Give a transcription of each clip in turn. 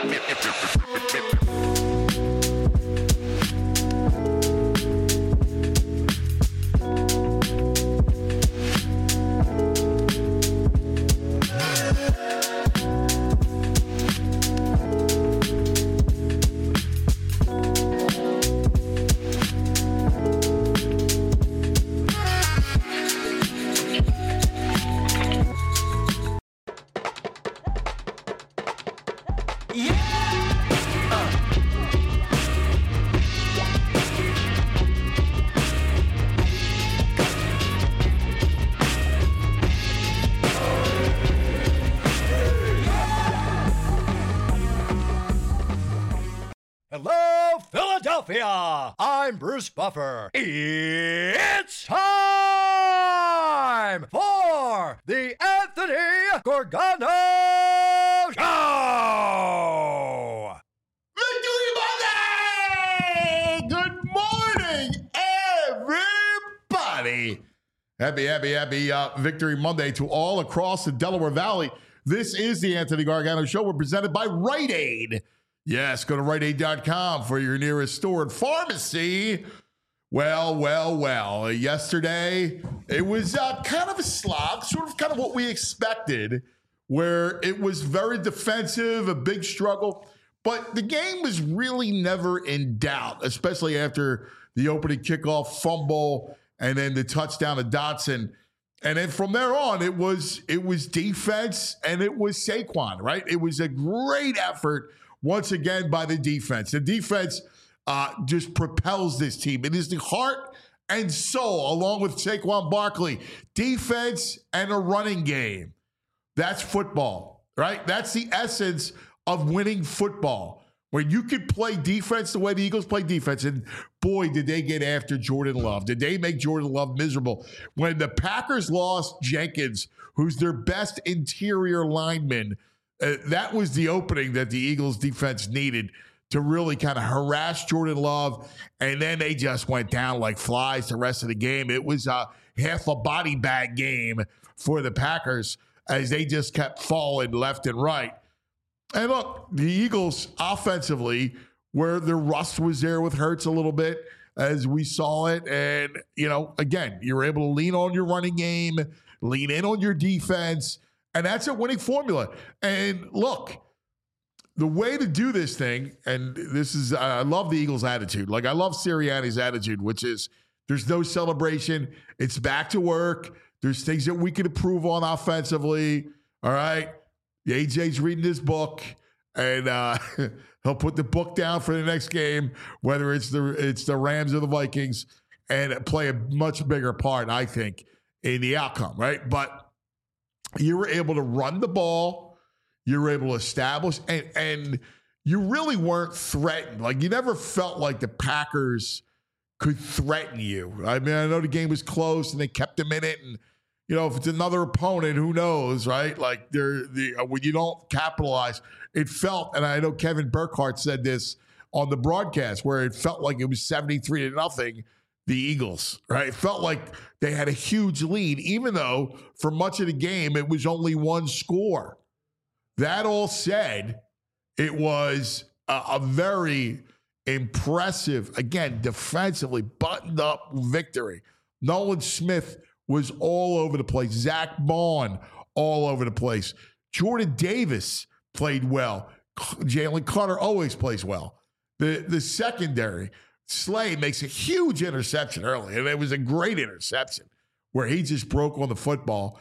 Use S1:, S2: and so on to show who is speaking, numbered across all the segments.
S1: Hello, Philadelphia! I'm Bruce Buffer. It's time for the Anthony Gorgano Show!
S2: Victory Monday! Good morning, everybody. Happy Victory Monday to all across the Delaware Valley. This is the Anthony Gargano Show. We're presented by Rite Aid. Yes, go to RiteAid.com for your nearest store and pharmacy. Well. Yesterday, it was kind of a slog, kind of what we expected, where it was very defensive, a big struggle. But the game was really never in doubt, especially after the opening kickoff fumble and then the touchdown to Dotson. And then from there on, it was defense and it was Saquon, right? It was a great effort once again by the defense. The defense just propels this team. It is the heart and soul, along with Saquon Barkley. Defense and a running game. That's football, right? That's the essence of winning football. When you can play defense the way the Eagles play defense, and boy, did they get after Jordan Love. Did they make Jordan Love miserable? When the Packers lost Jenkins, who's their best interior lineman, that was the opening that the Eagles defense needed to really kind of harass Jordan Love. And then they just went down like flies the rest of the game. It was a half a body bag game for the Packers as they just kept falling left and right. And look, the Eagles offensively, where the rust was there with Hurts a little bit as we saw it. And, again, you're able to lean on your running game, lean in on your defense. And that's a winning formula. And look, the way to do this thing, and this is, I love the Eagles' attitude. Like, I love Sirianni's attitude, which is there's no celebration. It's back to work. There's things that we can improve on offensively. All right. AJ's reading his book, and he'll put the book down for the next game, whether it's the Rams or the Vikings, and play a much bigger part, I think, in the outcome, right? But you were able to run the ball. You were able to establish, and you really weren't threatened. Like, you never felt like the Packers could threaten you. I mean, I know the game was close, and they kept them in it, and if it's another opponent, who knows, right? Like, when you don't capitalize, it felt, and I know Kevin Burkhardt said this on the broadcast, where it felt like it was 73-0, the Eagles, right? It felt like they had a huge lead, even though for much of the game, it was only one score. That all said, it was a very impressive, again, defensively buttoned up victory. Nolan Smith was all over the place. Zach Bond, all over the place. Jordan Davis played well. Jalen Carter always plays well. The secondary, Slay makes a huge interception early, and it was a great interception where he just broke on the football.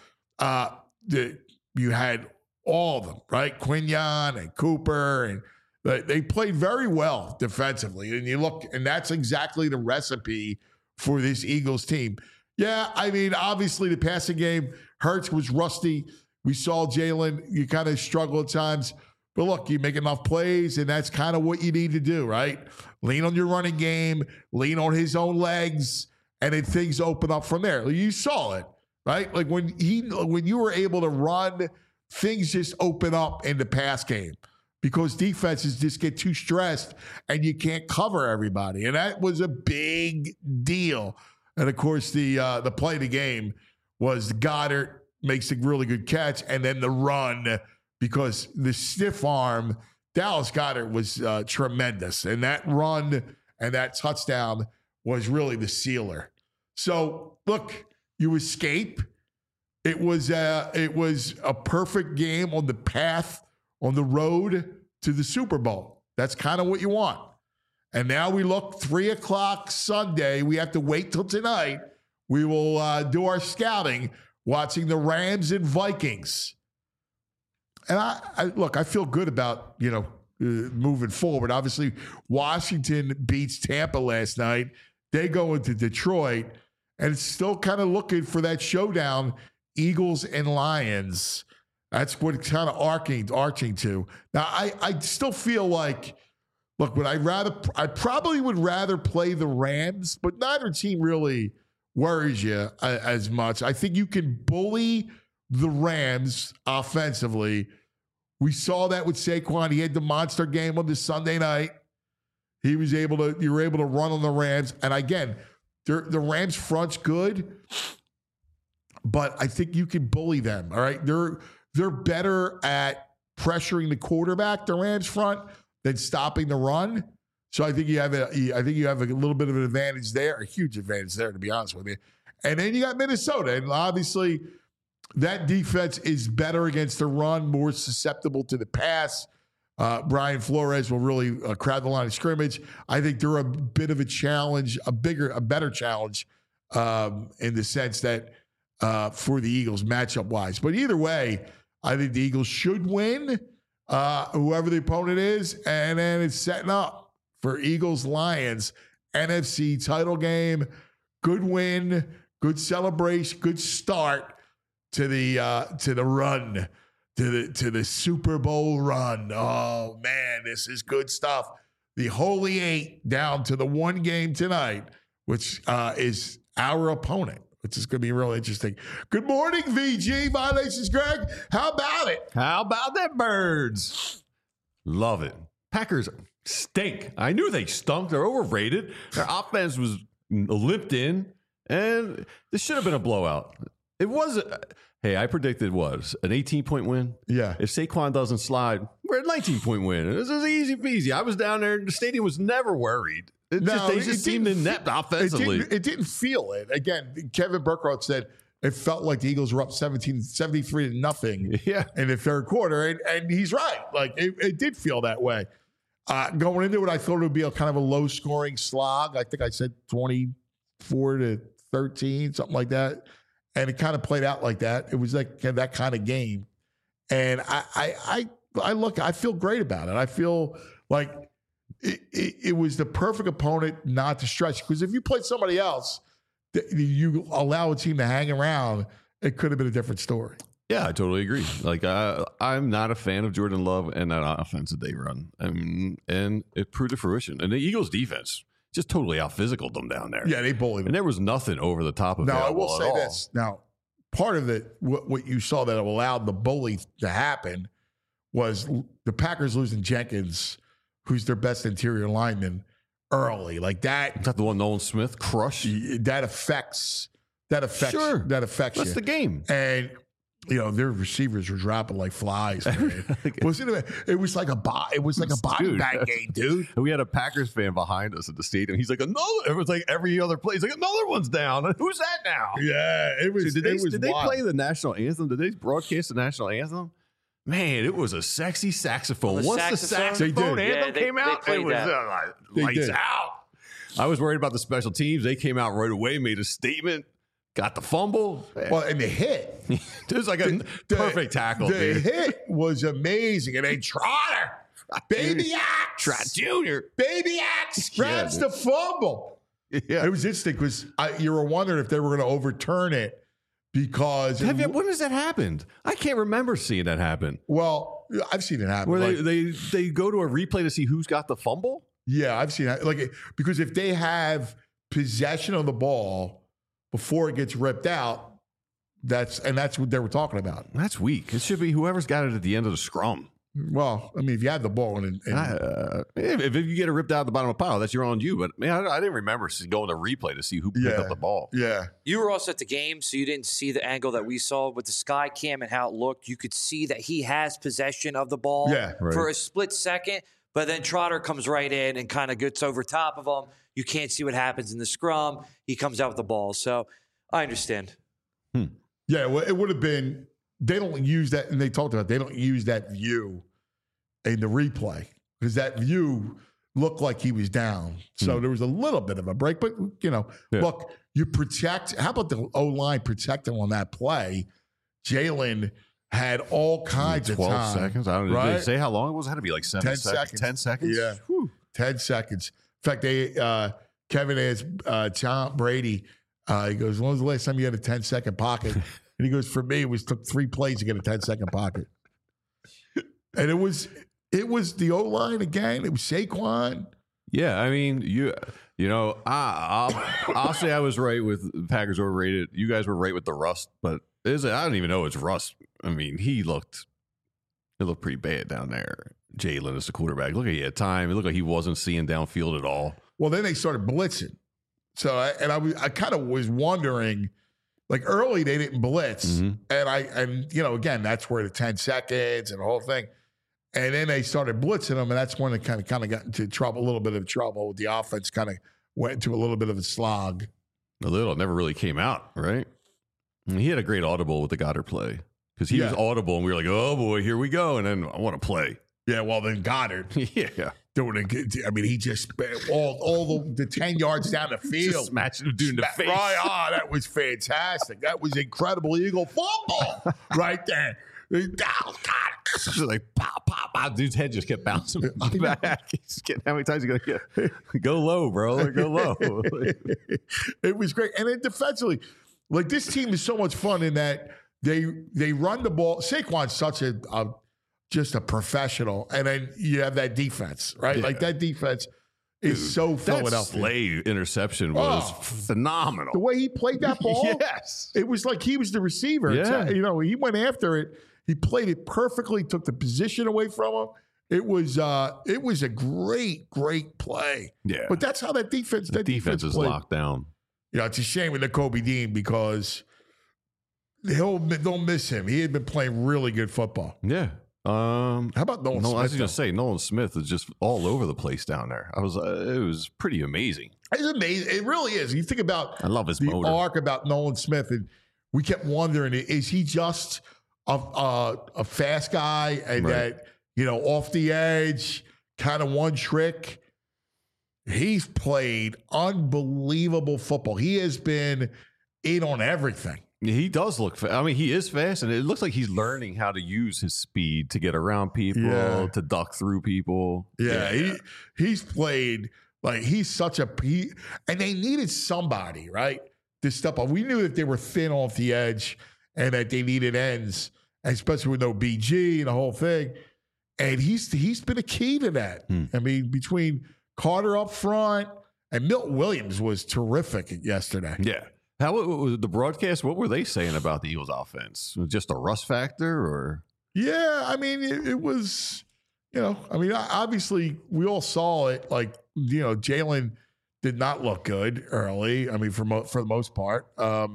S2: You had all of them, right? Quinion and Cooper, and they played very well defensively. And you look, and that's exactly the recipe for this Eagles team. Yeah, I mean, obviously the passing game, Hurts was rusty. We saw Jalen, you kind of struggle at times. But look, you make enough plays, and that's kind of what you need to do, right? Lean on your running game, lean on his own legs, and then things open up from there. You saw it, right? Like when you were able to run, things just open up in the pass game because defenses just get too stressed and you can't cover everybody. And that was a big deal. And, of course, the play of the game was Goddard makes a really good catch, and then the run, because the stiff arm Dallas Goedert was tremendous. And that run and that touchdown was really the sealer. So, look, you escape. It was a perfect game on the path, on the road to the Super Bowl. That's kind of what you want. And now we look 3 o'clock Sunday. We have to wait till tonight. We will do our scouting watching the Rams and Vikings. And I feel good about, moving forward. Obviously, Washington beats Tampa last night. They go into Detroit, and it's still kind of looking for that showdown, Eagles and Lions. That's what it's kind of arching to. Now, I still feel like, look, I probably would rather play the Rams, but neither team really worries you as much. I think you can bully the Rams offensively. We saw that with Saquon. He had the monster game on this Sunday night. You were able to run on the Rams. And again, the Rams front's good, but I think you can bully them. All right. They're better at pressuring the quarterback, the Rams front, than stopping the run. So I think you have a little bit of an advantage there, a huge advantage there, to be honest with you. And then you got Minnesota, and obviously that defense is better against the run, more susceptible to the pass. Brian Flores will really crowd the line of scrimmage. I think they're a bit of a challenge, a better challenge in the sense that for the Eagles matchup wise. But either way, I think the Eagles should win, whoever the opponent is, and then it's setting up for Eagles-Lions NFC title game. Good win, good celebration, good start to the run, to the Super Bowl run. Oh man, this is good stuff. The Holy Eight down to the one game tonight, which is our opponent, which is going to be real interesting. Good morning, VG. My name is Greg. How about it?
S3: How about that, Birds? Love it. Packers stink. I knew they stunk. They're overrated. Their offense was limped in, and this should have been a blowout. It was. Hey, I predicted was an 18-point win.
S2: Yeah.
S3: If Saquon doesn't slide, we're a 19-point win. This is easy peasy. I was down there. The stadium was never worred. They just seemed inept offensively.
S2: It didn't feel it. Again, Kevin Burkhardt said it felt like the Eagles were up 73-0
S3: Yeah.
S2: in the third quarter, and he's right. Like it did feel that way. Going into it, I thought it would be a kind of a low-scoring slog. I think I said 24-13, something like that, and it kind of played out like that. It was like that kind of game, and I feel great about it. I feel like it was the perfect opponent not to stretch, because if you played somebody else, you allow a team to hang around, it could have been a different story.
S3: Yeah, I totally agree. Like, I'm not a fan of Jordan Love and that offense that they run. And it proved to fruition. And the Eagles' defense just totally out-physicaled them down there.
S2: Yeah, they bullied them.
S3: And there was nothing over the top of it.
S2: Now, I will say this. Now, part of it, what you saw that allowed the bully to happen was the Packers losing Jenkins, who's their best interior lineman, early. Like that.
S3: Is that the one Nolan Smith crushed?
S2: That affects
S3: Sure.
S2: That affects
S3: That's
S2: you.
S3: the game.
S2: And their receivers were dropping like flies. Man. It was like a body bag game, dude.
S3: We had a Packers fan behind us at the stadium. He's like, another. It was like every other play. He's like, another one's down. Who's that now?
S2: Yeah, it was.
S3: Did they play the national anthem? Did they broadcast the national anthem? Man, it was a sexy saxophone. Once the saxophone anthem came out, it was lights out. I was worried about the special teams. They came out right away, made a statement. Got the fumble.
S2: Well, and the hit.
S3: It was like a perfect tackle.
S2: The hit was amazing. And then Trotter, Baby Axe.
S3: Trot Jr.
S2: Baby Axe grabs the fumble.
S3: Yeah.
S2: It was interesting because you were wondering if they were going to overturn it because.
S3: When has that happened? I can't remember seeing that happen.
S2: Well, I've seen it happen.
S3: Where they go to a replay to see who's got the fumble?
S2: Yeah, I've seen that. Because if they have possession of the ball before it gets ripped out, that's what they were talking about.
S3: That's weak. It should be whoever's got it at the end of the scrum.
S2: Well, I mean, if you had the ball
S3: if you get it ripped out of the bottom of the pile, that's your own you. But man, I didn't remember going to replay to see who picked up the ball.
S2: Yeah.
S4: You were also at the game, so you didn't see the angle that we saw with the sky cam and how it looked. You could see that he has possession of the ball for a split second, but then Trotter comes right in and kind of gets over top of him. You can't see what happens in the scrum. He comes out with the ball. So I understand.
S2: Yeah, well, it would have been. They don't use that, and they talked about they don't use that view in the replay because that view looked like he was down. So there was a little bit of a break, but look, you protect. How about the O-line protecting on that play? Jalen had all kinds of
S3: 12 seconds. I don't know. Did they say how long it was? It had to be like
S2: 10 seconds.
S3: 10 seconds?
S2: Yeah. Whew. 10 seconds. In fact, Kevin asked Tom Brady, he goes, when was the last time you had a 10-second pocket? And he goes, for me, it took 3 plays to get a 10-second pocket. And it was the O-line again. It was Saquon.
S3: Yeah, I mean, I'll say I was right with Packers overrated. You guys were right with the rust, but I don't even know it's rust. I mean, it looked pretty bad down there. Jalen as the quarterback. Look at he had time. It looked like he wasn't seeing downfield at all.
S2: Well, then they started blitzing. So I kind of was wondering, like early they didn't blitz, and again that's where the 10 seconds and the whole thing, and then they started blitzing them, and that's when it kind of got into trouble, a little bit of trouble with the offense. Kind of went into a little bit of a slog.
S3: A little, never really came out right. And he had a great audible with the Goddard play because he was audible, and we were like, oh boy, here we go, and then I want to play. Yeah, well then Goddard, doing it. I mean, he just all the 10 yards down the field, just smashed the dude in the face.
S2: Right, that was fantastic. That was incredible Eagle football right there.
S3: Like pop, pop, pop. Dude's head just kept bouncing back. He's getting, how many times you gonna get? Go low, bro. Go low.
S2: It was great, and then defensively, like this team is so much fun in that they run the ball. Saquon's such just a professional, and then you have that defense, right? Like that defense is so Philadelphia.
S3: That Slay interception was phenomenal.
S2: The way he played that ball, it was like he was the receiver.
S3: Yeah.
S2: He went after it. He played it perfectly. Took the position away from him. It was a great play.
S3: Yeah,
S2: but that's how that defense. That
S3: defense is locked down.
S2: It's a shame with Nakobe Dean because they'll miss him. He had been playing really good football.
S3: Yeah.
S2: How about Nolan Smith?
S3: I was going to say Nolan Smith is just all over the place down there. It was pretty amazing.
S2: It's amazing. It really is. You think about
S3: I love his
S2: the
S3: motor.
S2: arc about Nolan Smith, and we kept wondering: is he just a fast guy and that off the edge, kind of one trick? He's played unbelievable football. He has been in on everything.
S3: He does look fast. I mean, he is fast, and it looks like he's learning how to use his speed to get around people, to duck through people.
S2: Yeah. He's played like he's such a and they needed somebody, right, to step up. We knew that they were thin off the edge and that they needed ends, especially with no BG and the whole thing. And he's been a key to that. I mean, between Carter up front and Milton Williams was terrific yesterday.
S3: Yeah. How was the broadcast? What were they saying about the Eagles' offense? Just a rust factor, or?
S2: Yeah, I mean, it was. Obviously, we all saw it. Like, Jalen did not look good early. I mean, for the most part, I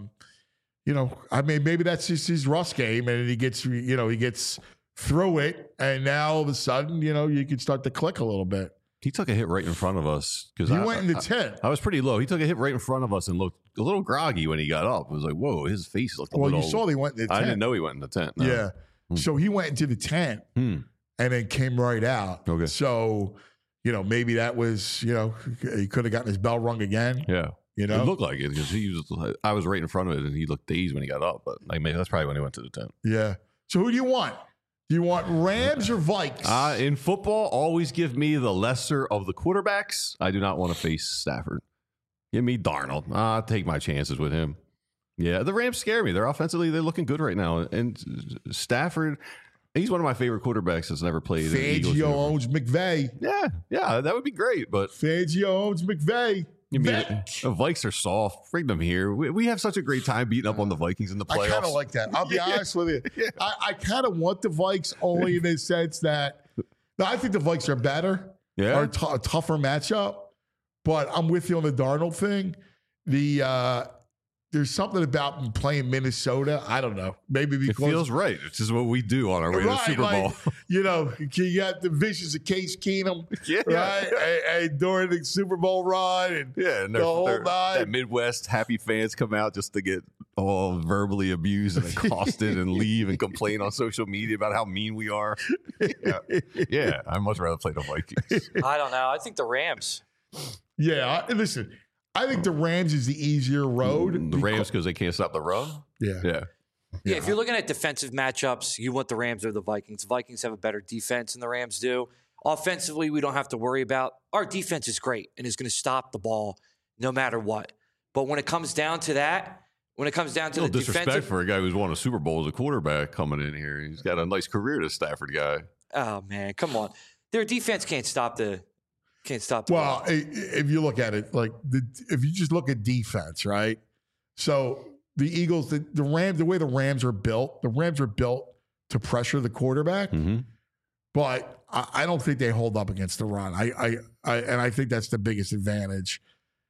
S2: mean, maybe that's just his rust game, and he gets through it, and now all of a sudden, you can start to click a little bit.
S3: He took a hit right in front of us because
S2: he went in the tent.
S3: I was pretty low. He took a hit right in front of us and looked a little groggy when he got up. It was like, whoa, his face looked a little.
S2: Well, you saw he went in the tent.
S3: I didn't know he went in the tent. No.
S2: Yeah. So he went into the tent and then came right out.
S3: Okay.
S2: So, maybe that was, he could have gotten his bell rung again.
S3: Yeah. It looked like it because I was right in front of it and he looked dazed when he got up. But maybe that's probably when he went to the tent.
S2: Yeah. So who do you want? Do you want Rams or Vikes?
S3: In football, always give me the lesser of the quarterbacks. I do not want to face Stafford. Give me Darnold. I'll take my chances with him. Yeah, the Rams scare me. They're looking good right now. And Stafford, he's one of my favorite quarterbacks that's never played.
S2: Fangio owns McVay.
S3: Yeah, that would be great. But
S2: Fangio owns McVay.
S3: You mean the Vikes are soft? Bring them here. We have such a great time beating up on the Vikings in the playoffs.
S2: I kind of like that. I'll be honest with you. Yeah. I kind of want the Vikes only in the sense that I think the Vikes are better. Yeah, are a tougher matchup. But I'm with you on the Darnold thing. There's something about playing Minnesota. I don't know. Maybe because
S3: it feels right. It's just what we do on our way to the Super Bowl.
S2: You got the visions of Case Keenum, right? And during the Super Bowl run, and the whole night.
S3: That Midwest happy fans come out just to get all verbally abused and accosted and leave and complain on social media about how mean we are. Yeah, I'd much rather play the Vikings.
S4: I don't know. I think the Rams.
S2: Yeah, listen. I think the Rams is the easier road.
S3: The Rams because they can't stop the run?
S2: Yeah.
S4: Yeah, if you're looking at defensive matchups, you want the Rams or the Vikings. The Vikings have a better defense than the Rams do. Offensively, we don't have to worry about. Our defense is great and is going to stop the ball no matter what. But when it comes down to that, the
S3: disrespect for a guy who's won a Super Bowl as a quarterback coming in here. He's got a nice career, this Stafford guy.
S4: Oh, man, come on. Their defense can't stop the
S2: Well, if you look at it, if you just look at defense, right? So the Eagles, the Rams, the way the Rams are built to pressure the quarterback.
S3: Mm-hmm.
S2: But I don't think they hold up against the run. I think that's the biggest advantage.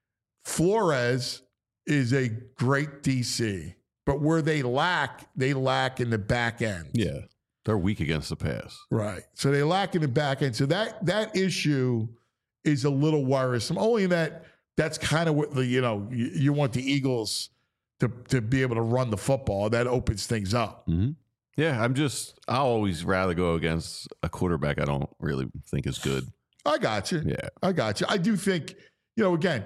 S2: Flores is a great DC, but where they lack in the back end.
S3: Yeah, they're weak against the pass.
S2: Right. So they lack in the back end. So that issue is a little worrisome. Only that's kind of what you want the Eagles to be able to run the football. That opens things up.
S3: Mm-hmm. Yeah, I'll always rather go against a quarterback I don't really think is good.
S2: I got you.
S3: Yeah.
S2: I got you. I do think, again,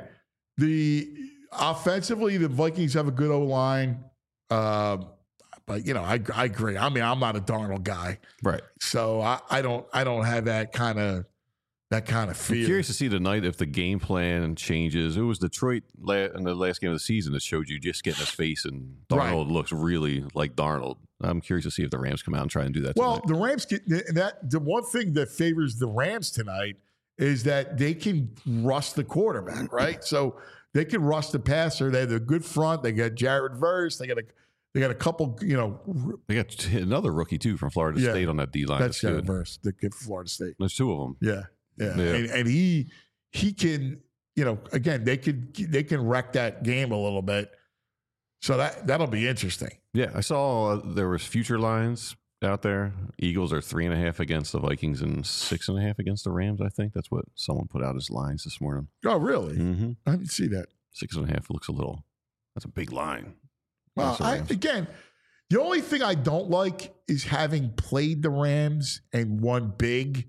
S2: offensively, the Vikings have a good O-line. But I agree. I mean, I'm not a Darnold guy.
S3: Right.
S2: So I don't have that kind of fear.
S3: I'm curious to see tonight if the game plan changes. It was Detroit in the last game of the season that showed you just getting his face, and Darnold looks really like Darnold. I'm curious to see if the Rams come out and try and do that tonight.
S2: The Rams the one thing that favors the Rams tonight is that they can rush the quarterback, right? So they can rush the passer. They have a good front. They got Jared Verse. They got a couple,
S3: They got another rookie too from Florida State on that D line.
S2: That's Jared Verse, the kid from Florida State.
S3: There's two of them.
S2: Yeah. And he can, again, they can wreck that game a little bit. So that'll be interesting.
S3: Yeah, I saw there was future lines out there. Eagles are 3.5 against the Vikings and 6.5 against the Rams. I think that's what someone put out as lines this morning.
S2: Oh, really?
S3: Mm-hmm.
S2: I didn't see that.
S3: 6.5 looks that's a big line.
S2: Well, again, the only thing I don't like is having played the Rams and won big.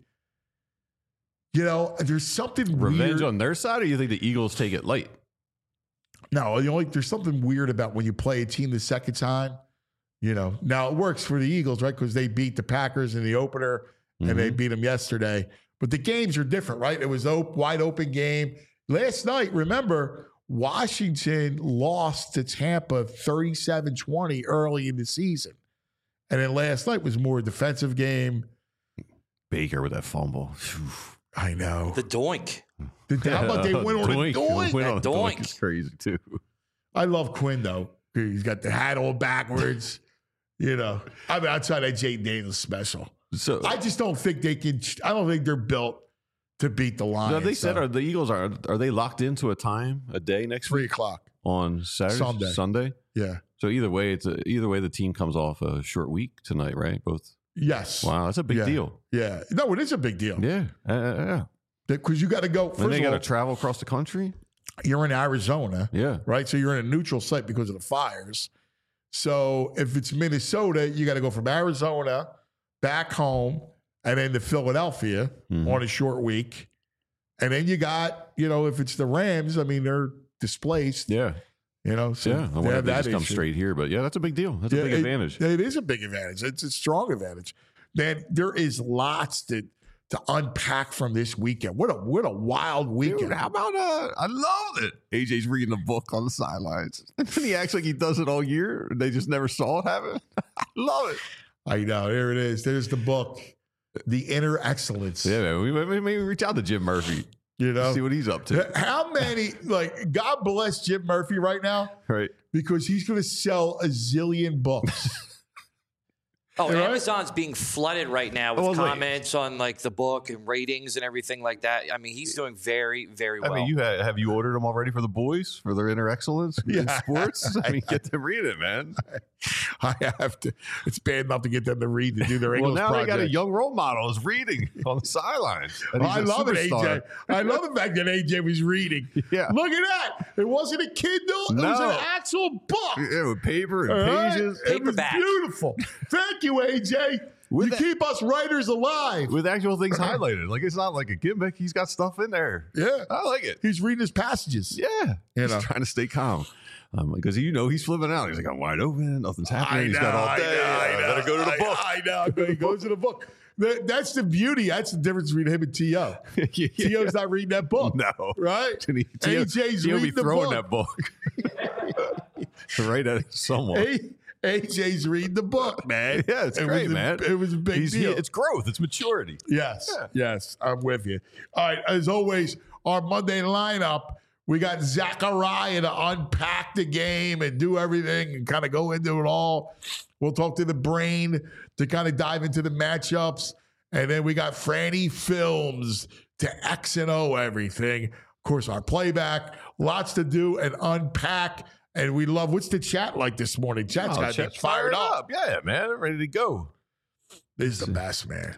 S2: There's something
S3: revenge
S2: weird
S3: on their side, or you think the Eagles take it light?
S2: No, there's something weird about when you play a team the second time. Now it works for the Eagles, right? Because they beat the Packers in the opener and they beat them yesterday. But the games are different, right? It was a wide open game. Last night, remember, Washington lost to Tampa 37-20 early in the season. And then last night was more a defensive game.
S3: Baker with that fumble.
S2: I know.
S4: The doink.
S2: How about they went on a doink?
S3: Went on a doink is crazy, too.
S2: I love Quinn, though. He's got the hat all backwards. Outside that Jayden Daniels special. So I just don't think they can. I don't think they're built to beat the Lions.
S3: No, they said the Eagles are they locked into a day next
S2: 3
S3: week?
S2: 3:00
S3: on Saturday? Sunday?
S2: Yeah.
S3: So either way the team comes off a short week tonight, right? Both.
S2: Yes.
S3: Wow, that's a big deal.
S2: Yeah. No, it is a big deal.
S3: Yeah. Yeah.
S2: Because you got to go.
S3: Then they got to travel across the country.
S2: You're in Arizona.
S3: Yeah.
S2: Right? So you're in a neutral site because of the fires. So if it's Minnesota, you got to go from Arizona back home and then to Philadelphia on a short week. And then you got, if it's the Rams, they're displaced.
S3: Yeah.
S2: So
S3: I wonder if they just come straight here, but that's a big deal. That's a big advantage.
S2: It is a big advantage. It's a strong advantage. Man, there is lots to unpack from this weekend. What a wild weekend.
S3: Dude, how about I love it. AJ's reading a book on the sidelines. And he acts like he does it all year. They just never saw it happen. I love it.
S2: I know. There it is. There's the book. The Inner Excellence.
S3: Yeah, man. We maybe reach out to Jim Murphy.
S2: You know,
S3: see what he's up to.
S2: How many, God bless Jim Murphy right now.
S3: Right.
S2: Because he's going to sell a zillion books.
S4: Oh, right? Amazon's being flooded right now with comments on the book and ratings and everything like that. I mean, he's doing very, very well.
S3: I mean, have you ordered them already for the boys for their inner excellence in sports? I mean, get them read it, man.
S2: I have to. It's bad enough to get them to read to do their English
S3: now
S2: project.
S3: They got a young role model is reading on the sidelines.
S2: I love it, AJ. I love the fact that AJ was reading.
S3: Yeah.
S2: Look at that. It wasn't a Kindle. It was an actual book.
S3: Yeah, with paper and pages.
S4: Paperback.
S2: It was beautiful. Thank you, AJ. You keep us writers alive.
S3: With actual things highlighted. It's not like a gimmick. He's got stuff in there.
S2: Yeah.
S3: I like it.
S2: He's reading his passages.
S3: Yeah. He's trying to stay calm. Because he's flipping out. He's like, I'm wide open. Nothing's happening. He's got all day. I better go to the book.
S2: I know. He goes to the book. That's the beauty. That's the difference between him and T.O. T.O.'s not reading that book.
S3: No.
S2: Right?
S3: AJ's
S2: reading
S3: be
S2: the
S3: throwing
S2: book.
S3: that book. Right at someone.
S2: AJ's reading the book, man.
S3: Yeah, it's great, man.
S2: It was a big deal.
S3: It's growth. It's maturity.
S2: Yes. I'm with you. All right. As always, our Monday lineup, we got Zachariah to unpack the game and do everything and kind of go into it all. We'll talk to the brain to kind of dive into the matchups. And then we got Franny Films to X and O everything. Of course, our playback. Lots to do and unpack. And we love, what's the chat like this morning? Chat's got to be fired up.
S3: Yeah, man. They're ready to go.
S2: This is the best, man.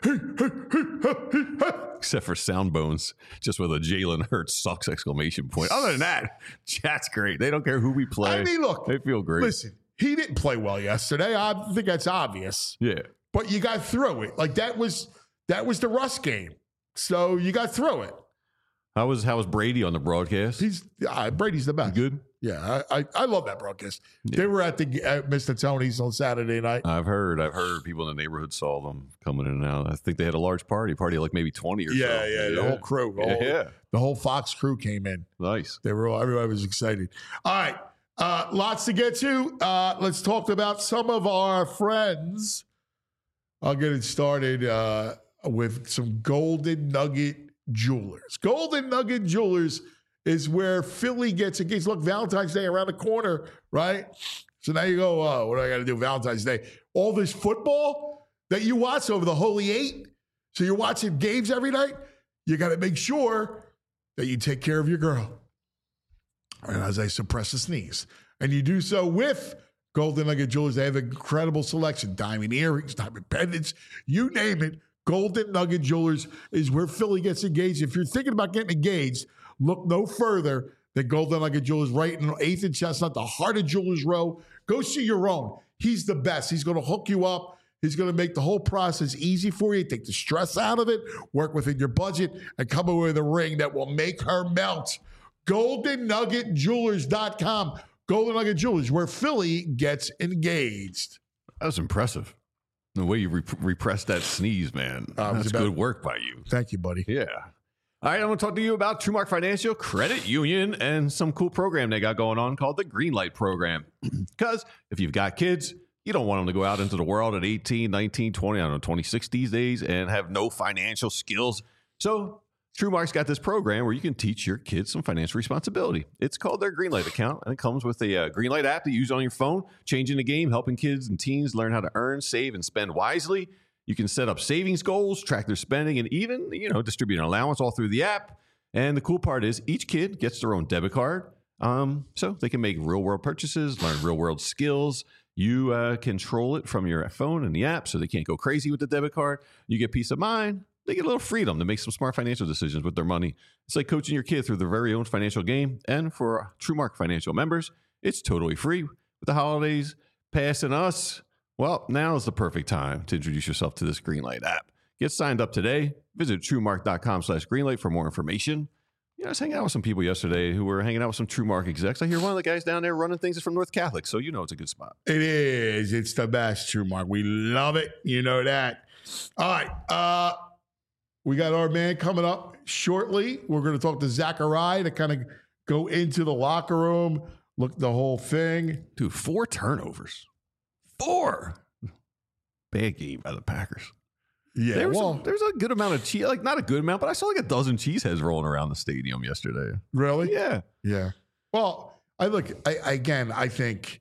S3: Except for Sound Bones, just with a Jalen Hurts sucks exclamation point. Other than that, chat's great. They don't care who we play.
S2: I mean, look.
S3: They feel great.
S2: Listen, he didn't play well yesterday. I think that's obvious.
S3: Yeah.
S2: But you got through it. That was the Russ game. So you got through it.
S3: How was Brady on the broadcast?
S2: Brady's the best.
S3: Good.
S2: Yeah, I love that broadcast. Yeah. They were at Mr. Tony's on Saturday night.
S3: I've heard people in the neighborhood saw them coming in and out. I think they had a large party like maybe 20 or so.
S2: Yeah, the whole crew. The whole Fox crew came in.
S3: Nice.
S2: Everybody was excited. All right, lots to get to. Let's talk about some of our friends. I'll get it started with some Golden Nugget Jewelers. Golden Nugget Jewelers is where Philly gets engaged. Look, Valentine's Day around the corner, right? So now you go, what do I got to do Valentine's Day? All this football that you watch over the Holy Eight. So you're watching games every night. You got to make sure that you take care of your girl. And as I suppress a sneeze. And you do so with Golden Nugget Jewelers. They have an incredible selection. Diamond earrings, diamond pendants, you name it. Golden Nugget Jewelers is where Philly gets engaged. If you're thinking about getting engaged, look no further than Golden Nugget Jewelers right in 8th and Chestnut, the heart of Jewelers Row. Go see your own. He's the best. He's going to hook you up. He's going to make the whole process easy for you, take the stress out of it, work within your budget, and come away with a ring that will make her melt. GoldenNuggetJewelers.com. Golden Nugget Jewelers, where Philly gets engaged.
S3: That was impressive. The way you repressed that sneeze, man. That's good work by you.
S2: Thank you, buddy.
S3: Yeah. All right, I want to talk to you about TrueMark Financial Credit Union and some cool program they got going on called the Greenlight Program. Because if you've got kids, you don't want them to go out into the world at 18, 19, 20, 26 these days and have no financial skills. So TrueMark's got this program where you can teach your kids some financial responsibility. It's called their Greenlight account, and it comes with a Greenlight app to use on your phone, changing the game, helping kids and teens learn how to earn, save, and spend wisely. You can set up savings goals, track their spending, and even, distribute an allowance all through the app. And the cool part is each kid gets their own debit card, so they can make real-world purchases, learn real-world skills. You control it from your phone and the app, so they can't go crazy with the debit card. You get peace of mind. They get a little freedom to make some smart financial decisions with their money. It's like coaching your kid through their very own financial game. And for TrueMark Financial members, it's totally free. With the holidays passing us, well, now is the perfect time to introduce yourself to this Greenlight app. Get signed up today. Visit TrueMark.com/Greenlight for more information. I was hanging out with some people yesterday who were hanging out with some TrueMark execs. I hear one of the guys down there running things is from North Catholic, so it's a good spot.
S2: It is. It's the best, TrueMark. We love it. You know that. All right. We got our man coming up shortly. We're going to talk to Zachariah to kind of go into the locker room, look the whole thing.
S3: Dude, 4 turnovers. 4. Bad game by the Packers.
S2: Yeah,
S3: there's a good amount of cheese, like not a good amount, but I saw like a dozen cheeseheads rolling around the stadium yesterday.
S2: Really?
S3: Yeah.
S2: Yeah. Well, I think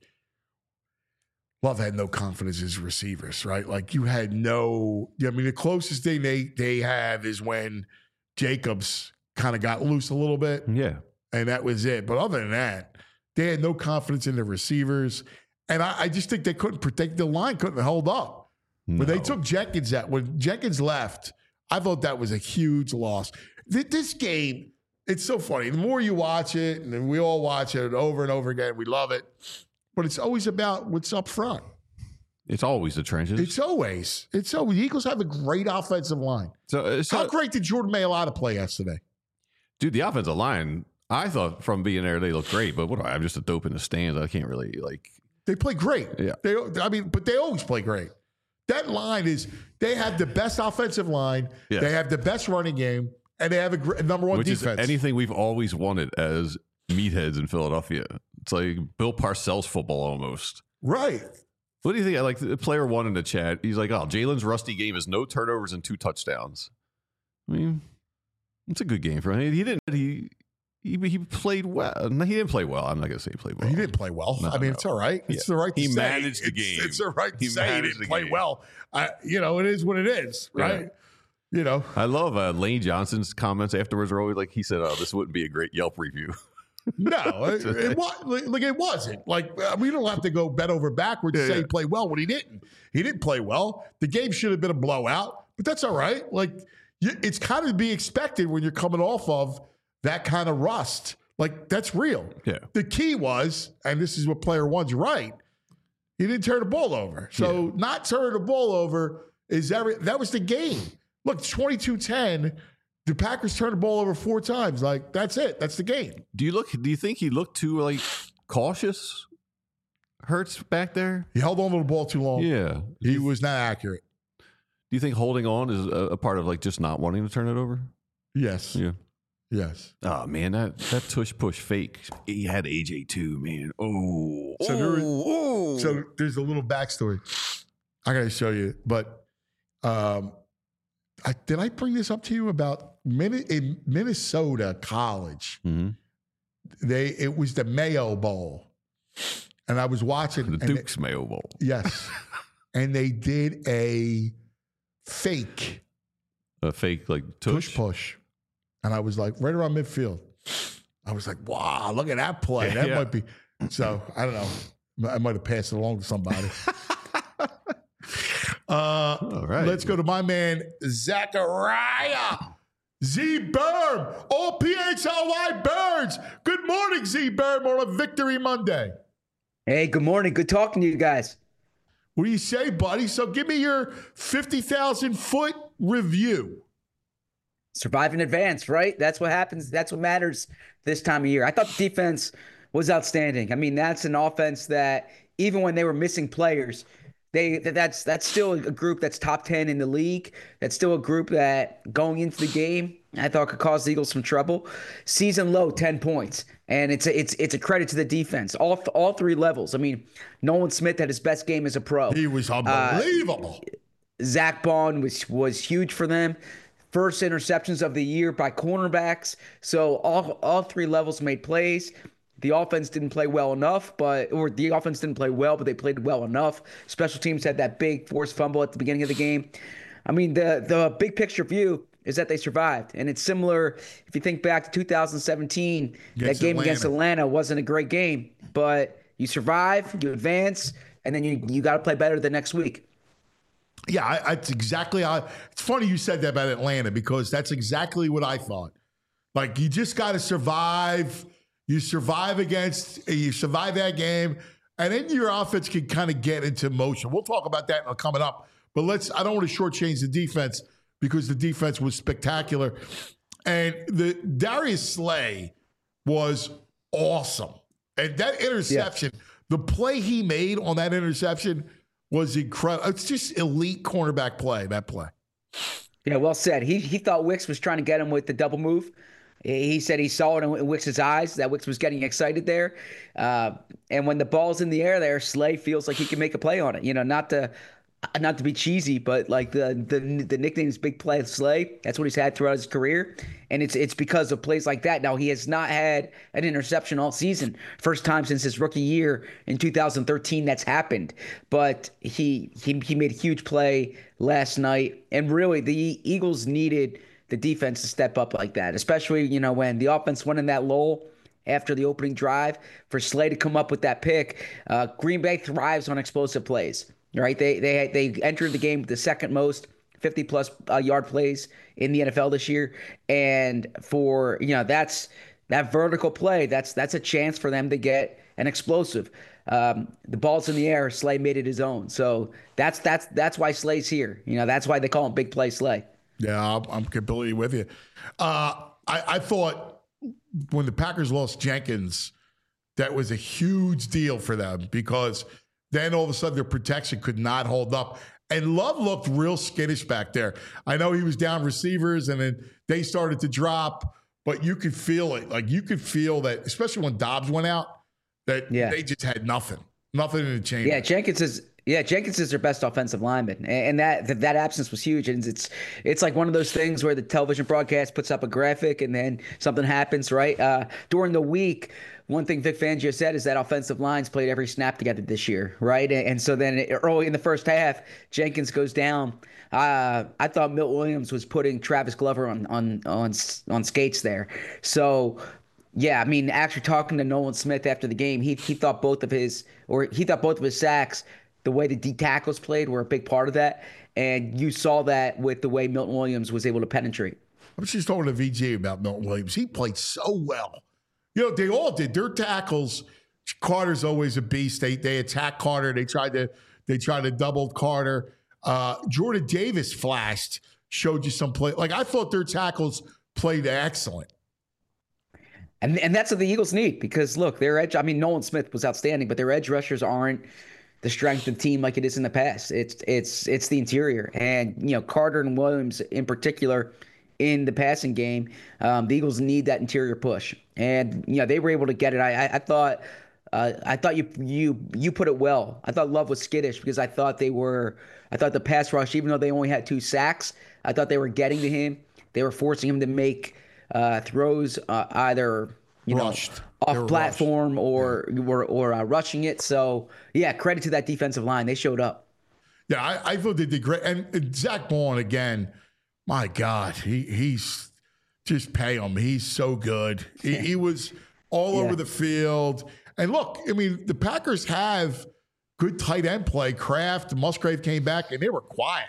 S2: Love had no confidence in his receivers, right? Like you had the closest thing they have is when Jacobs kind of got loose a little bit.
S3: Yeah.
S2: And that was it. But other than that, they had no confidence in the receivers. And I just think they couldn't protect the line, couldn't hold up. No. When they took Jenkins out, when Jenkins left, I thought that was a huge loss. This game, it's so funny. The more you watch it, and then we all watch it over and over again, we love it. But it's always about what's up front.
S3: It's always the trenches.
S2: It's always. The Eagles have a great offensive line. So how great did Jordan Mailata play yesterday?
S3: Dude, the offensive line, I thought from being there, they looked great. But I'm just a dope in the stands. I can't really
S2: They play great.
S3: Yeah.
S2: But they always play great. That line they have the best offensive line. Yes. They have the best running game. And they have a number one defense.
S3: Which is anything we've always wanted as meatheads in Philadelphia. It's like Bill Parcells football almost.
S2: Right.
S3: What do you think? Like the player one in the chat, he's like, oh, Jalen's rusty game is no turnovers and 2 touchdowns. I mean, it's a good game for him. He played well. No, he didn't play well. I'm not going to say he played well.
S2: He didn't play well. No, it's all right. It's the right to say.
S3: He managed the game.
S2: It's the right to say he didn't play well. It is what it is, right? Yeah.
S3: I love Lane Johnson's comments afterwards are always like, he said, oh, this wouldn't be a great Yelp review.
S2: No, it wasn't. Like, we don't have to go bend over backwards to say he played well when he didn't. He didn't play well. The game should have been a blowout, but that's all right. Like, it's kind of to be expected when you're coming off of that kind of rust. Like, that's real.
S3: Yeah.
S2: The key was, and this is what player one's right, he didn't turn the ball over. So not turning the ball over that was the game. Look, 22-10. The Packers turned the ball over 4 times. Like, that's it. That's the game.
S3: Do you think he looked too cautious? Hurts back there?
S2: He held on to the ball too long.
S3: Yeah.
S2: He was not accurate.
S3: Do you think holding on is a part of just not wanting to turn it over?
S2: Yes.
S3: Yeah.
S2: Yes.
S3: Oh man, that tush push fake. He had AJ too, man. Oh.
S2: So there's a little backstory I gotta show you. But did I bring this up to you about in Minnesota College?
S3: Mm-hmm.
S2: It was the Mayo Bowl, and I was watching
S3: the Duke's Mayo Bowl.
S2: Yes, and they did a fake tush push, and I was like right around midfield. I was like, wow, look at that play. That might be. So I don't know. I might have passed it along to somebody.
S3: All right.
S2: Let's go to my man, Zachariah. Z Berm. O-P-H-L-Y Birds. Good morning, Z Berm, on a Victory Monday.
S5: Hey, good morning. Good talking to you guys.
S2: What do you say, buddy? So give me your 50,000-foot review.
S5: Survive in advance, right? That's what happens. That's what matters this time of year. I thought the defense was outstanding. I mean, that's an offense that even when they were missing players, that's still a group that's top 10 in the league. That's still a group that going into the game, I thought could cause the Eagles some trouble. Season low, 10 points. And it's a credit to the defense, all 3 levels. I mean, Nolan Smith had his best game as a pro.
S2: He was unbelievable.
S5: Zach Bond was huge for them. First interceptions of the year by cornerbacks. So all 3 levels made plays. The offense didn't play well enough, but they played well enough. Special teams had that big forced fumble at the beginning of the game. I mean, the big picture view is that they survived. And it's similar, if you think back to 2017, that game against Atlanta wasn't a great game, but you survive, you advance, and then you got to play better the next week.
S2: Yeah, it's exactly how. It's funny you said that about Atlanta because that's exactly what I thought. Like, you just got to survive. You survive that game, and then your offense can kind of get into motion. We'll talk about that coming up. But I don't want to shortchange the defense because the defense was spectacular. And the Darius Slay was awesome. And that interception, the play he made on that interception was incredible. It's just elite cornerback play, that play.
S5: Yeah, well said. He thought Wicks was trying to get him with the double move. He said he saw it in Wicks' eyes, that Wicks was getting excited there. And when the ball's in the air there, Slay feels like he can make a play on it. You know, not to not to be cheesy, but like the nickname is Big Play Slay. That's what he's had throughout his career, and it's because of plays like that. Now he has not had an interception all season. First time since his rookie year in 2013 that's happened. But he made a huge play last night, and really the Eagles needed the defense to step up like that, especially when the offense went in that lull after the opening drive for Slay to come up with that pick. Green Bay thrives on explosive plays. Right, they entered the game with the second most 50-plus yard plays in the NFL this year, and for that vertical play, that's a chance for them to get an explosive. The ball's in the air. Slay made it his own, so that's why Slay's here. That's why they call him Big Play Slay.
S2: Yeah, I'm completely with you. I thought when the Packers lost Jenkins, that was a huge deal for them because then all of a sudden their protection could not hold up. And Love looked real skittish back there. I know he was down receivers and then they started to drop, but you could feel it. Like you could feel that, especially when Dobbs went out, that they just had nothing in the chamber.
S5: Yeah, Jenkins is their best offensive lineman, and that absence was huge. And it's like one of those things where the television broadcast puts up a graphic and then something happens, right? During the week, one thing Vic Fangio said is that offensive lines played every snap together this year, right? And so then early in the first half, Jenkins goes down. I thought Milt Williams was putting Travis Glover on skates there. So, yeah, I mean, actually talking to Nolan Smith after the game, he thought both of his sacks, the way the D tackles played, were a big part of that. And you saw that with the way Milton Williams was able to penetrate.
S2: I was just talking to VJ about Milton Williams. He played so well. They all did. Their tackles, Carter's always a beast. They attack Carter. They tried to double Carter. Jordan Davis flashed, showed you some play. Like, I thought their tackles played excellent.
S5: And that's what the Eagles need because, look, their edge – I mean, Nolan Smith was outstanding, but their edge rushers aren't the strength of the team like it is in the past. It's the interior. And, Carter and Williams in particular – in the passing game, the Eagles need that interior push, and they were able to get it. I thought you put it well. I thought Love was skittish because I thought the pass rush, even though they only had 2 sacks, I thought they were getting to him. They were forcing him to make throws either
S2: rushed
S5: off platform or rushing it. So yeah, credit to that defensive line. They showed up.
S2: Yeah, I thought they did great. And Zach Baun again. My God, he's just pay him. He's so good. He was all over the field. And look, I mean, the Packers have good tight end play. Kraft, Musgrave came back, and they were quiet.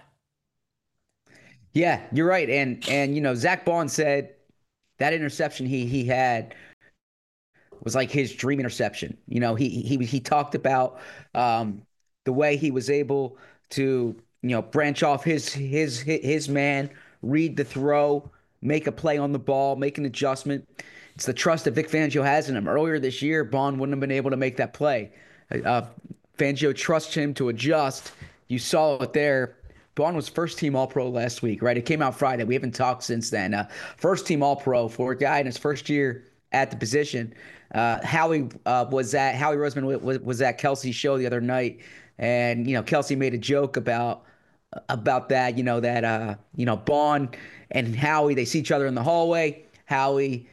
S5: Yeah, you're right. And Zach Baun said that interception he had was like his dream interception. He talked about the way he was able to branch off his man, read the throw, make a play on the ball, make an adjustment. It's the trust that Vic Fangio has in him. Earlier this year, Baun wouldn't have been able to make that play. Fangio trusts him to adjust. You saw it there. Baun was first-team All-Pro last week, right? It came out Friday. We haven't talked since then. First-team All-Pro for a guy in his first year at the position. Howie Roseman was at Kelsey's show the other night, and Kelsey made a joke about that, Baun and Howie, they see each other in the hallway. Howie,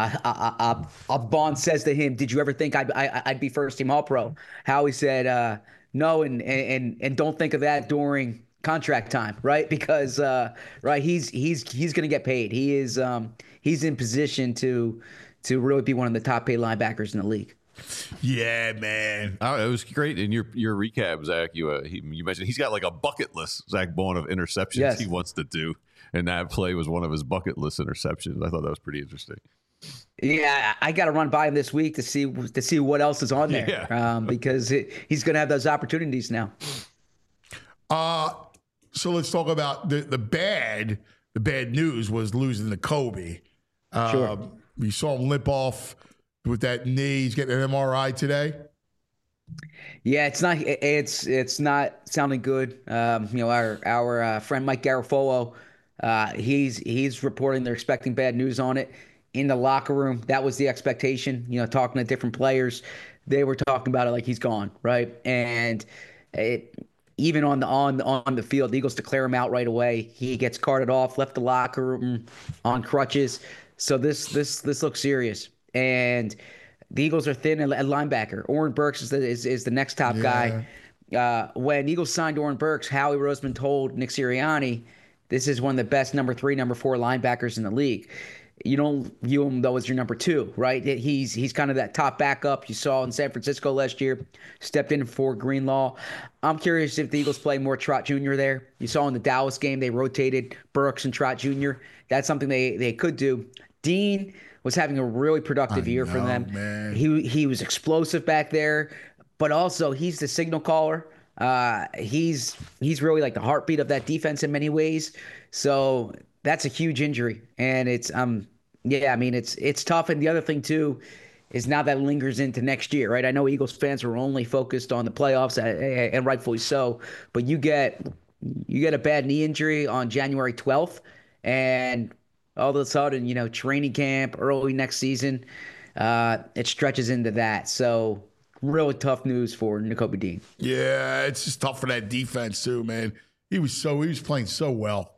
S5: Baun says to him, "Did you ever think I'd be first team All-Pro?" Howie said, "No, and don't think of that during contract time, right? Because right, he's going to get paid. He's in position to really be one of the top paid linebackers in the league."
S2: Yeah, man.
S3: It was great. In your recap, Zach, you mentioned he's got like a bucket list, Zach Baun, of interceptions he wants to do. And that play was one of his bucket list interceptions. I thought that was pretty interesting.
S5: Yeah, I got to run by him this week to see what else is on there because he's going to have those opportunities now.
S2: So let's talk about the bad news was losing to Kobe.
S5: Sure.
S2: We saw him limp off with that knee. He's getting an MRI today.
S5: Yeah, it's not sounding good. Our friend Mike Garafolo, he's reporting they're expecting bad news on it. In the locker room, that was the expectation. Talking to different players, they were talking about it like he's gone, right? And even on the field, the Eagles declare him out right away. He gets carted off, left the locker room on crutches. So this looks serious. And the Eagles are thin at linebacker. Oren Burks is the next top guy. When Eagles signed Oren Burks, Howie Roseman told Nick Sirianni, this is one of the best number 3, number 4 linebackers in the league. You don't view him, though, as your number 2, right? He's kind of that top backup you saw in San Francisco last year, stepped in for Greenlaw. I'm curious if the Eagles play more Trot Jr. there. You saw in the Dallas game, they rotated Burks and Trot Jr. That's something they could do. Dean was having a really productive year for them. Man. He was explosive back there, but also he's the signal caller. He's really like the heartbeat of that defense in many ways. So that's a huge injury, and it's it's tough. And the other thing too is now that lingers into next year, right? I know Eagles fans were only focused on the playoffs, and rightfully so. But you get a bad knee injury on January 12th, and all of a sudden, training camp early next season, it stretches into that. So really tough news for Nakobe Dean.
S2: Yeah, it's just tough for that defense too, man. He was playing so well.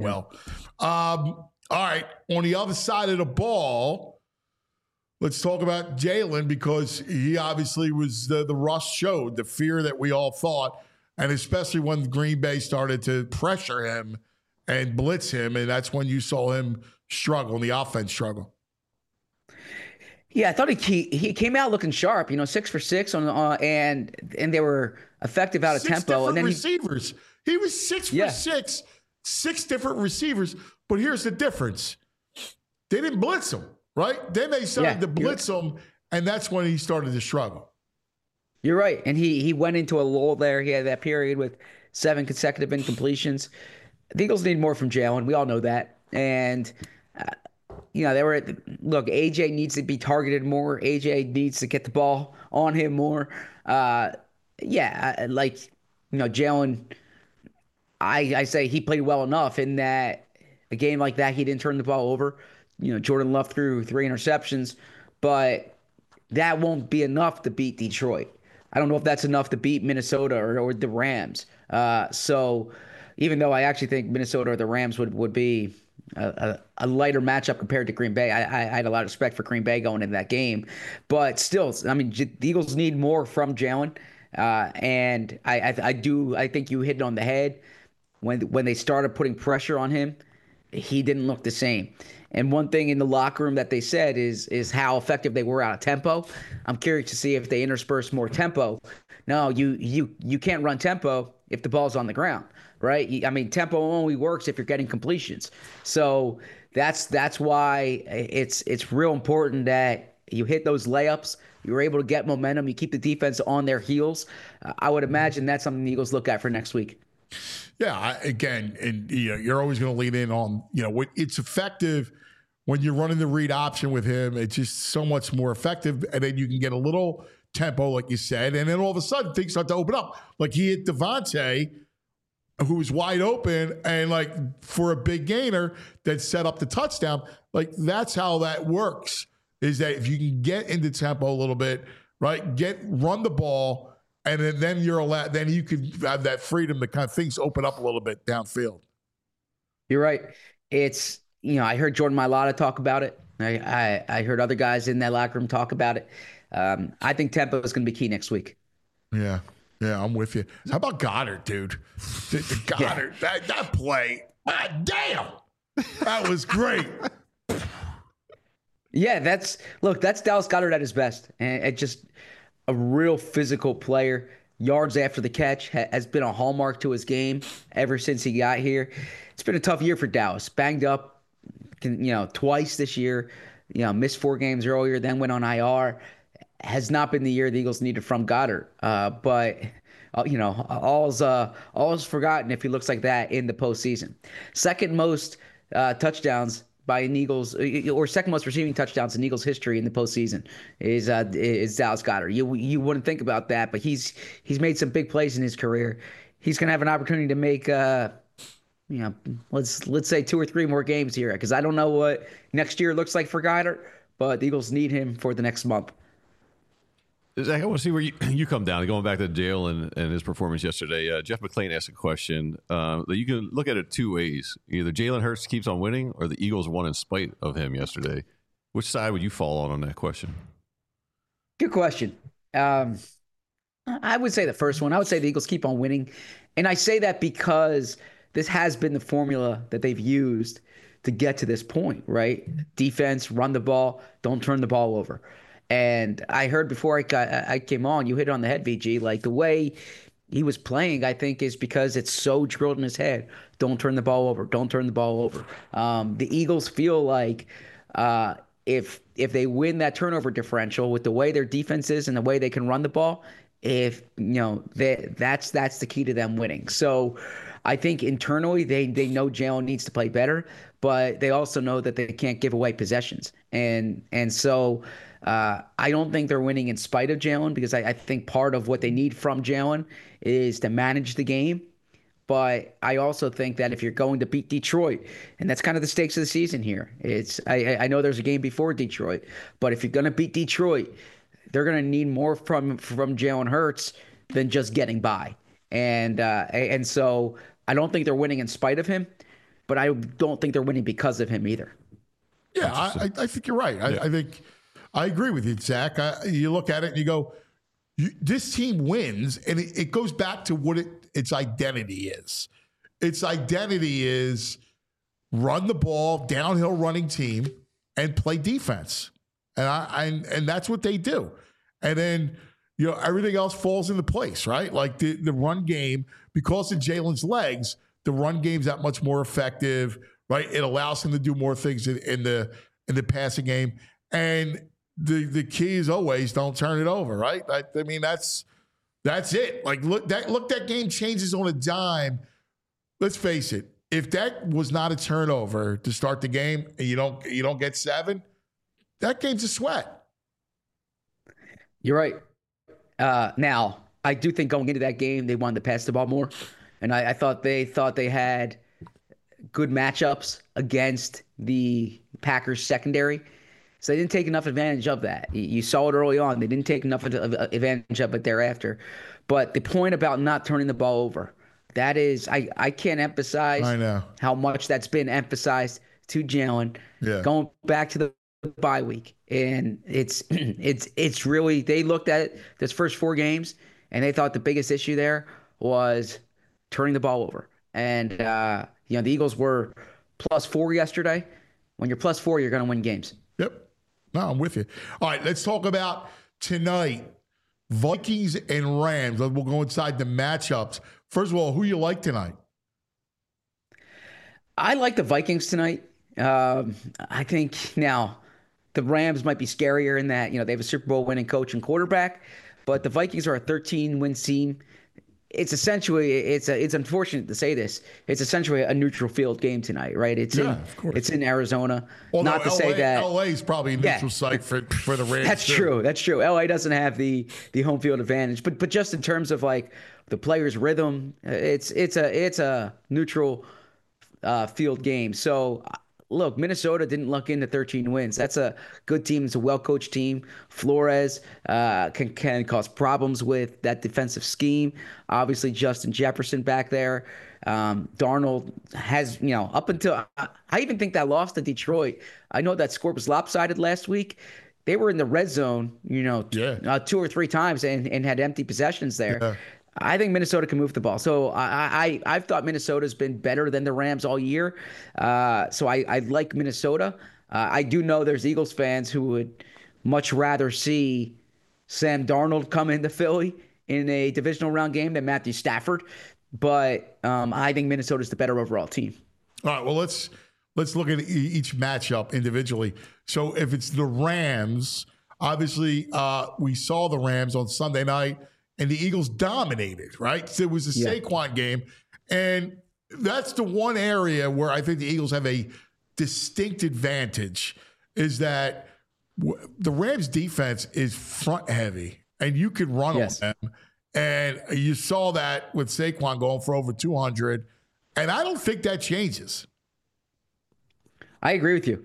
S2: All right, on the other side of the ball, let's talk about Jalen, because he obviously was the rust showed, the fear that we all thought, and especially when Green Bay started to pressure him and blitz him, and that's when you saw him struggle, and the offense struggle.
S5: Yeah, I thought he came out looking sharp. 6 for 6 and they were effective out of tempo. And then
S2: receivers. He was 6 for 6, 6 different receivers. But here's the difference: they didn't blitz him, right? Then they started to blitz him, and that's when he started to struggle.
S5: You're right, and he went into a lull there. He had that period with 7 consecutive incompletions. The Eagles need more from Jalen. We all know that, and. AJ needs to be targeted more. AJ needs to get the ball on him more. Jalen, I say he played well enough in that a game like that, he didn't turn the ball over. Jordan Love threw 3 interceptions, but that won't be enough to beat Detroit. I don't know if that's enough to beat Minnesota or the Rams. So even though I actually think Minnesota or the Rams would be a lighter matchup compared to Green Bay. I had a lot of respect for Green Bay going into that game, but still, the Eagles need more from Jalen, and I think you hit it on the head when they started putting pressure on him. He didn't look the same. And one thing in the locker room that they said is how effective they were out of tempo. I'm curious to see if they intersperse more tempo. No, you can't run tempo if the ball's on the ground. Right? Tempo only works if you're getting completions. So that's why it's real important that you hit those layups. You're able to get momentum. You keep the defense on their heels. I would imagine that's something the Eagles look at for next week.
S2: Yeah, you're always going to lean in on, it's effective when you're running the read option with him. It's just so much more effective. And then you can get a little tempo, like you said. And then all of a sudden things start to open up. Like he hit Devontae, who was wide open, and for a big gainer that set up the touchdown. That's how that works, is that if you can get into tempo a little bit, right, run the ball, and then you're allowed, then you can have that freedom to kind of things open up a little bit downfield.
S5: You're right. It's, I heard Jordan Mailata talk about it. I heard other guys in that locker room talk about it. I think tempo is going to be key next week.
S2: Yeah. Yeah, I'm with you. How about Goddard, dude? Goddard, that play, damn, that was great.
S5: Yeah, that's Dallas Goedert at his best, and just a real physical player. Yards after the catch has been a hallmark to his game ever since he got here. It's been a tough year for Dallas. Banged up, twice this year. Missed 4 games earlier, then went on IR. Has not been the year the Eagles needed from Goddard. But all's forgotten if he looks like that in the postseason. Second most touchdowns by an Eagles, or second most receiving touchdowns in Eagles history in the postseason is Dallas Goedert. You wouldn't think about that, but he's made some big plays in his career. He's going to have an opportunity to make let's say 2 or 3 more games here, because I don't know what next year looks like for Goedert, but the Eagles need him for the next month.
S3: Zach, I want to see where you come down. Going back to Jalen and his performance yesterday, Jeff McClain asked a question that you can look at it two ways. Either Jalen Hurts keeps on winning or the Eagles won in spite of him yesterday. Which side would you fall on that question?
S5: Good question. I would say the first one. I would say the Eagles keep on winning. And I say that because this has been the formula that they've used to get to this point, right? Defense, run the ball, don't turn the ball over. And I heard before I came on, you hit it on the head, VG. Like the way he was playing, I think, is because it's so drilled in his head. Don't turn the ball over. Don't turn the ball over. The Eagles feel like if they win that turnover differential with the way their defense is and the way they can run the ball, that's the key to them winning. So I think internally they know Jalen needs to play better, but they also know that they can't give away possessions. And so I don't think they're winning in spite of Jalen, because I think part of what they need from Jalen is to manage the game. But I also think that if you're going to beat Detroit, and that's kind of the stakes of the season here, I know there's a game before Detroit, but if you're going to beat Detroit, they're going to need more from Jalen Hurts than just getting by. And so I don't think they're winning in spite of him, but I don't think they're winning because of him either.
S2: Yeah, I think you're right. I think I agree with you, Zach. You look at it and you go, this team wins, and it goes back to what its identity is. Its identity is run the ball, downhill running team, and play defense. And that's what they do. And then, everything else falls into place, right? Like the run game, because of Jalen's legs, the run game's that much more effective, right? It allows him to do more things in the passing game. And the key is always don't turn it over, right? I mean, that's it. Like that game changes on a dime. Let's face it. If that was not a turnover to start the game and you don't get 7, that game's a sweat.
S5: You're right. Now, I do think going into that game, they wanted to pass the ball more. And I thought they had good matchups against the Packers secondary. So they didn't take enough advantage of that. You saw it early on. They didn't take enough advantage of it thereafter. But the point about not turning the ball over, that is, I can't emphasize how much that's been emphasized to Jalen. Yeah. Going back to the bye week. And it's really, they looked at this first 4 games and they thought the biggest issue there was turning the ball over. And, the Eagles were +4 yesterday. When you're +4, you're going to win games.
S2: Yep. No, I'm with you. All right, let's talk about tonight. Vikings and Rams. We'll go inside the matchups. First of all, who you like tonight?
S5: I like the Vikings tonight. I think now the Rams might be scarier in that, they have a Super Bowl winning coach and quarterback, but the Vikings are a 13-win team. It's essentially, it's unfortunate to say this, it's essentially a neutral field game tonight, right? It's in Arizona.
S2: Although
S5: not to say that
S2: LA is probably a neutral site for the Rams.
S5: That's true. That's true. LA doesn't have the home field advantage, but just in terms of like the players' rhythm, it's a neutral field game. So look, Minnesota didn't luck into 13 wins. That's a good team. It's a well-coached team. Flores can cause problems with that defensive scheme. Obviously, Justin Jefferson back there. Darnold has, up until I even think that loss to Detroit, I know that score was lopsided last week. They were in the red zone, 2 or 3 times and had empty possessions there. Yeah. I think Minnesota can move the ball. So I've thought Minnesota's been better than the Rams all year. So I like Minnesota. I do know there's Eagles fans who would much rather see Sam Darnold come into Philly in a divisional round game than Matthew Stafford. But I think Minnesota's the better overall team.
S2: All right, well, let's look at each matchup individually. So if it's the Rams, obviously we saw the Rams on Sunday night, and the Eagles dominated, right? So it was a Saquon game. And that's the one area where I think the Eagles have a distinct advantage, is that the Rams defense is front heavy, and you can run on them. And you saw that with Saquon going for over 200. And I don't think that changes.
S5: I agree with you.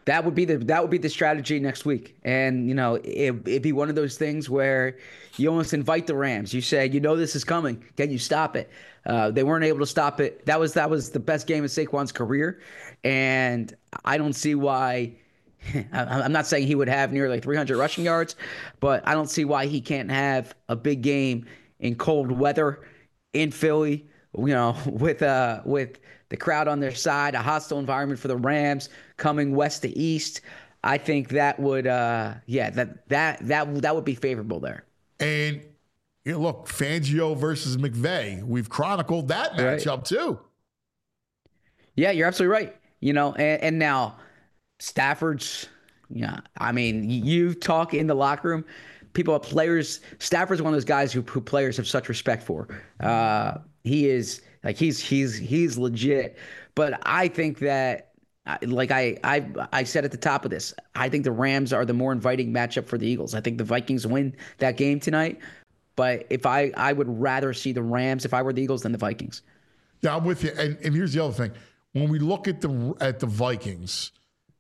S5: That would be the strategy next week. And, it'd be one of those things where you almost invite the Rams. You say, this is coming. Can you stop it? They weren't able to stop it. That was the best game of Saquon's career. And I don't see why. I'm not saying he would have nearly 300 rushing yards, but I don't see why he can't have a big game in cold weather in Philly, with the crowd on their side, a hostile environment for the Rams coming west to east. I think that would, that would be favorable there.
S2: And look, Fangio versus McVay. We've chronicled that matchup too.
S5: Yeah, you're absolutely right. And now Stafford's. Yeah, I mean, you talk in the locker room, players. Stafford's one of those guys who players have such respect for. He is. Like he's legit, but I think that, like I said at the top of this, I think the Rams are the more inviting matchup for the Eagles. I think the Vikings win that game tonight, but if I would rather see the Rams if I were the Eagles than the Vikings.
S2: Yeah, I'm with you. And here's the other thing: when we look at the Vikings,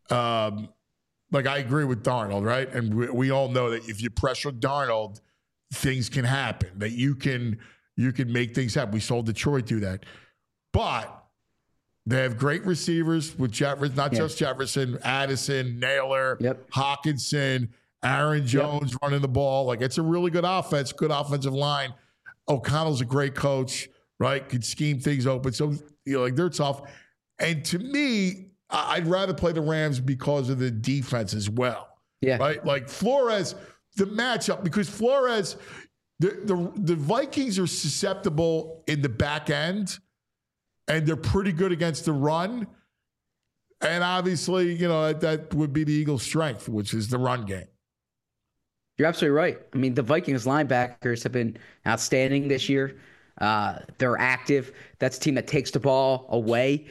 S2: like I agree with Darnold, right? And we all know that if you pressure Darnold, things can happen. That you can make things happen. We saw Detroit do that. But they have great receivers with Jefferson, not just Jefferson, Addison, Naylor, Hawkinson, Aaron Jones running the ball. Like, it's a really good offense, good offensive line. O'Connell's a great coach, right? Could scheme things open. So, they're tough. And to me, I'd rather play the Rams because of the defense as well. Yeah. Right? Like Flores, the matchup, because Flores – The Vikings are susceptible in the back end, and they're pretty good against the run. And obviously, that would be the Eagles' strength, which is the run game.
S5: You're absolutely right. I mean, the Vikings linebackers have been outstanding this year. They're active. That's a team that takes the ball away.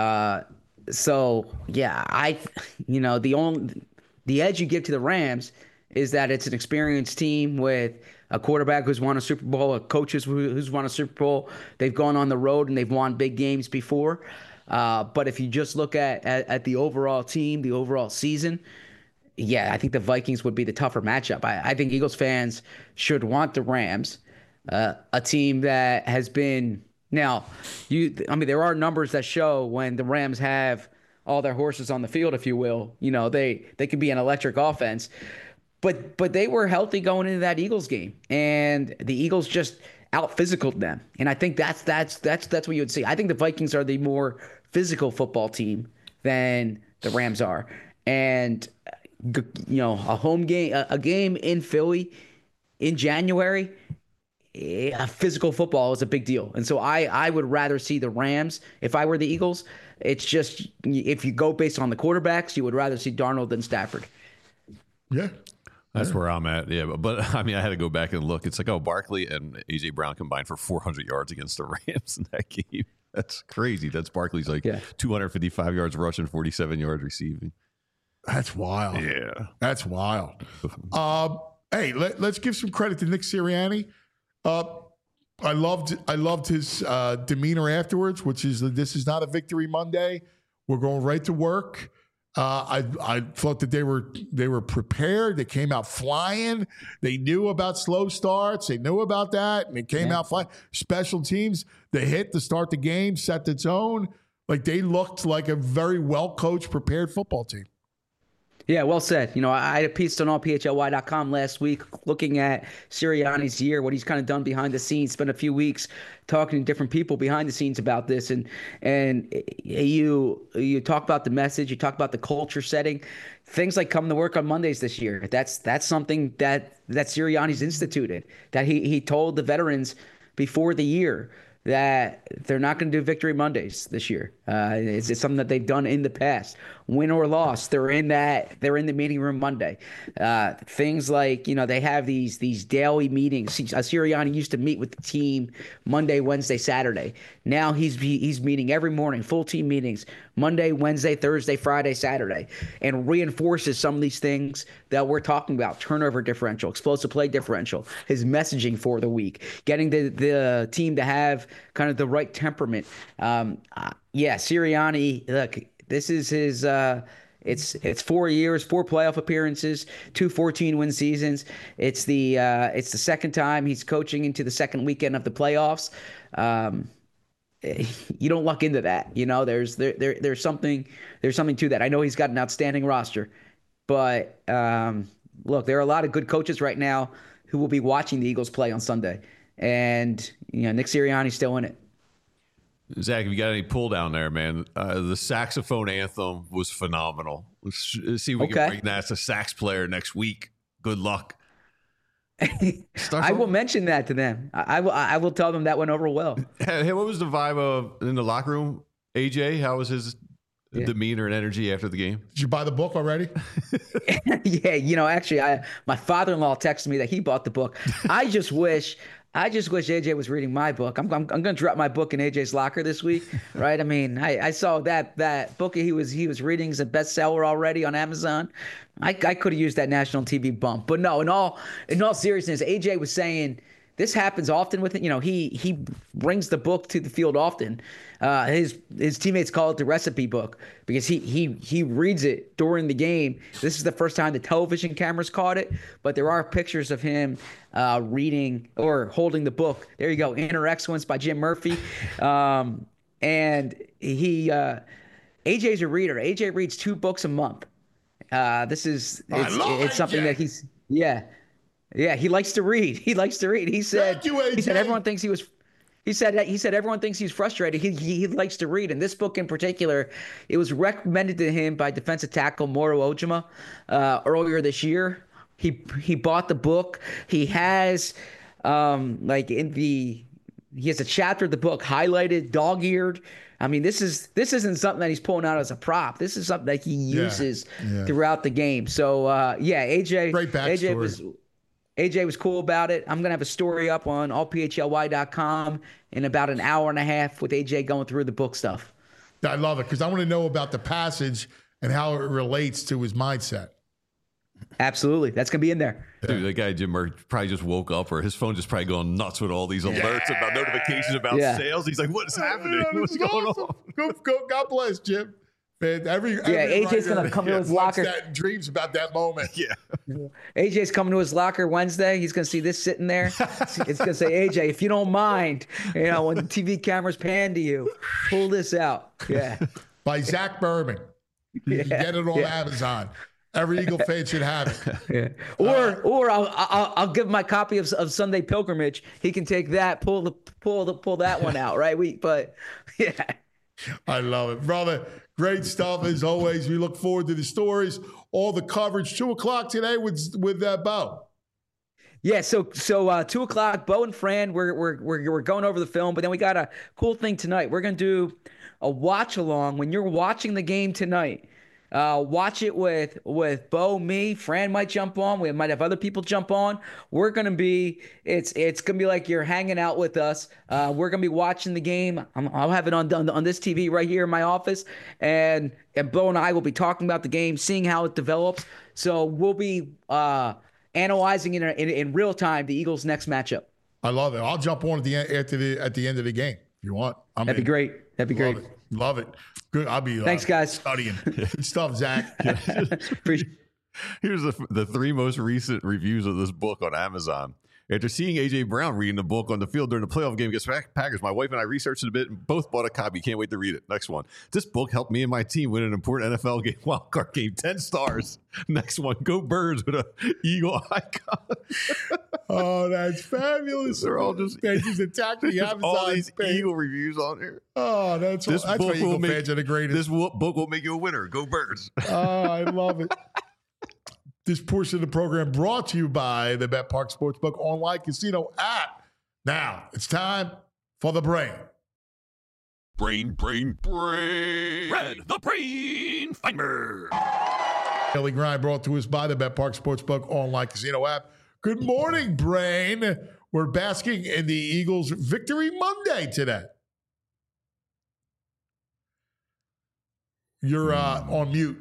S5: The edge you give to the Rams is that it's an experienced team with a quarterback who's won a Super Bowl, a coach who's won a Super Bowl. They've gone on the road and they've won big games before. But if you just look at the overall team, the overall season, I think the Vikings would be the tougher matchup. I think Eagles fans should want the Rams, a team that has been now. There are numbers that show when the Rams have all their horses on the field, if you will. They can be an electric offense. But they were healthy going into that Eagles game, and the Eagles just out-physicaled them. And I think that's what you would see. I think the Vikings are the more physical football team than the Rams are. And a home game, a game in Philly in January, physical football is a big deal. And so I would rather see the Rams if I were the Eagles. It's just if you go based on the quarterbacks, you would rather see Darnold than Stafford.
S2: Yeah.
S3: That's where I'm at. Yeah. But I had to go back and look. It's like, Barkley and A.J. Brown combined for 400 yards against the Rams in that game. That's crazy. That's Barkley's 255 yards rushing, 47 yards receiving.
S2: That's wild.
S3: Yeah.
S2: That's wild. Hey, let's give some credit to Nick Sirianni. I loved his demeanor afterwards, which is this is not a victory Monday. We're going right to work. I thought that they were prepared. They came out flying. They knew about slow starts. They knew about that, and they came out flying. Special teams, they hit to start the game, set the tone. Like, they looked like a very well-coached, prepared football team.
S5: Yeah, well said. I had a piece on allphly.com last week looking at Sirianni's year, what he's kind of done behind the scenes, spent a few weeks talking to different people behind the scenes about this. And you talk about the message, you talk about the culture setting, things like coming to work on Mondays this year. That's something that Sirianni's instituted, that he told the veterans before the year that they're not going to do Victory Mondays this year. It's something that they've done in the past. Win or loss, they're in the meeting room Monday. Things like, they have these daily meetings. Sirianni used to meet with the team Monday, Wednesday, Saturday. Now he's meeting every morning, full team meetings, Monday, Wednesday, Thursday, Friday, Saturday, and reinforces some of these things that we're talking about: turnover differential, explosive play differential, his messaging for the week, getting the team to have kind of the right temperament. Sirianni, look, this is It's 4 years, 4 playoff appearances, 2 14-win seasons. It's the second time he's coaching into the second weekend of the playoffs. You don't luck into that. There's something to that. I know he's got an outstanding roster, but look, there are a lot of good coaches right now who will be watching the Eagles play on Sunday, and Nick Sirianni's still in it.
S3: Zach, have you got any pull down there, man? The saxophone anthem was phenomenal. Let's see if we can bring that to sax player next week. Good luck.
S5: I will mention that to them. I will tell them that went over well.
S3: Hey, what was the vibe in the locker room? AJ, how was his demeanor and energy after the game?
S2: Did you buy the book already?
S5: Yeah, actually, my father-in-law texted me that he bought the book. I just wish AJ was reading my book. I'm going to drop my book in AJ's locker this week, right? I mean, I saw that book he was reading is a bestseller already on Amazon. I could have used that national TV bump, but no. In all seriousness, AJ was saying this happens often with it. He brings the book to the field often. His teammates call it the recipe book because he reads it during the game. This is the first time the television cameras caught it, but there are pictures of him reading or holding the book. There you go, Inner Excellence by Jim Murphy. And AJ's a reader. AJ reads 2 books a month. It's something that he's he likes to read. He said everyone thinks everyone thinks he's frustrated. He likes to read. And this book in particular, it was recommended to him by defensive tackle Moro Ojima earlier this year. He bought the book. He has he has a chapter of the book highlighted, dog-eared. I mean, this isn't something that he's pulling out as a prop. This is something that he uses throughout the game. So AJ,
S2: great backstory.
S5: AJ was cool about it. I'm going to have a story up on allphly.com in about an hour and a half with AJ going through the book stuff.
S2: I love it because I want to know about the passage and how it relates to his mindset.
S5: Absolutely. That's going to be in there.
S3: Dude, that guy, Jim Murray, probably just woke up or his phone just probably going nuts with all these alerts about notifications about sales. He's like, what's happening? What's going on?
S2: God bless, Jim. Man,
S5: AJ's going to come to his locker.
S2: Dreams about that moment.
S3: Yeah.
S5: AJ's coming to his locker Wednesday. He's going to see this sitting there. It's going to say, AJ, if you don't mind, when the TV cameras pan to you, pull this out. Yeah.
S2: By Zach Berman. You can get it on Amazon. Every Eagle fan should have it.
S5: Yeah. Or I'll give him my copy of Sunday Pilgrimage. He can take that, pull that one out, right? But
S2: I love it, brother. Great stuff as always. We look forward to the stories, all the coverage. 2:00 today with Bo.
S5: Yeah, so 2:00, Bo and Fran, we're going over the film, but then we got a cool thing tonight. We're gonna do a watch along when you're watching the game tonight. Watch it with Bo, me, Fran might jump on. We might have other people jump on. We're gonna be it's gonna be like you're hanging out with us. We're gonna be watching the game. I'll have it on this TV right here in my office, and Bo and I will be talking about the game, seeing how it develops. So we'll be analyzing in real time the Eagles' next matchup.
S2: I love it. I'll jump on at the end of the game if you want.
S5: That'd be great.
S2: Love it. Good. I'll be
S5: thanks, guys.
S2: Studying. Good stuff, Zach.
S3: Here's the 3 most recent reviews of this book on Amazon. After seeing A.J. Brown reading the book on the field during the playoff game against Packers, my wife and I researched it a bit and both bought a copy. Can't wait to read it. Next one. This book helped me and my team win an important NFL game, wildcard game. 10 stars. Next one. Go Birds with a Eagle icon.
S2: Oh, that's fabulous.
S3: They're all just
S2: attacking the Amazon.
S3: All these Eagle reviews on here.
S2: Oh, that's why Eagle fans are the greatest.
S3: This book will make you a winner. Go Birds.
S2: Oh, I love it. This portion of the program brought to you by the BetParx Sportsbook online casino app. Now, it's time for the brain.
S1: Brain. Red, the brain finder.
S2: Daily Grind brought to us by the BetParx Sportsbook online casino app. Good morning, brain. We're basking in the Eagles' Victory Monday today. You're on mute.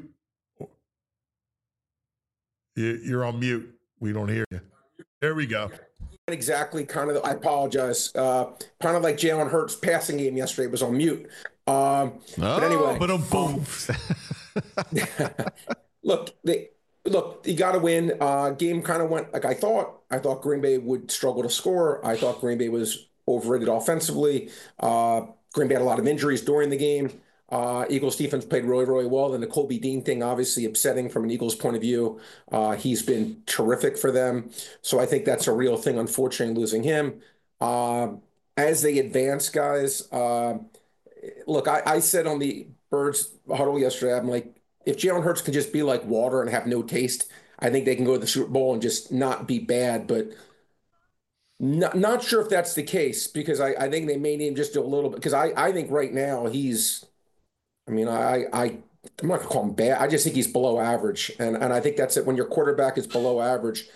S2: You're on mute. We don't hear you. There we go.
S6: Exactly. I apologize. Kind of like Jalen Hurts' passing game yesterday was on mute. But anyway.
S2: But boom.
S6: Look, you got to win. Game kind of went like I thought. I thought Green Bay would struggle to score. I thought Green Bay was overrated offensively. Green Bay had a lot of injuries during the game. Eagles defense played really, really well. Then the Colby Dean thing, obviously upsetting from an Eagles point of view. He's been terrific for them. So I think that's a real thing, unfortunately, losing him. As they advance, guys, look, I said on the Birds huddle yesterday, I'm like, if Jalen Hurts can just be like water and have no taste, I think they can go to the Super Bowl and just not be bad. But not sure if that's the case, because I think they may need him just a little bit. Because I think right now I'm not going to call him bad. I just think he's below average. And I think that's it. When your quarterback is below average,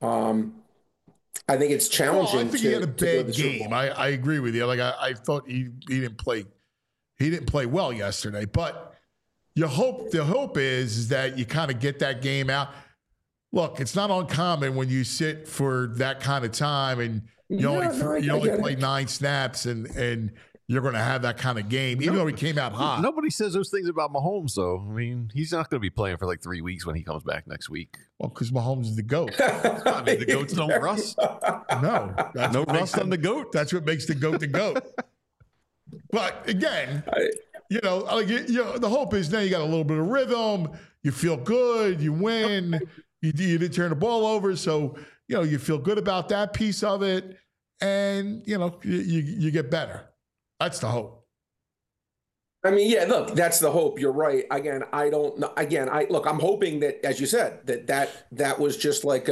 S6: I think it's challenging.
S2: Well, I think he had a bad game. I agree with you. Like I thought he didn't play. He didn't play well yesterday. But the hope is that you kind of get that game out. Look, it's not uncommon when you sit for that kind of time and you only play 9 snaps and you're going to have that kind of game, even though he came out hot.
S3: Nobody says those things about Mahomes, though. I mean, he's not going to be playing for like 3 weeks when he comes back next week.
S2: Well, because Mahomes is the GOAT.
S3: I mean, the GOATs don't rust.
S2: No.
S3: No rust on the GOAT.
S2: That's what makes the GOAT the GOAT. But again, the hope is now you got a little bit of rhythm. You feel good. You win. You didn't turn the ball over. So, you feel good about that piece of it. And, you get better. That's the hope.
S6: I mean, yeah, look, that's the hope. You're right. Again, I don't know. Again, I'm hoping that, as you said, that was just like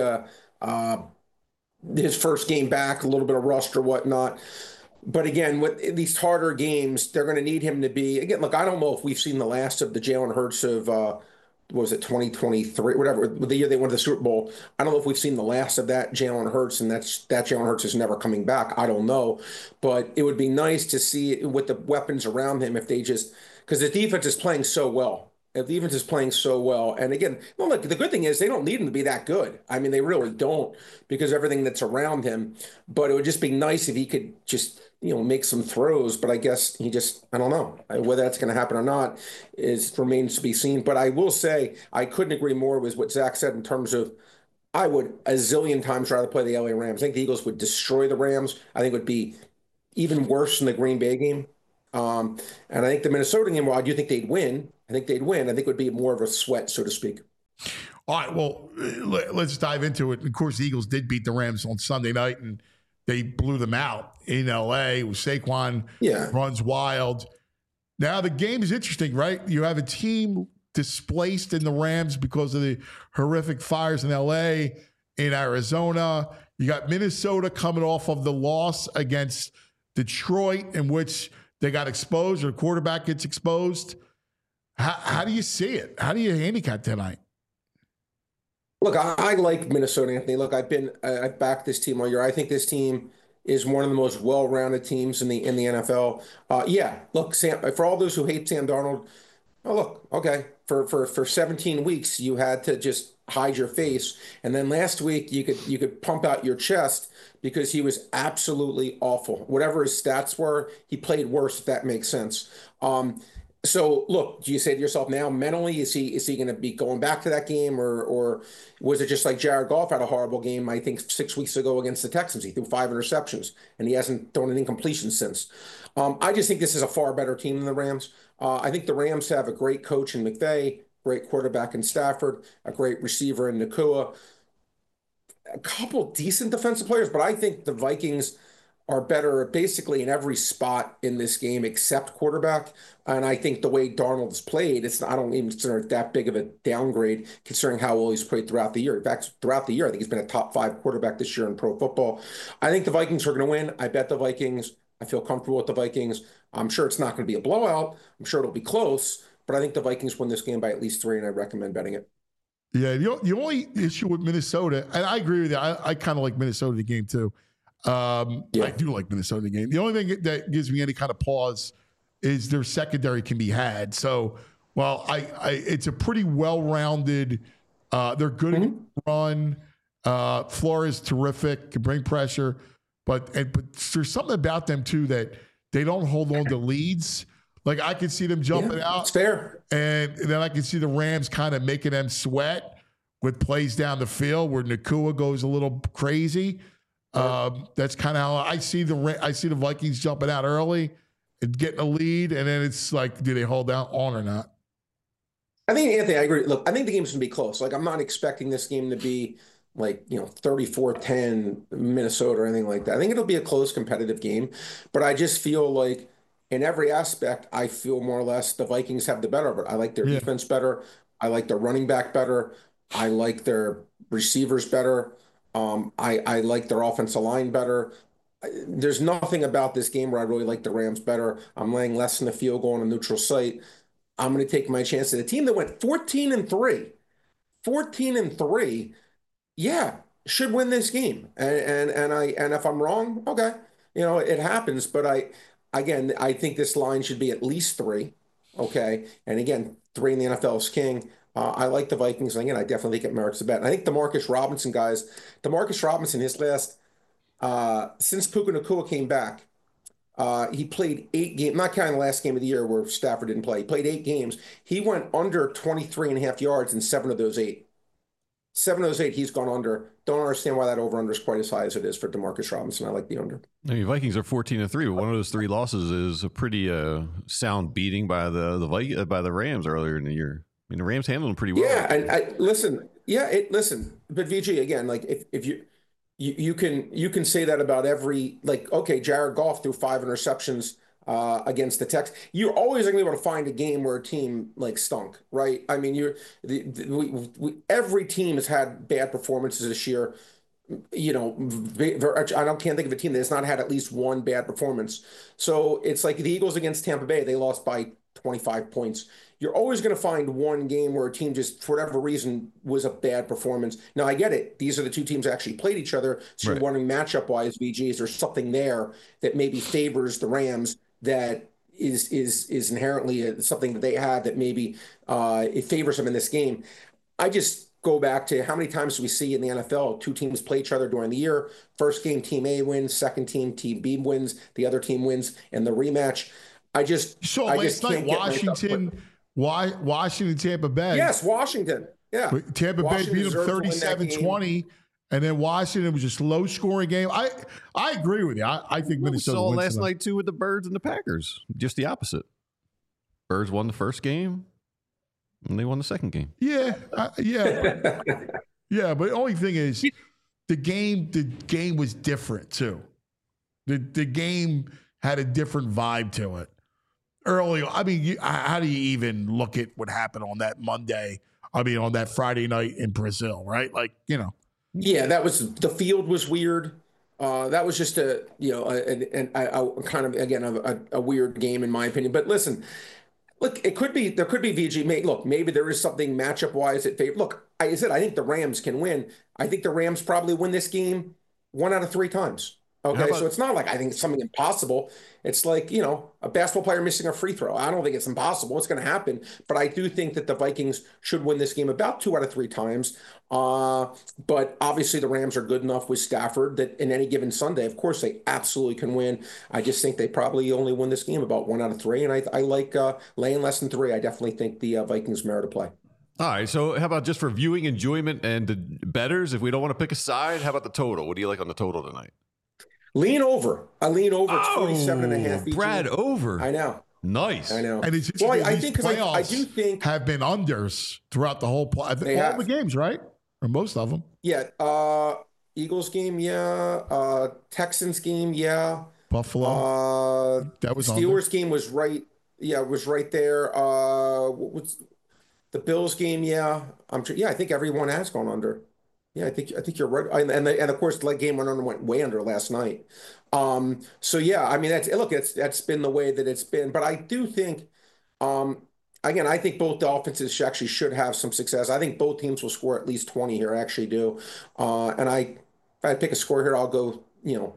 S6: his first game back, a little bit of rust or whatnot. But again, with these harder games, they're going to need him to be, again, look, I don't know if we've seen the last of the Jalen Hurts of, what was it, 2023, whatever, the year they went to the Super Bowl. I don't know if we've seen the last of that Jalen Hurts, and that Jalen Hurts is never coming back. I don't know. But it would be nice to see with the weapons around him if they just, because the defense is playing so well. The defense is playing so well. And again, well, look, the good thing is they don't need him to be that good. I mean, they really don't, because everything that's around him. But it would just be nice if he could just, make some throws. But I guess I don't know whether that's going to happen or not remains to be seen. But I will say I couldn't agree more with what Zach said in terms of I would a zillion times rather play the LA Rams. I think the Eagles would destroy the Rams. I think it would be even worse than the Green Bay game. And I think the Minnesota game, well, I do think they'd win. I think it would be more of a sweat, so to speak.
S2: All right, well, let's dive into it. Of course, the Eagles did beat the Rams on Sunday night, and they blew them out in L.A. Saquon runs wild. Now, the game is interesting, right? You have a team displaced in the Rams because of the horrific fires in L.A., in Arizona. You got Minnesota coming off of the loss against Detroit, in which they got exposed, or the quarterback gets exposed. How do you see it? How do you handicap tonight?
S6: Look, I like Minnesota, Anthony. Look, I've backed this team all year. I think this team is one of the most well-rounded teams in the NFL. Look, Sam, for all those who hate Sam Darnold, look, okay, for 17 weeks you had to just hide your face, and then last week you could pump out your chest because he was absolutely awful. Whatever his stats were, he played worse, if that makes sense. So look, do you say to yourself now, mentally, is he going to be going back to that game, or was it just like Jared Goff had a horrible game, I think 6 weeks ago against the Texans? He threw 5 interceptions and he hasn't thrown an incompletion since. I just think this is a far better team than the Rams. I think the Rams have a great coach in McVay, great quarterback in Stafford, a great receiver in Nacua, a couple decent defensive players, but I think the Vikings are better basically in every spot in this game except quarterback. And I think the way Darnold's played, I don't even consider it that big of a downgrade considering how well he's played throughout the year. In fact, throughout the year, I think he's been a top 5 quarterback this year in pro football. I think the Vikings are going to win. I bet the Vikings. I feel comfortable with the Vikings. I'm sure it's not going to be a blowout. I'm sure it'll be close, but I think the Vikings win this game by at least 3, and I recommend betting it.
S2: Yeah, the only issue with Minnesota, and I agree with you, I kind of like Minnesota the game too. I do like Minnesota the game. The only thing that gives me any kind of pause is their secondary can be had. So, well, it's a pretty well-rounded. They're good at run. Flores terrific, can bring pressure, but there's something about them too that they don't hold on to leads. Like I could see them jumping out.
S6: It's fair.
S2: And then I could see the Rams kind of making them sweat with plays down the field where Nacua goes a little crazy. That's kind of how I see the Vikings jumping out early and getting a lead, and then it's like, do they hold out on or not?
S6: I think, Anthony, I agree. Look, I think the game's going to be close. Like, I'm not expecting this game to be like, 34-10 Minnesota or anything like that. I think it'll be a close, competitive game. But I just feel like in every aspect, I feel more or less the Vikings have the better of it. I like their defense better. I like their running back better. I like their receivers better. I like their offensive line better. There's nothing about this game where I really like the Rams better. I'm laying less than a field goal on a neutral site. I'm going to take my chance at a team that went 14-3. 14-3, yeah, should win this game. And if I'm wrong, okay, it happens. But I think this line should be at least 3. Okay, and again, 3 in the NFL is king. I like the Vikings. And again, I definitely think it merits a bet. And I think Demarcus Robinson, his last, since Puka Nacua came back, he played 8 games, not counting the last game of the year where Stafford didn't play. He played 8 games. He went under 23.5 yards in 7 of those 8. 7 of those 8, he's gone under. Don't understand why that over-under is quite as high as it is for Demarcus Robinson. I like the under.
S3: I mean, Vikings are 14-3, but one of those 3 losses is a pretty sound beating by the Rams earlier in the year. I mean, the Rams handled them pretty well.
S6: Yeah, and listen. But VG, again, like if you can say that about every, like, okay, Jared Goff threw 5 interceptions against the Texans. You're always going to be able to find a game where a team like stunk, right? I mean, every team has had bad performances this year. I can't think of a team that has not had at least one bad performance. So it's like the Eagles against Tampa Bay, they lost by 25 points. You're always going to find one game where a team just, for whatever reason, was a bad performance. Now, I get it. These are the 2 teams that actually played each other. So You're wondering matchup-wise, VG, is there something there that maybe favors the Rams that is inherently something that they have that maybe it favors them in this game? I just go back to how many times do we see in the NFL 2 teams play each other during the year? First game, team A wins. Second team B wins. The other team wins. And the rematch, I just
S2: night, Washington, Tampa Bay.
S6: Yes, Washington. Yeah.
S2: Tampa Bay beat them 37-20. And then Washington was just low-scoring game. I agree with you. I think Minnesota
S3: saw last night, too, with the Birds and the Packers. Just the opposite. Birds won the first game, and they won the second game.
S2: Yeah. Yeah, but the only thing is the game was different, too. The game had a different vibe to it. Early, I mean, how do you even look at what happened on that Monday? I mean, on that Friday night in Brazil, right? Like,
S6: Yeah, the field was weird. That was just a kind of, again, a weird game in my opinion. But listen, look, there could be VG. Look, maybe there is something matchup wise that favor. Look, I think the Rams can win. I think the Rams probably win this game 1 out of 3 times. Okay, so it's not like I think it's something impossible. It's like, a basketball player missing a free throw. I don't think it's impossible. It's going to happen. But I do think that the Vikings should win this game about 2 out of 3 times. But obviously the Rams are good enough with Stafford that in any given Sunday, of course, they absolutely can win. I just think they probably only win this game about 1 out of 3. And I like laying less than 3. I definitely think the Vikings merit a play.
S3: All right, so how about just for viewing enjoyment and the bettors? If we don't want to pick a side, how about the total? What do you like on the total tonight?
S6: Lean over. I lean over. It's 47.5.
S3: Brad, over.
S6: I know.
S3: Nice.
S6: I know.
S2: And it's
S6: I think because I do think
S2: have been unders throughout the whole all the games, right? Or most of them.
S6: Yeah. Eagles game, yeah. Texans game, yeah.
S2: Buffalo. That was
S6: Steelers game was right. Yeah, it was right there. What's the Bills game? Yeah. I think everyone has gone under. Yeah, I think you're right, and of course the game went way under last night. So yeah, I mean that's been the way that it's been. But I do think, again, I think both the offenses actually should have some success. I think both teams will score at least 20 here. I actually do. And if I pick a score here, I'll go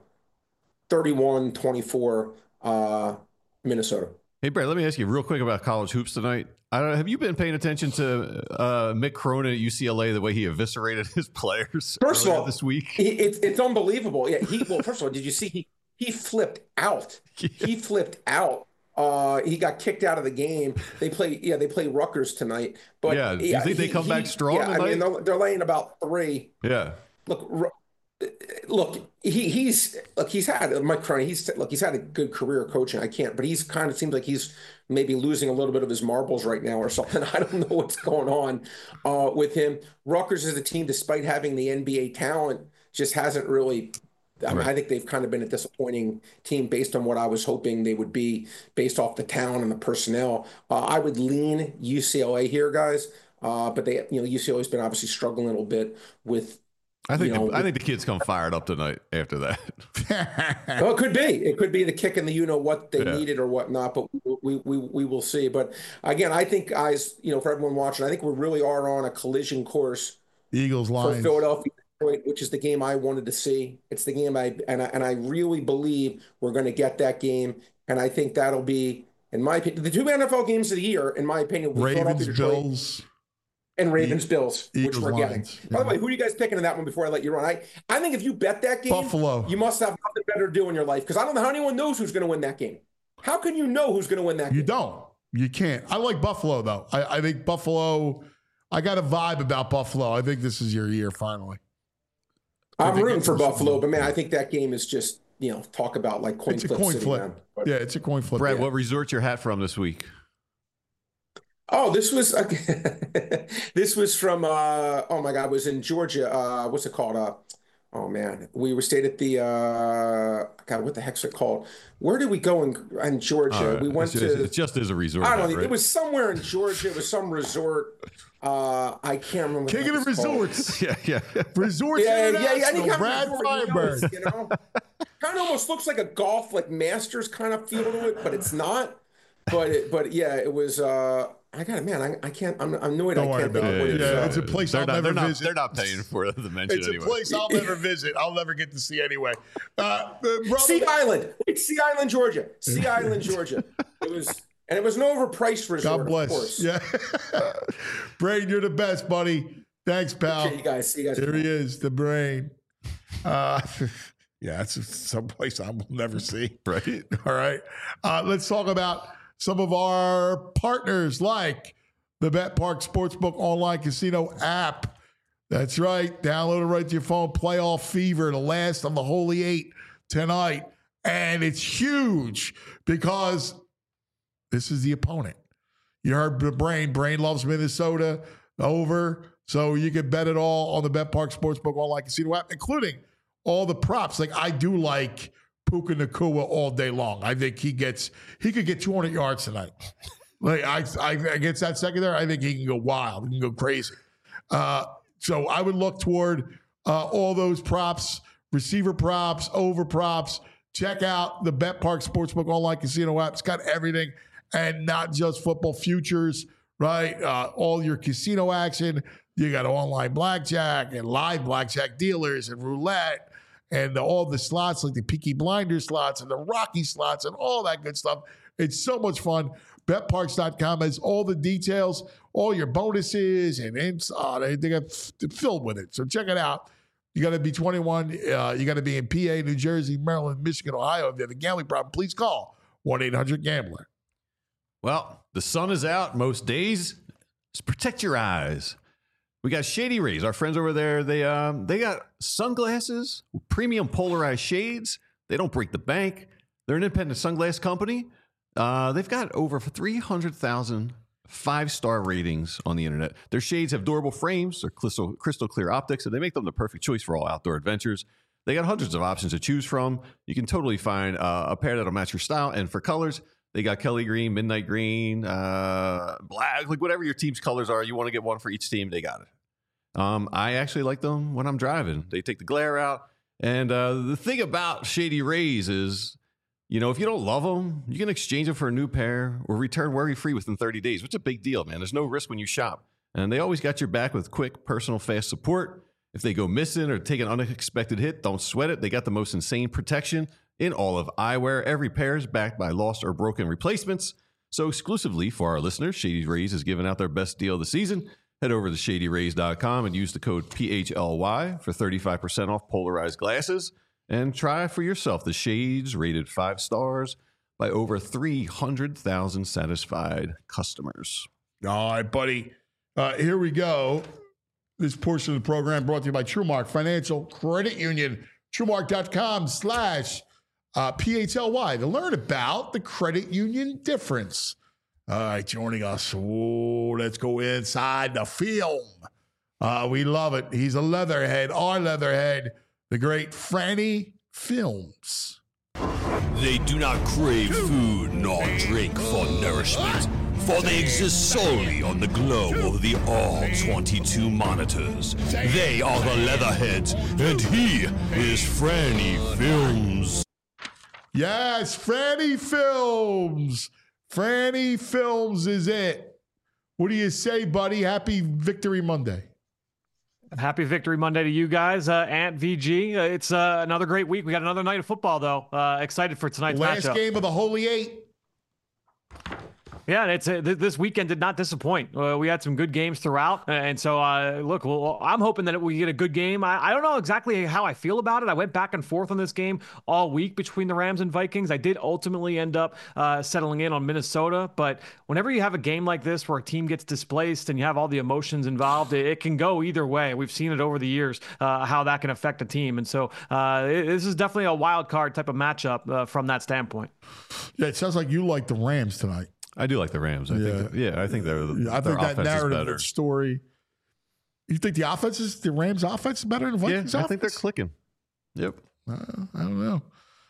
S6: 31-24 Minnesota.
S3: Hey Brad, let me ask you real quick about college hoops tonight. Have you been paying attention to Mick Cronin at UCLA, the way he eviscerated his players
S6: first of all
S3: this week?
S6: It's unbelievable. Yeah, first of all, did you see he flipped out? He flipped out He got kicked out of the game. They play Rutgers tonight. But
S3: do you think they come back strong?
S6: Yeah,
S3: tonight?
S6: I mean, they're laying about 3.
S3: Yeah.
S6: Look, he's had Mike Cronin. He's had a good career coaching. But he's kind of seems like he's maybe losing a little bit of his marbles right now or something. I don't know what's going on with him. Rutgers is a team, despite having the NBA talent, just hasn't really. I mean, I think they've kind of been a disappointing team based on what I was hoping they would be based off the talent and the personnel. I would lean UCLA here, guys. But UCLA's been obviously struggling a little bit with.
S3: I think the kids come fired up tonight after that.
S6: Well, it could be. It could be the kick in the what they needed or whatnot, but we will see. But again, I think, guys, for everyone watching, I think we really are on a collision course.
S2: Eagles Lions
S6: for Philadelphia, which is the game I wanted to see. It's the game I really believe we're going to get that game, and I think that'll be, in my opinion, the 2 NFL games of the year. In my opinion, will be
S2: Ravens Bills.
S6: And Ravens-Bills, which we're getting.
S2: Yeah.
S6: By the way, who are you guys picking in that one before I let you run? I think if you bet that game,
S2: Buffalo,
S6: you must have nothing better to do in your life, because I don't know how anyone knows who's going to win that game. How can you know who's going to win that game?
S2: You don't. You can't. I like Buffalo, though. I think Buffalo, I got a vibe about Buffalo. I think this is your year, finally.
S6: I'm rooting for Buffalo, but, man, I think that game is just, talk about like coin flip.
S2: It's a coin flip. Yeah, it's a coin flip.
S3: Brad, what resort's your hat from this week?
S6: Oh, this was from oh my God, it was in Georgia. What's it called? Oh man, we stayed at the God, what the heck's it called? Where did we go in Georgia? We went to.
S3: It just is a resort.
S6: I don't know.
S3: Right?
S6: It was somewhere in Georgia. It was some resort. I can't remember.
S2: King of the Resorts.
S3: Yeah.
S2: Resorts.
S6: Yeah.
S2: Brad Feinberg.
S6: Kind of almost looks like a golf, like Masters kind of feel to it, but it's not. But yeah, it was. I got it, man. I can't. I'm annoyed.
S2: Don't
S6: I can't
S2: worry
S6: think
S2: about it. It's a place I'll never visit.
S3: They're not paying for the mention.
S2: It's
S3: anyway.
S2: a place I'll never visit. I'll never get to see anyway.
S6: Sea Island. It's Sea Island, Georgia. Sea Island, Georgia. It was an overpriced resort.
S2: God bless.
S6: Of course.
S2: Yeah. Brain, you're the best, buddy. Thanks, pal.
S6: Okay, you guys. See you guys.
S2: Here he is, the Brain. Yeah, it's someplace I will never see.
S3: Right.
S2: All right. Let's talk about some of our partners, like the BetParx Sportsbook online casino app. That's right. Download it right to your phone. Playoff fever, the last of the Holy Eight tonight. And it's huge because this is the opponent. You heard the Brain. Brain loves Minnesota over. So you can bet it all on the BetParx Sportsbook online casino app, including all the props. Like, I do like Puka Nacua all day long. I think he could get 200 yards tonight. Like, I against that secondary, I think he can go wild. He can go crazy. So I would look toward all those props, receiver props, over props. Check out the BetParx Sportsbook online casino app. It's got everything, and not just football futures, right? All your casino action. You got online blackjack and live blackjack dealers and roulette and all the slots, like the Peaky Blinders slots and the Rocky slots and all that good stuff. It's so much fun. BetParx.com has all the details, all your bonuses, and they got filled with it. So check it out. You got to be 21. You got to be in PA, New Jersey, Maryland, Michigan, Ohio. If you have a gambling problem, please call 1-800-GAMBLER.
S3: Well, the sun is out most days. Just protect your eyes. We got Shady Rays. Our friends over there, they got sunglasses, premium polarized shades. They don't break the bank. They're an independent sunglass company. They've got over 300,000 5-star ratings on the internet. Their shades have durable frames, they're crystal clear optics, and they make them the perfect choice for all outdoor adventures. They got hundreds of options to choose from. You can totally find a pair that'll match your style. And for colors, they got Kelly green, midnight green, black, like whatever your team's colors are. You want to get one for each team, they got it. I actually like them when I'm driving. They take the glare out. And the thing about Shady Rays is, if you don't love them, you can exchange them for a new pair or return worry-free within 30 days, which is a big deal, man. There's no risk when you shop. And they always got your back with quick, personal, fast support. If they go missing or take an unexpected hit, don't sweat it. They got the most insane protection in all of eyewear. Every pair is backed by lost or broken replacements. So exclusively for our listeners, Shady Rays is giving out their best deal of the season. Head over to ShadyRays.com and use the code PHLY for 35% off polarized glasses. And try for yourself the shades rated 5 stars, by over 300,000 satisfied customers.
S2: All right, buddy. Here we go. This portion of the program brought to you by TrueMark Financial Credit Union. TrueMark.com/PHLY to learn about the credit union difference. All right, joining us. Let's go inside the film. We love it. He's a leatherhead, our leatherhead, the great Franny Films.
S1: They do not crave food nor drink for nourishment, for they exist solely on the glow of the all 22 monitors. They are the Leatherheads, and he is Franny Films.
S2: Yes, Franny Films. Franny Films is it. What do you say, buddy? Happy Victory Monday.
S7: Happy Victory Monday to you guys. Ant VG. It's another great week. We got another night of football, though. Excited for tonight's matchup.
S2: Last game of the Holy Eight.
S7: Yeah, it's this weekend did not disappoint. We had some good games throughout, and so look, well, I'm hoping that we get a good game. I don't know exactly how I feel about it. I went back and forth on this game all week between the Rams and Vikings. I did ultimately end up settling in on Minnesota, but whenever you have a game like this where a team gets displaced and you have all the emotions involved, it can go either way. We've seen it over the years how that can affect a team, and so this is definitely a wild card type of matchup from that standpoint.
S2: Yeah, it sounds like you like the Rams tonight.
S3: I do like the Rams. I think
S2: that narrative story. You think the Rams' offense is better than the Vikings' offense?
S3: I think they're clicking. Yep.
S2: I don't know.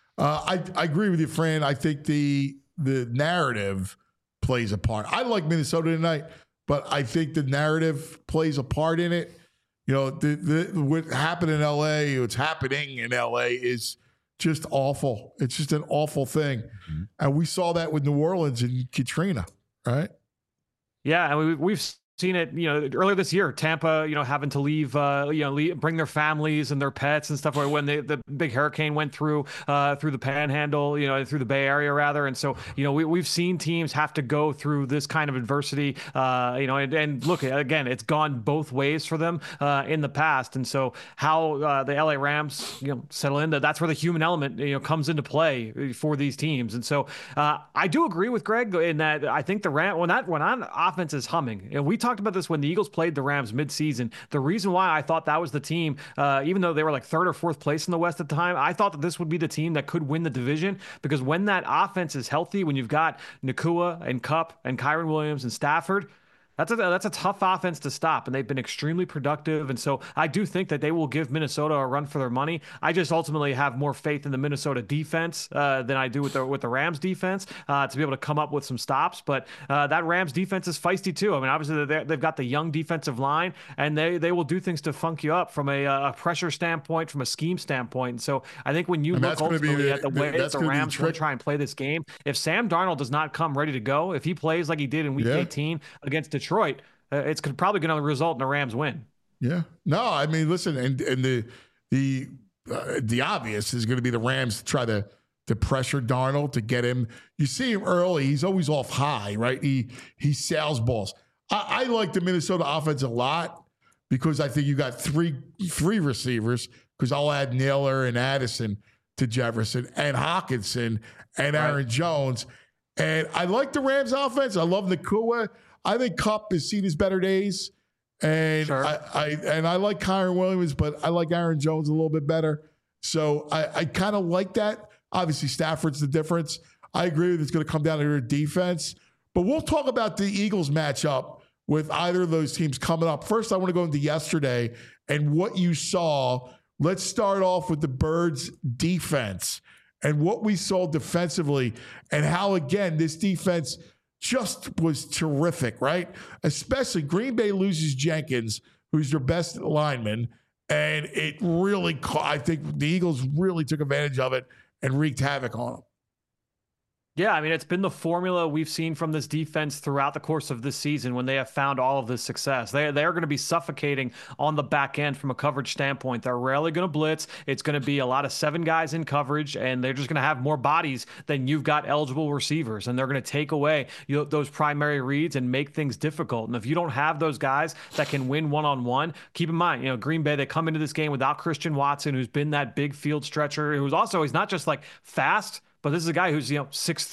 S2: I agree with you, Fran. I think the narrative plays a part. I like Minnesota tonight, but I think the narrative plays a part in it. You know, what happened in L.A., what's happening in L.A. is just awful. It's just an awful thing. Mm-hmm. And we saw that with New Orleans and Katrina, right?
S7: Yeah, and we've seen it, earlier this year, Tampa, having to leave, bring their families and their pets and stuff. When the big hurricane went through the Panhandle, through the Bay Area rather. And so, we've seen teams have to go through this kind of adversity, and look, again, it's gone both ways for them in the past. And so how the LA Rams, settle in, that's where the human element, comes into play for these teams. And so I do agree with Greg in that I think the Rams, when that offense is humming, and we talked about this when the Eagles played the Rams midseason. The reason why I thought that was the team, even though they were like third or fourth place in the West at the time, I thought that this would be the team that could win the division, because when that offense is healthy, when you've got Nacua and Kupp and Kyren Williams and Stafford, that's a tough offense to stop, and they've been extremely productive. And so I do think that they will give Minnesota a run for their money. I just ultimately have more faith in the Minnesota defense than I do with the Rams defense to be able to come up with some stops. But that Rams defense is feisty too. I mean, obviously they've got the young defensive line, and they will do things to funk you up from a pressure standpoint, from a scheme standpoint. And so I think when you look ultimately at the way that the Rams will try and play this game, if Sam Darnold does not come ready to go, if he plays like he did in Week 18 against Detroit, it's probably going to result in a Rams win.
S2: Yeah. No, I mean, listen, and the obvious is going to be the Rams try to pressure Darnold to get him. You see him early; he's always off high, right? He sails balls. I like the Minnesota offense a lot because I think you got three receivers. Because I'll add Naylor and Addison to Jefferson and Hockenson and Aaron Jones, and I like the Rams offense. I love Nacua. I think Kupp has seen his better days, and I like Kyren Williams, but I like Aaron Jones a little bit better. So I kind of like that. Obviously, Stafford's the difference. I agree with it's going to come down to their defense, but we'll talk about the Eagles matchup with either of those teams coming up. First, I want to go into yesterday and what you saw. Let's start off with the Birds' defense and what we saw defensively, and how again this defense just was terrific, right? Especially Green Bay loses Jenkins, who's their best lineman, and it really, I think the Eagles really took advantage of it and wreaked havoc on them.
S7: Yeah, I mean, it's been the formula we've seen from this defense throughout the course of this season when they have found all of this success. They are going to be suffocating on the back end from a coverage standpoint. They're rarely going to blitz. It's going to be a lot of 7 guys in coverage, and they're just going to have more bodies than you've got eligible receivers, and they're going to take away those primary reads and make things difficult. And if you don't have those guys that can win one-on-one, keep in mind, Green Bay, they come into this game without Christian Watson, who's been that big field stretcher, he's not just like fast, but this is a guy who's 6'2.5",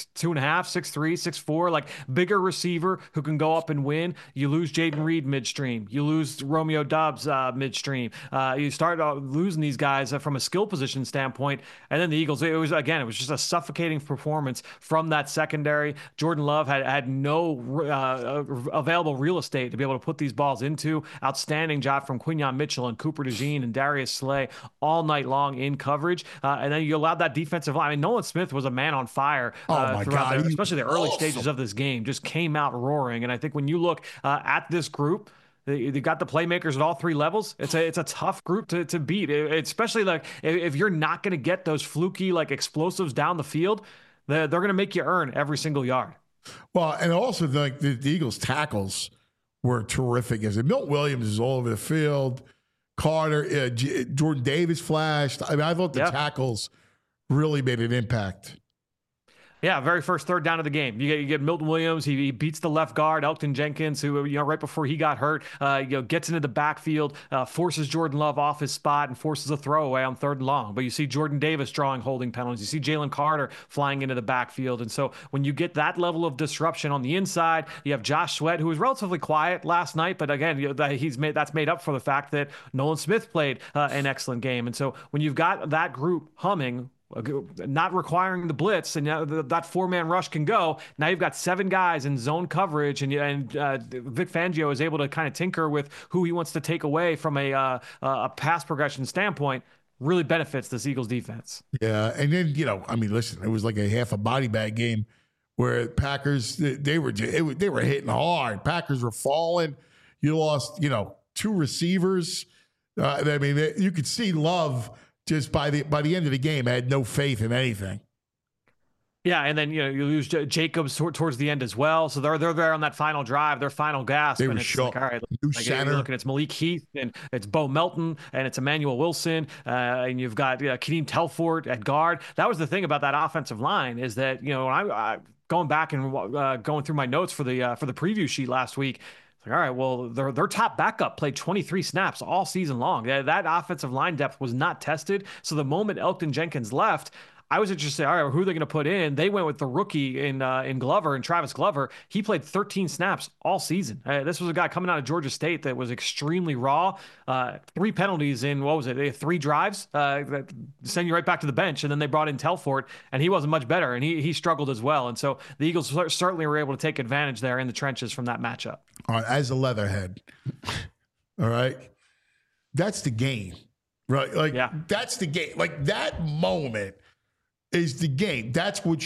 S7: 6'3", 6'4", like bigger receiver who can go up and win. You lose Jayden Reed midstream. You lose Romeo Doubs midstream. You start losing these guys from a skill position standpoint, and then the Eagles. It was just a suffocating performance from that secondary. Jordan Love had no available real estate to be able to put these balls into. Outstanding job from Quinyon Mitchell and Cooper DeJean and Darius Slay all night long in coverage, and then you allowed that defensive line. I mean, Nolan Smith was a man on fire throughout, especially the early stages of this game. Just came out roaring. And I think when you look at this group, they got the playmakers at all three levels. It's a tough group to beat, especially like if you're not going to get those fluky like explosives down the field. They're going to make you earn every single yard.
S2: Well, and also the Eagles tackles were terrific. As Milton Williams is all over the field. Carter, Jordan Davis flashed. I mean, I thought the tackles really made an impact.
S7: Yeah, very first third down of the game. You get Milton Williams. He beats the left guard, Elgton Jenkins, who right before he got hurt, gets into the backfield, forces Jordan Love off his spot and forces a throwaway on 3rd and long. But you see Jordan Davis drawing holding penalties. You see Jalen Carter flying into the backfield. And so when you get that level of disruption on the inside, you have Josh Sweat, who was relatively quiet last night, but again, that's made up for the fact that Nolan Smith played an excellent game. And so when you've got that group humming, not requiring the blitz, and that 4-man rush can go. Now you've got 7 guys in zone coverage, and Vic Fangio is able to kind of tinker with who he wants to take away from a pass progression standpoint. Really benefits this Eagles defense.
S2: Yeah, and then listen, it was like a half a body bag game where Packers they were hitting hard. Packers were falling. You lost 2 receivers. You could see Love. Just by the end of the game, I had no faith in anything.
S7: Yeah, and then you lose Jacobs towards the end as well. So they're there on that final drive, their final gasp.
S2: They were shocked.
S7: Like, all right, you're looking, it's Malik Heath and it's Bo Melton and it's Emmanuel Wilson and you've got Kadeem Telfort at guard. That was the thing about that offensive line is that when I going back and going through my notes for the preview sheet last week. All right, well, their top backup played 23 snaps all season long. That offensive line depth was not tested. So the moment Elgton Jenkins left, I was interested, all right, who are they going to put in? They went with the rookie in Glover, and Travis Glover. He played 13 snaps all season. This was a guy coming out of Georgia State that was extremely raw. 3 penalties in, 3 drives that send you right back to the bench. And then they brought in Telfort, and he wasn't much better, and he struggled as well. And so the Eagles certainly were able to take advantage there in the trenches from that matchup.
S2: All right, as a Leatherhead, all right, that's the game, right? That's the game. Like that moment is the game. That's what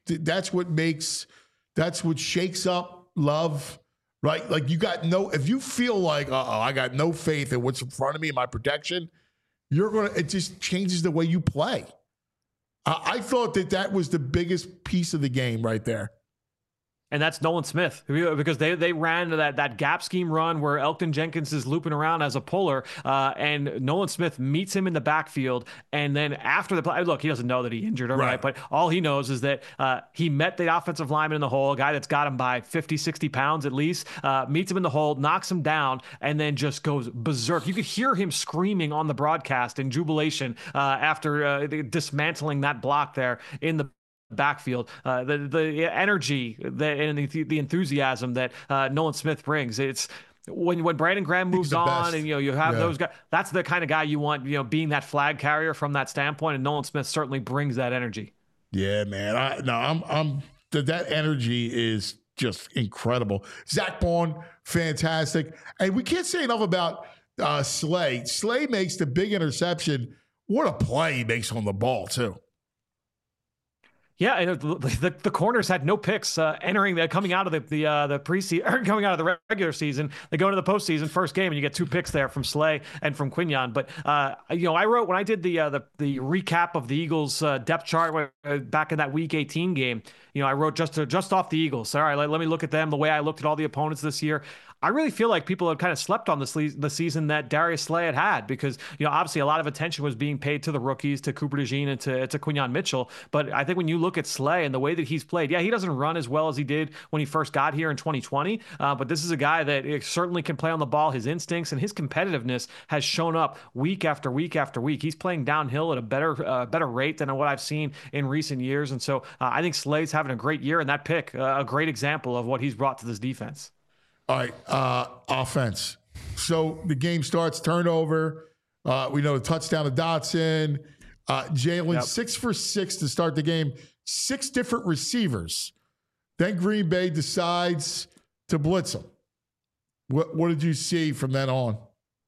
S2: shakes up Love, right? Like if you feel like, I got no faith in what's in front of me, my protection, it just changes the way you play. I thought that was the biggest piece of the game right there.
S7: And that's Nolan Smith, because they ran that gap scheme run where Elgton Jenkins is looping around as a puller, and Nolan Smith meets him in the backfield. And then after the play, look, he doesn't know that he injured him, right? But all he knows is that he met the offensive lineman in the hole, a guy that's got him by 50, 60 pounds at least, meets him in the hole, knocks him down, and then just goes berserk. You could hear him screaming on the broadcast in jubilation after dismantling that block there in the backfield. The energy and the enthusiasm that Nolan Smith brings. It's when Brandon Graham moves on, and you have those guys. That's the kind of guy you want, being that flag carrier from that standpoint. And Nolan Smith certainly brings that energy. Yeah, man. That energy is just incredible. Zach Bond, fantastic, and we can't say enough about Slay. Slay makes the big interception. What a play he makes on the ball too. Yeah, the corners had no picks coming out of the preseason, or coming out of the regular season. They go into the postseason first game, and you get 2 picks there from Slay and from Quinyon. But I wrote when I did the recap of the Eagles depth chart back in that Week 18 game. I wrote just off the Eagles. All right, let me look at them the way I looked at all the opponents this year. I really feel like people have kind of slept on the season that Darius Slay had because, obviously a lot of attention was being paid to the rookies, to Cooper DeJean and to Quinyon Mitchell. But I think when you look at Slay and the way that he's played, he doesn't run as well as he did when he first got here in 2020. But this is a guy that certainly can play on the ball. His instincts and his competitiveness has shown up week after week after week. He's playing downhill at a better rate than what I've seen in recent years. And so I think Slay's having a great year, and that pick, a great example of what he's brought to this defense.
S2: All right, offense. So the game starts, turnover. We know the touchdown to Dotson. Jalen, 6 for 6 to start the game. 6 different receivers. Then Green Bay decides to blitz them. What did you see from then on?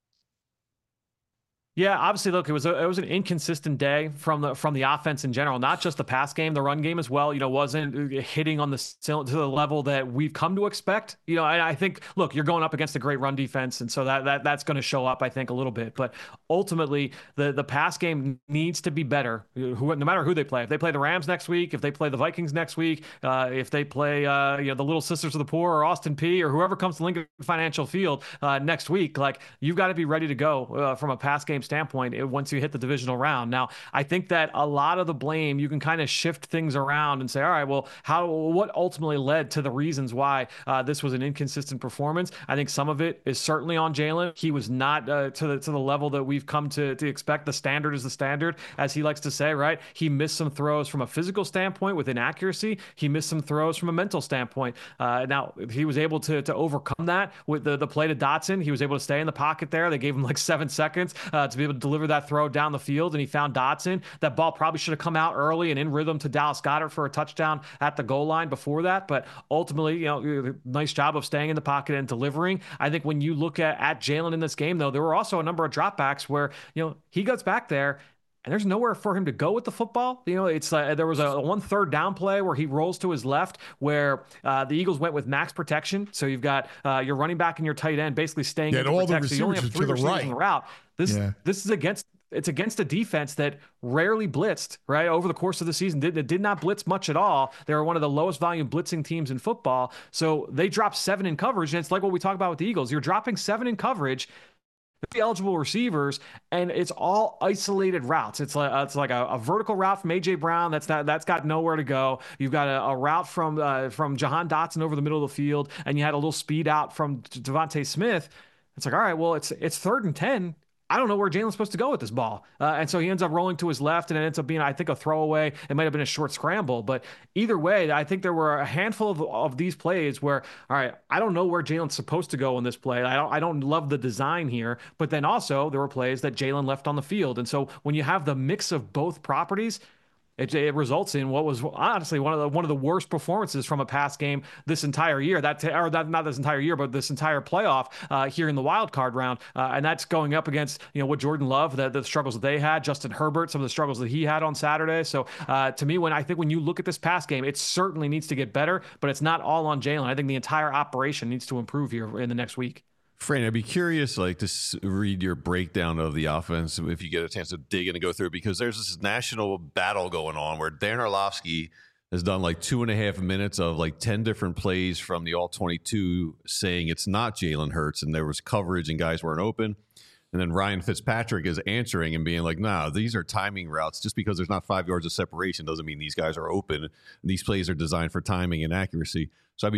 S7: Yeah, obviously, look, it was an inconsistent day from the offense in general, not just the pass game, the run game as well. Wasn't hitting on to the level that we've come to expect. I think, look, you're going up against a great run defense, and so that's going to show up, I think, a little bit. But ultimately, the pass game needs to be better. No matter who they play, if they play the Rams next week, if they play the Vikings next week, if they play the Little Sisters of the Poor or Austin Peay or whoever comes to Lincoln Financial Field next week, like you've got to be ready to go from a pass game standpoint once you hit the divisional round. Now, I think that a lot of the blame, you can kind of shift things around and say, all right, well, what ultimately led to the reasons why this was an inconsistent performance? I think some of it is certainly on Jalen. He was not to the level that we've come to expect. The standard is the standard, as he likes to say, right? He missed some throws from a physical standpoint with inaccuracy. He missed some throws from a mental standpoint. Now, he was able to overcome that with the play to Dotson. He was able to stay in the pocket there. They gave him like 7 seconds to be able to deliver that throw down the field, and he found Dotson. That ball probably should have come out early and in rhythm to Dallas Goedert for a touchdown at the goal line before that. But ultimately, nice job of staying in the pocket and delivering. I think when you look at Jalen in this game, though, there were also a number of dropbacks where, he gets back there and there's nowhere for him to go with the football. It's there was a 1 3rd down play where he rolls to his left, where the Eagles went with max protection. So you've got your running back and your tight end basically staying in
S2: all
S7: protection.
S2: the
S7: So you only have 3
S2: to the
S7: receivers
S2: right.
S7: in the route. This is against a defense that rarely blitzed, right? Over the course of the season, did not blitz much at all. They were one of the lowest volume blitzing teams in football. So they dropped 7 in coverage. And it's like what we talk about with the Eagles. You're dropping 7 in coverage, the eligible receivers, and it's all isolated routes. It's like a vertical route from A.J. Brown that's got nowhere to go. You've got a route from Jahan Dotson over the middle of the field, and you had a little speed out from Devontae Smith. It's like, all right, well, it's 3rd and 10. I don't know where Jalen's supposed to go with this ball. And so he ends up rolling to his left, and it ends up being, I think, a throwaway. It might have been a short scramble. But either way, I think there were a handful of these plays where, all right, I don't know where Jalen's supposed to go in this play. I don't love the design here. But then also there were plays that Jalen left on the field. And so when you have the mix of both properties, it results in what was honestly one of the worst performances from a pass game this entire year. Not this entire year, but this entire playoff here in the wild card round, and that's going up against what Jordan Love, the struggles that they had, Justin Herbert, some of the struggles that he had on Saturday. So to me, when you look at this pass game, it certainly needs to get better, but it's not all on Jalen. I think the entire operation needs to improve here in the next week.
S3: Fran, I'd be curious, to read your breakdown of the offense if you get a chance to dig in and go through it, because there's this national battle going on where Dan Orlovsky has done 2.5 minutes of 10 different plays from the All-22 saying it's not Jalen Hurts and there was coverage and guys weren't open. And then Ryan Fitzpatrick is answering and being like, nah, these are timing routes. Just because there's not 5 yards of separation doesn't mean these guys are open. These plays are designed for timing and accuracy. So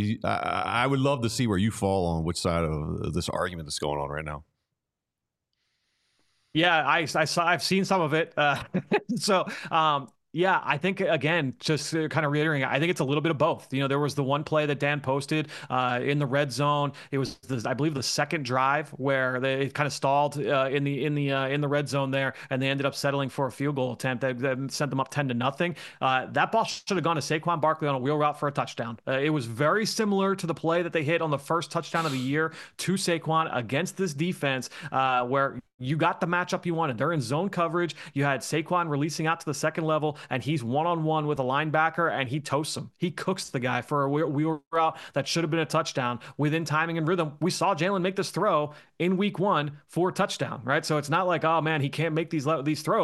S3: I would love to see where you fall on which side of this argument that's going on right now.
S7: Yeah, I've seen some of it. Yeah, I think, again, just kind of reiterating, I think it's a little bit of both. There was the one play that Dan posted in the red zone. It was, I believe, the second drive where they kind of stalled in the red zone there, and they ended up settling for a field goal attempt that sent them up 10-0. That ball should have gone to Saquon Barkley on a wheel route for a touchdown. It was very similar to the play that they hit on the first touchdown of the year to Saquon against this defense, where you got the matchup you wanted. They're in zone coverage. You had Saquon releasing out to the second level, and he's one-on-one with a linebacker, and he toasts him. He cooks the guy for a wheel route that should have been a touchdown within timing and rhythm. We saw Jalen make this throw in week 1 for a touchdown, right? So it's not like, oh, man, he can't make these throws.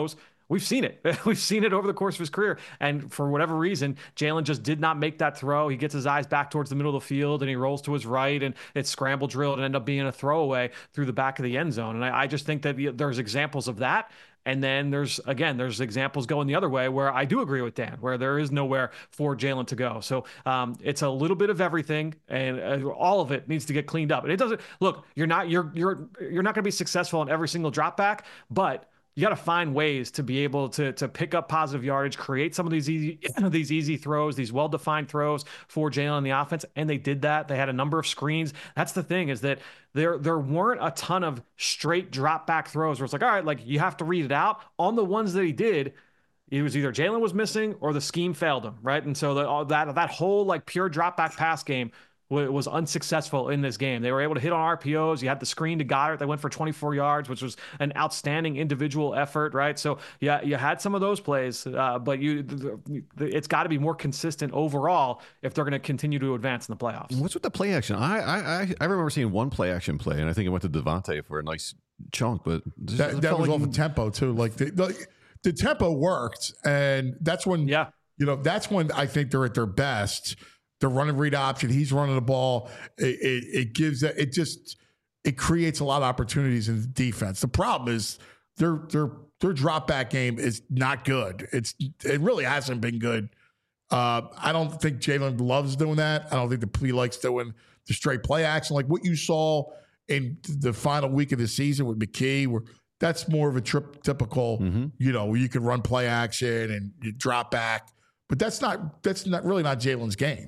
S7: We've seen it. We've seen it over the course of his career. And for whatever reason, Jalen just did not make that throw. He gets his eyes back towards the middle of the field and he rolls to his right and it's scramble drilled and end up being a throwaway through the back of the end zone. And I just think that there's examples of that. And then there's examples going the other way where I do agree with Dan, where there is nowhere for Jalen to go. So it's a little bit of everything, and all of it needs to get cleaned up. And it doesn't look, you're not going to be successful on every single drop back, but you got to find ways to be able to pick up positive yardage, create some of these easy throws, these well-defined throws for Jalen in the offense. And they did that. They had a number of screens. That's the thing, is that there weren't a ton of straight drop back throws where it's like, all right, like you have to read it out. On the ones that he did, it was either Jalen was missing or the scheme failed him, right? And so that whole like pure drop back pass game was unsuccessful in this game. They were able to hit on RPOs. You had the screen to Goddard that went for 24 yards, which was an outstanding individual effort, right? So yeah, you had some of those plays, but it's got to be more consistent overall if they're going to continue to advance in the playoffs.
S3: What's with the play action? I remember seeing one play action play, and I think it went to Devontae for a nice chunk, but
S2: that was off of tempo too. Like the tempo worked, and that's when that's when I think they're at their best. The run and read option, he's running the ball. It creates a lot of opportunities in the defense. The problem is their drop back game is not good. It really hasn't been good. I don't think Jalen loves doing that. I don't think he likes doing the straight play action like what you saw in the final week of the season with McKee, where that's more of a typical, where you can run play action and you drop back. But that's not really not Jalen's game.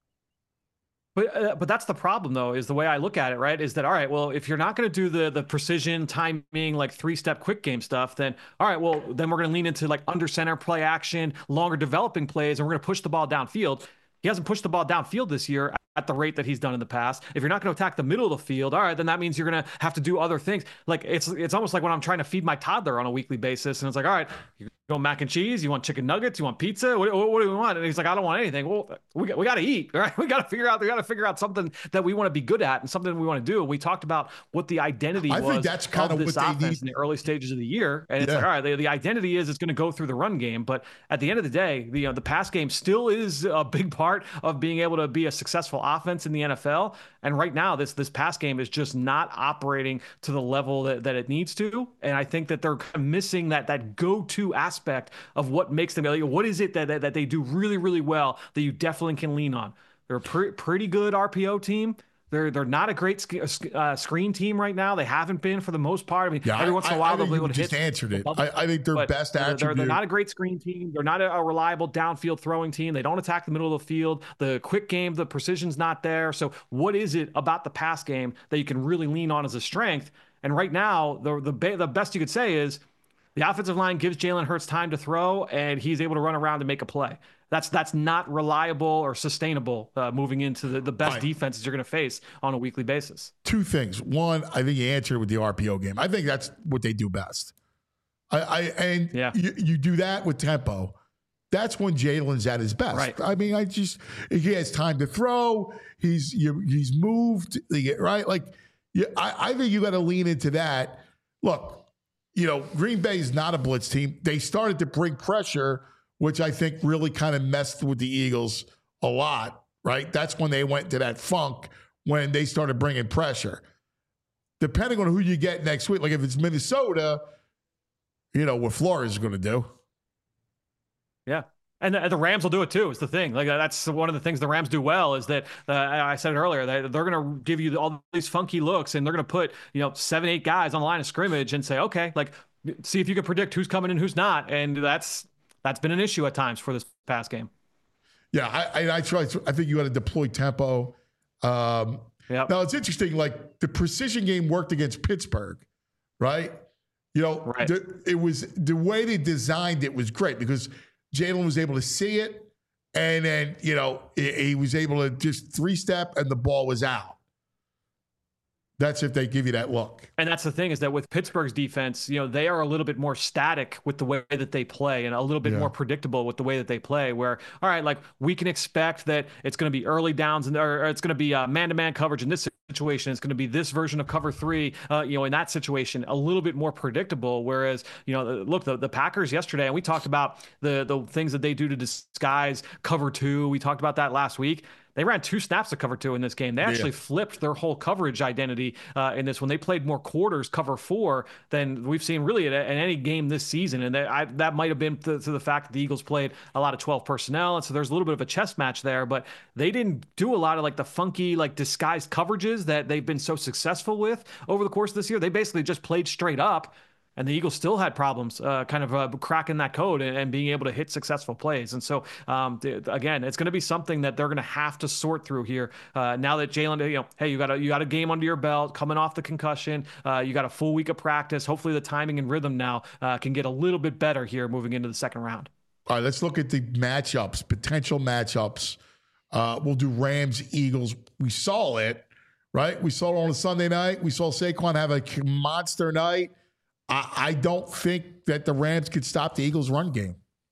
S7: But that's the problem, though, is the way I look at it, right? Is that, all right, well, if you're not going to do the precision, timing, like 3-step quick game stuff, then, all right, well, then we're going to lean into like under center play action, longer developing plays, and we're going to push the ball downfield. He hasn't pushed the ball downfield this year at the rate that he's done in the past. If you're not going to attack the middle of the field, all right, then that means you're going to have to do other things. Like it's almost like when I'm trying to feed my toddler on a weekly basis, and it's like, all right, you want mac and cheese? You want chicken nuggets? You want pizza? What do we want? And he's like, I don't want anything. Well, we got to eat, right? We got to figure out something that we want to be good at and something we want to do. We talked about what the identity was.
S2: I think that's kind of
S7: this
S2: what
S7: offense
S2: they need
S7: in the early stages of the year, and it's like, all right, the identity is it's going to go through the run game, but at the end of the day, the pass game still is a big part of being able to be a successful offense in the NFL. And right now, this pass game is just not operating to the level that it needs to. And I think that they're missing that go-to aspect of what makes them. What is it that they do really, really well that you definitely can lean on? They're a pretty good RPO team. They're not a great screen team right now. They haven't been for the most part. I mean, every once in a while they'll be able to hit.
S2: Just answered it. I think their best attribute.
S7: They're not a great screen team. They're not a reliable downfield throwing team. They don't attack the middle of the field. The quick game, the precision's not there. So what is it about the pass game that you can really lean on as a strength? And right now, the best you could say is the offensive line gives Jalen Hurts time to throw, and he's able to run around and make a play. That's not reliable or sustainable moving into the best defenses you're going to face on a weekly basis.
S2: Two things. One, I think you answered with the RPO game. I think that's what they do best. You do that with tempo. That's when Jalen's at his best.
S7: Right.
S2: I mean, he has time to throw. He's moved. Right. Like, I think you got to lean into that. Look, Green Bay is not a blitz team. They started to bring pressure, which I think really kind of messed with the Eagles a lot, right? That's when they went to that funk when they started bringing pressure. Depending on who you get next week, like if it's Minnesota, what Flores is going to do.
S7: Yeah. And the Rams will do it too. Is the thing. Like that's one of the things the Rams do well is that I said it earlier. They're going to give you all these funky looks, and they're going to put 7-8 guys on the line of scrimmage and say, okay, like see if you can predict who's coming and who's not. And that's been an issue at times for this pass game.
S2: Yeah, I think you got to deploy tempo. Now it's interesting. Like the precision game worked against Pittsburgh, right?
S7: Right.
S2: It was the way they designed it was great because Jalen was able to see it, and then he was able to just 3-step, and the ball was out. That's if they give you that look.
S7: And that's the thing is that with Pittsburgh's defense, they are a little bit more static with the way that they play and a little bit more predictable with the way that they play where, all right, like we can expect that it's going to be early downs or it's going to be man-to-man coverage in this situation. It's going to be this version of cover 3, in that situation, a little bit more predictable. Whereas, look, the Packers yesterday, and we talked about the things that they do to disguise cover 2. We talked about that last week. They ran 2 snaps of cover 2 in this game. They actually flipped their whole coverage identity in this one. They played more quarters cover 4 than we've seen really in any game this season. And that might have been to the fact that the Eagles played a lot of 12 personnel. And so there's a little bit of a chess match there, but they didn't do a lot of like the funky, like disguised coverages that they've been so successful with over the course of this year. They basically just played straight up. And the Eagles still had problems cracking that code and being able to hit successful plays. And so, again, it's going to be something that they're going to have to sort through here. Now that Jalen, hey, you got a game under your belt, coming off the concussion. You got a full week of practice. Hopefully the timing and rhythm now can get a little bit better here moving into the second round.
S2: All right, let's look at the matchups, potential matchups. We'll do Rams, Eagles. We saw it, right? We saw it on a Sunday night. We saw Saquon have a monster night. I don't think that the Rams could stop the Eagles' run game.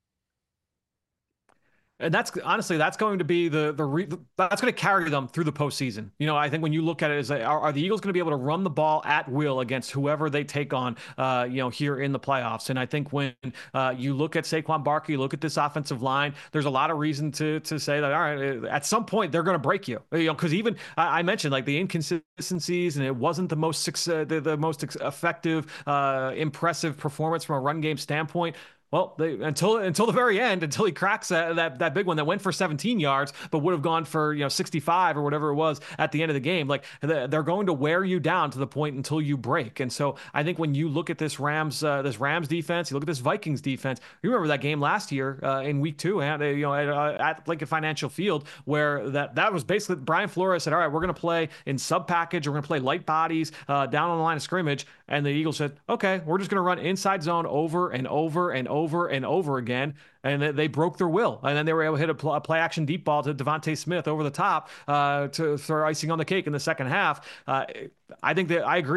S7: And that's going to be that's going to carry them through the postseason. I think when you look at it, are the Eagles going to be able to run the ball at will against whoever they take on, here in the playoffs? And I think when you look at Saquon Barkley, you look at this offensive line, there's a lot of reason to say that, all right, at some point they're going to break you. Because even I mentioned like the inconsistencies, and it wasn't the most effective, impressive performance from a run game standpoint. Well, until the very end, until he cracks that big one that went for 17 yards, but would have gone for 65 or whatever it was at the end of the game. Like they're going to wear you down to the point until you break. And so I think when you look at this Rams defense, you look at this Vikings defense. You remember that game last year in Week 2 at Lincoln Financial Field, where that was basically Brian Flores said, all right, we're going to play in sub package, we're going to play light bodies down on the line of scrimmage, and the Eagles said, okay, we're just going to run inside zone over and over and over and over again, and they broke their will. And then they were able to hit a play action deep ball to Devontae Smith over the top to throw icing on the cake in the second half. I think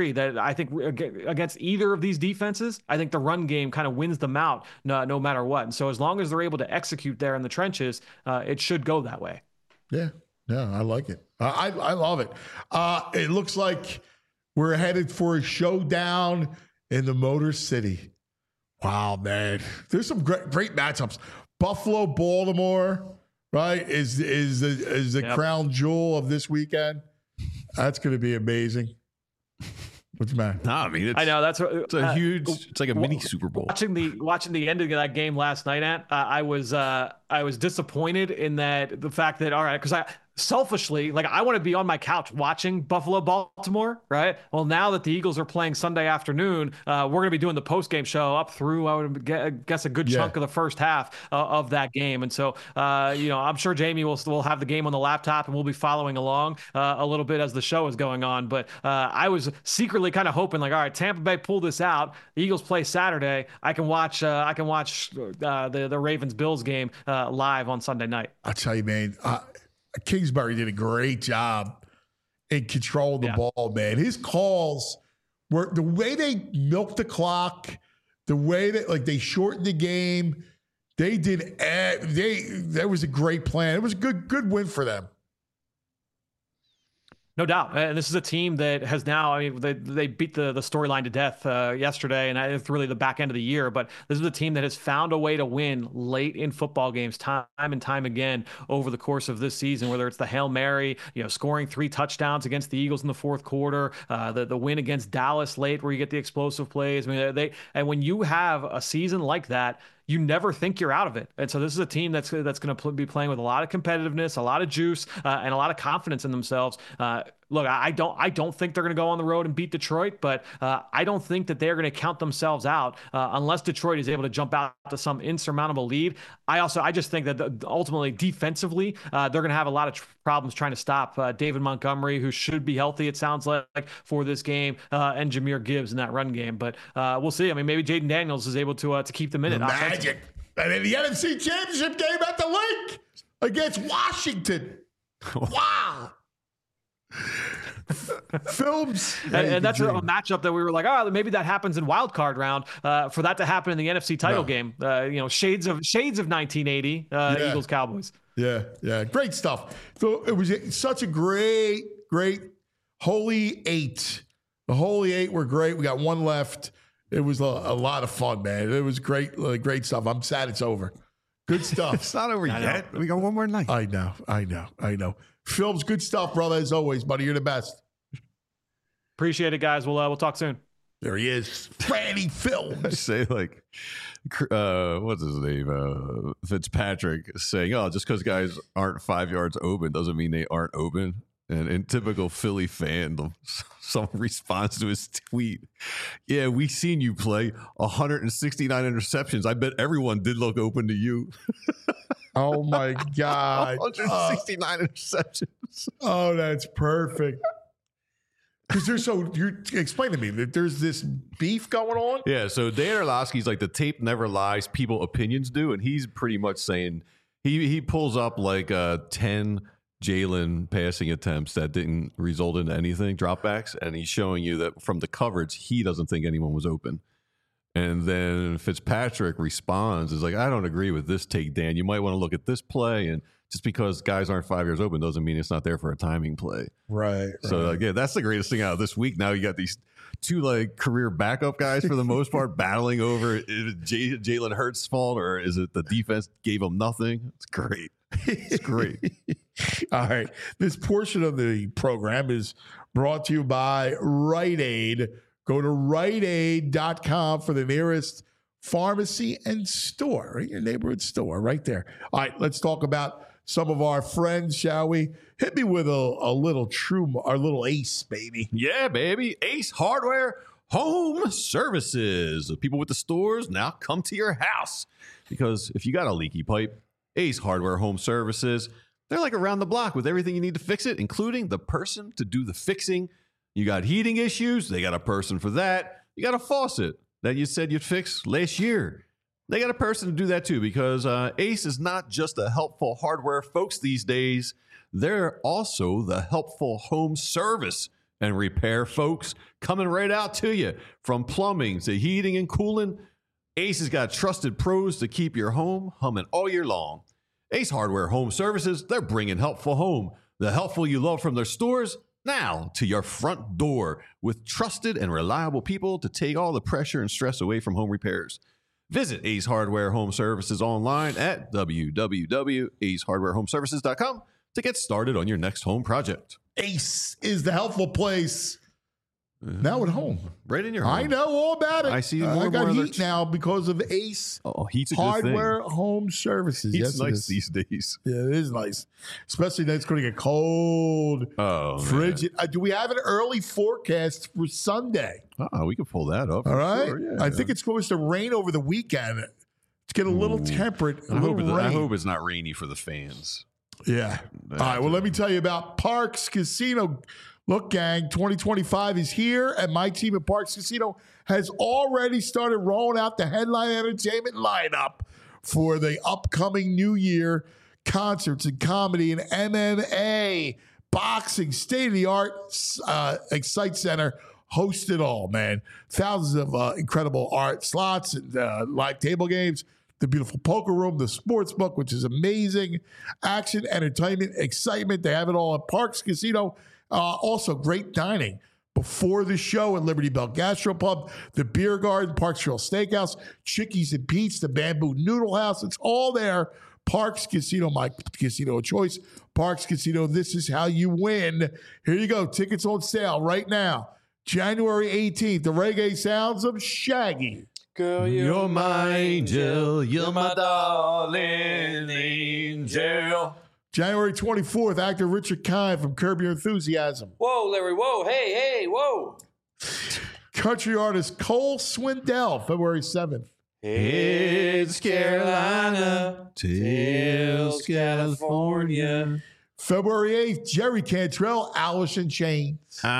S7: against either of these defenses, I think the run game kind of wins them out no matter what. And so as long as they're able to execute there in the trenches, it should go that way.
S2: Yeah, I like it. I love it. It looks like we're headed for a showdown in the Motor City. Wow, man. There's some great matchups. Buffalo, Baltimore, right, is the crown jewel of this weekend. That's going to be amazing. What's the matter?
S3: No, I mean,
S7: I know it's
S3: a huge. It's like a mini Super Bowl.
S7: Watching the end of that game last night, I was disappointed in the fact that, all right, because selfishly, like, I want to be on my couch watching Buffalo Baltimore, right? Well, now that the Eagles are playing Sunday afternoon, we're going to be doing the post-game show up through, I would guess, a good chunk of the first half of that game. And so, I'm sure Jamie will have the game on the laptop, and we'll be following along a little bit as the show is going on. But I was secretly kind of hoping, like, all right, Tampa Bay pull this out. The Eagles play Saturday. I can watch the Ravens-Bills game live on Sunday night.
S2: I'll tell you, man. Kingsbury did a great job in controlling the ball, man. His calls were the way they milked the clock, the way that they shortened the game. They did. That was a great plan. It was a good win for them.
S7: No doubt. And this is a team that has now, I mean, they beat the storyline to death yesterday, and it's really the back end of the year. But this is a team that has found a way to win late in football games time and time again over the course of this season, whether it's the Hail Mary, scoring 3 touchdowns against the Eagles in the fourth quarter, the win against Dallas late where you get the explosive plays. I mean, and when you have a season like that, you never think you're out of it. And so this is a team that's going to be playing with a lot of competitiveness, a lot of juice, and a lot of confidence in themselves. Look, I don't think they're going to go on the road and beat Detroit, but I don't think that they're going to count themselves out unless Detroit is able to jump out to some insurmountable lead. I just think that ultimately defensively, they're going to have a lot of problems trying to stop David Montgomery, who should be healthy, it sounds like, for this game, and Jahmyr Gibbs in that run game. But we'll see. I mean, maybe Jaden Daniels is able to keep them in it.
S2: Magic. And in the NFC Championship game at the Link against Washington. Wow. Films.
S7: And that's a matchup that we were like, oh, maybe that happens in wild card round. For that to happen in the NFC title game, shades of 1980 Eagles Cowboys.
S2: Yeah. Great stuff. So it was such a great Holy Eight. The Holy Eight were great. We got one left. It was a lot of fun, man. It was great, great stuff. I'm sad it's over. Good stuff.
S3: It's not over yet. We got one more night.
S2: I know. Phil's good stuff, brother, as always, buddy. You're the best.
S7: Appreciate it, guys. We'll talk soon.
S2: There he is. Franny Phil.
S3: I say, like, what's his name? Fitzpatrick saying, oh, just because guys aren't 5 yards open doesn't mean they aren't open. And in typical Philly fandom, someone responds to his tweet. Yeah, we seen you play 169 interceptions. I bet everyone did look open to you.
S2: Oh, my God.
S3: 169 interceptions.
S2: Oh, that's perfect. Because explain to me that there's this beef going on.
S3: Yeah, so Dan Orlovsky's like, the tape never lies, people opinions do. And he's pretty much saying he pulls up like 10 Jalen passing attempts that didn't result in anything, dropbacks, and he's showing you that from the coverage, he doesn't think anyone was open. And then Fitzpatrick responds, is like, I don't agree with this take, Dan. You might want to look at this play, and just because guys aren't 5 years open doesn't mean it's not there for a timing play.
S2: Right.
S3: So, yeah, that's the greatest thing out of this week. Now you got these two, like, career backup guys for the most part battling over, is it Jalen Hurts' fault or is it the defense gave him nothing? It's great. It's great.
S2: All right. This portion of the program is brought to you by Rite Aid. Go to riteaid.com for the nearest pharmacy and store, right? Your neighborhood store right there. All right, let's talk about some of our friends, shall we? Hit me with our little Ace, baby.
S3: Yeah, baby. Ace Hardware Home Services. The people with the stores now come to your house. Because if you got a leaky pipe, Ace Hardware Home Services, they're like around the block with everything you need to fix it, including the person to do the fixing. You got heating issues, they got a person for that. You got a faucet that you said you'd fix last year. They got a person to do that too, because Ace is not just a helpful hardware folks these days. They're also the helpful home service and repair folks coming right out to you. From plumbing to heating and cooling, Ace has got trusted pros to keep your home humming all year long. Ace Hardware Home Services, they're bringing helpful home. The helpful you love from their stores, now to your front door with trusted and reliable people to take all the pressure and stress away from home repairs. Visit Ace Hardware Home Services online at www.acehardwarehomeservices.com to get started on your next home project.
S2: Ace is the helpful place. Now at home.
S3: Right in your home.
S2: I know all about it.
S3: I see more
S2: I got
S3: more
S2: heat now because of Ace
S3: heat's a
S2: Hardware
S3: good thing.
S2: Home Services.
S3: Heat's nice these days.
S2: Yeah, it is nice. Especially that it's going to get cold.
S3: Oh,
S2: frigid. Do we have an early forecast for Sunday?
S3: We can pull that up.
S2: All right.
S3: Sure, yeah.
S2: I think it's supposed to rain over the weekend. It's getting a little temperate. I
S3: hope it's not rainy for the fans.
S2: Yeah. All right. Well, let me tell you about Parx Casino. Look, gang, 2025 is here, and my team at Parx Casino has already started rolling out the headline entertainment lineup for the upcoming new year. Concerts and comedy and MMA, boxing, state-of-the-art Excite Center host it all, man. Thousands of incredible art slots and live table games. The beautiful poker room, the sports book, which is amazing. Action, entertainment, excitement. They have it all at Parx Casino. Also, great dining before the show at Liberty Bell Gastropub, the Beer Garden, Parks Trail Steakhouse, Chickies and Pete's, the Bamboo Noodle House. It's all there. Parx Casino, my casino of choice. Parx Casino, this is how you win. Here you go. Tickets on sale right now. January 18th, the reggae sounds of Shaggy.
S4: Girl,
S3: you're my angel. You're my darling angel.
S2: January 24th, actor Richard Kind from Curb Your Enthusiasm.
S4: Whoa, Larry, whoa, hey, whoa.
S2: Country artist Cole Swindell, February 7th.
S4: It's Carolina, till California.
S2: February 8th, Jerry Cantrell, Alice in Chains.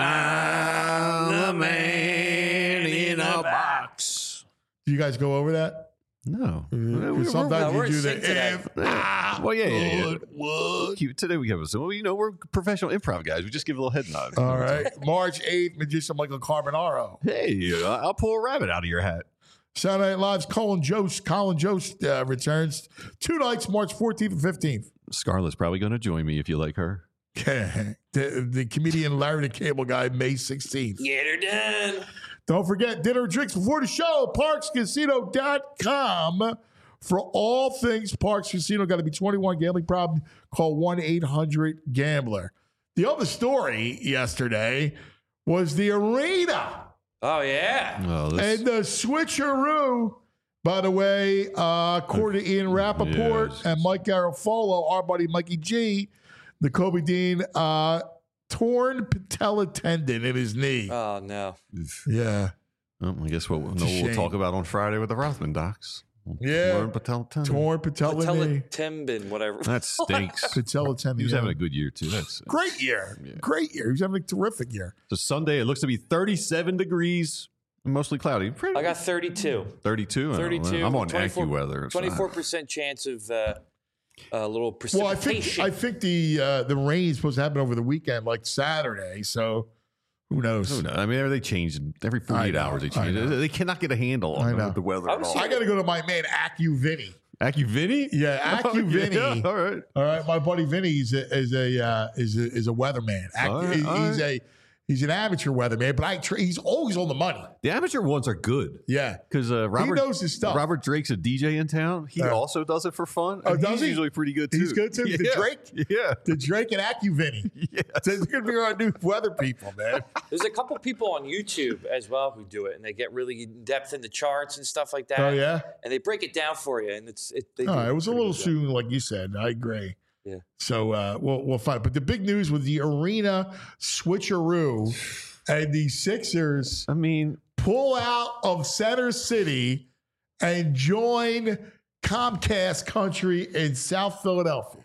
S4: I'm the man in a box.
S2: Do you guys go over that?
S3: No.
S2: Sometimes you do that.
S3: Well, yeah. Today we have we're professional improv guys. We just give a little head nod.
S2: All right. March 8th, magician Michael Carbonaro.
S3: Hey, I'll pull a rabbit out of your hat.
S2: Saturday Night Live's Colin Jost returns 2 nights, March 14th and 15th.
S3: Scarlett's probably going to join me if you like her.
S2: The comedian Larry the Cable Guy, May 16th.
S4: Get her done.
S2: Don't forget, dinner and drinks before the show, parkscasino.com. For all things Parks Casino, got to be 21. Gambling problem, call 1-800-GAMBLER. The other story yesterday was the arena.
S4: Oh, yeah.
S2: And the switcheroo, by the way, according to Ian Rappaport and Mike Garofalo, our buddy Mikey G, the Kobe Dean, torn patella tendon in his knee.
S4: Oh, no.
S2: Yeah.
S3: Well, I guess we'll talk about on Friday with the Rothman docs.
S2: Yeah.
S3: Torn patella tendon.
S2: Torn patella knee.
S4: Tendon, whatever.
S3: That stinks.
S2: Patella tendon.
S3: He was having a good year, too. That's
S2: great year. Yeah. Great year. He was having a terrific year.
S3: So Sunday, it looks to be 37 degrees. Mostly cloudy.
S4: I got 32.
S3: 32?
S4: 32.
S3: I'm on AccuWeather.
S4: 24% chance of a little precipitation.
S2: Well, I think the rain is supposed to happen over the weekend, like Saturday. So who knows?
S3: I mean, they change every 48 hours. They change. They cannot get a handle on the weather at all.
S2: I got to go to my man AccuVinny.
S3: AccuVinny?
S2: Yeah, AccuVinny.
S3: Yeah, all right.
S2: My buddy Vinny is a weatherman. He's an amateur weatherman, but he's always on the money.
S3: The amateur ones are good.
S2: Yeah.
S3: Because he
S2: knows his stuff.
S3: Robert Drake's a DJ in town. He also does it for fun.
S2: Oh, does
S3: he's
S2: he?
S3: usually pretty good, too.
S2: He's good, too?
S3: Yeah.
S2: The Drake?
S3: Yeah.
S2: The Drake and AccuVinny.
S3: Yes.
S2: So it's going to be our new weather people, man.
S4: There's a couple people on YouTube as well who do it, and they get really in depth in the charts and stuff like that.
S2: Oh, yeah?
S4: And they break it down for you, and it
S2: was a little soon, like you said. I agree.
S4: Yeah.
S2: So we'll find. But the big news with the arena switcheroo and the Sixers, pull out of Center City and join Comcast Country in South Philadelphia.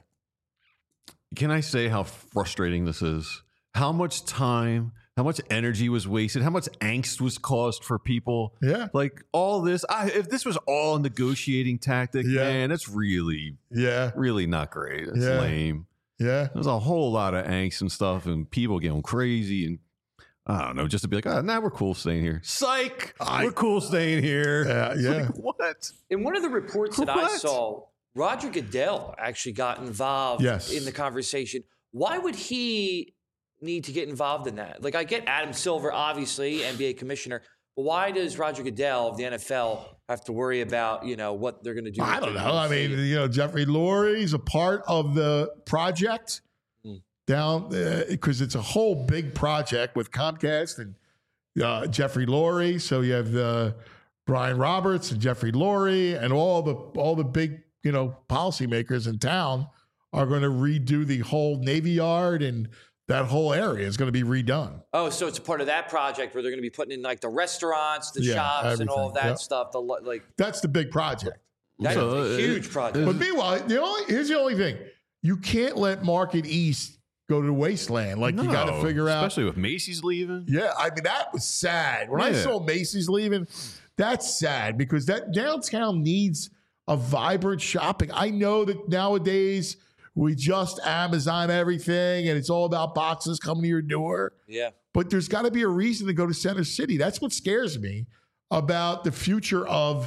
S3: Can I say how frustrating this is? How much time, how much energy was wasted, how much angst was caused for people?
S2: Yeah.
S3: Like all this, if this was all a negotiating tactic, man, it's really not great. It's lame.
S2: Yeah.
S3: There's a whole lot of angst and stuff and people getting crazy and I don't know, just to be like, we're cool staying here. Psych! We're cool staying here.
S2: Yeah.
S3: Like, what?
S4: In one of the reports that I saw, Roger Goodell actually got involved in the conversation. Why would he need to get involved in that? Like, I get Adam Silver, obviously, NBA commissioner, but why does Roger Goodell of the NFL have to worry about, what they're going to do?
S2: I don't know. I mean, Jeffrey Lurie's a part of the project. Down because it's a whole big project with Comcast and Jeffrey Lurie. So you have Brian Roberts and Jeffrey Lurie and all the big policymakers in town are going to redo the whole Navy Yard and that whole area is going to be redone.
S4: Oh, so it's a part of that project where they're going to be putting in like the restaurants, the shops, everything. And all of that stuff.
S2: That's the big project.
S4: That's a huge project.
S2: But meanwhile, here's the only thing: you can't let Market East go to the wasteland. Like, you got to figure out.
S3: Especially with Macy's leaving.
S2: Yeah, I mean, that was sad. When I saw Macy's leaving, that's sad because that downtown needs a vibrant shopping. I know that nowadays we just Amazon everything and it's all about boxes coming to your door.
S4: Yeah.
S2: But there's got to be a reason to go to Center City. That's what scares me about the future of,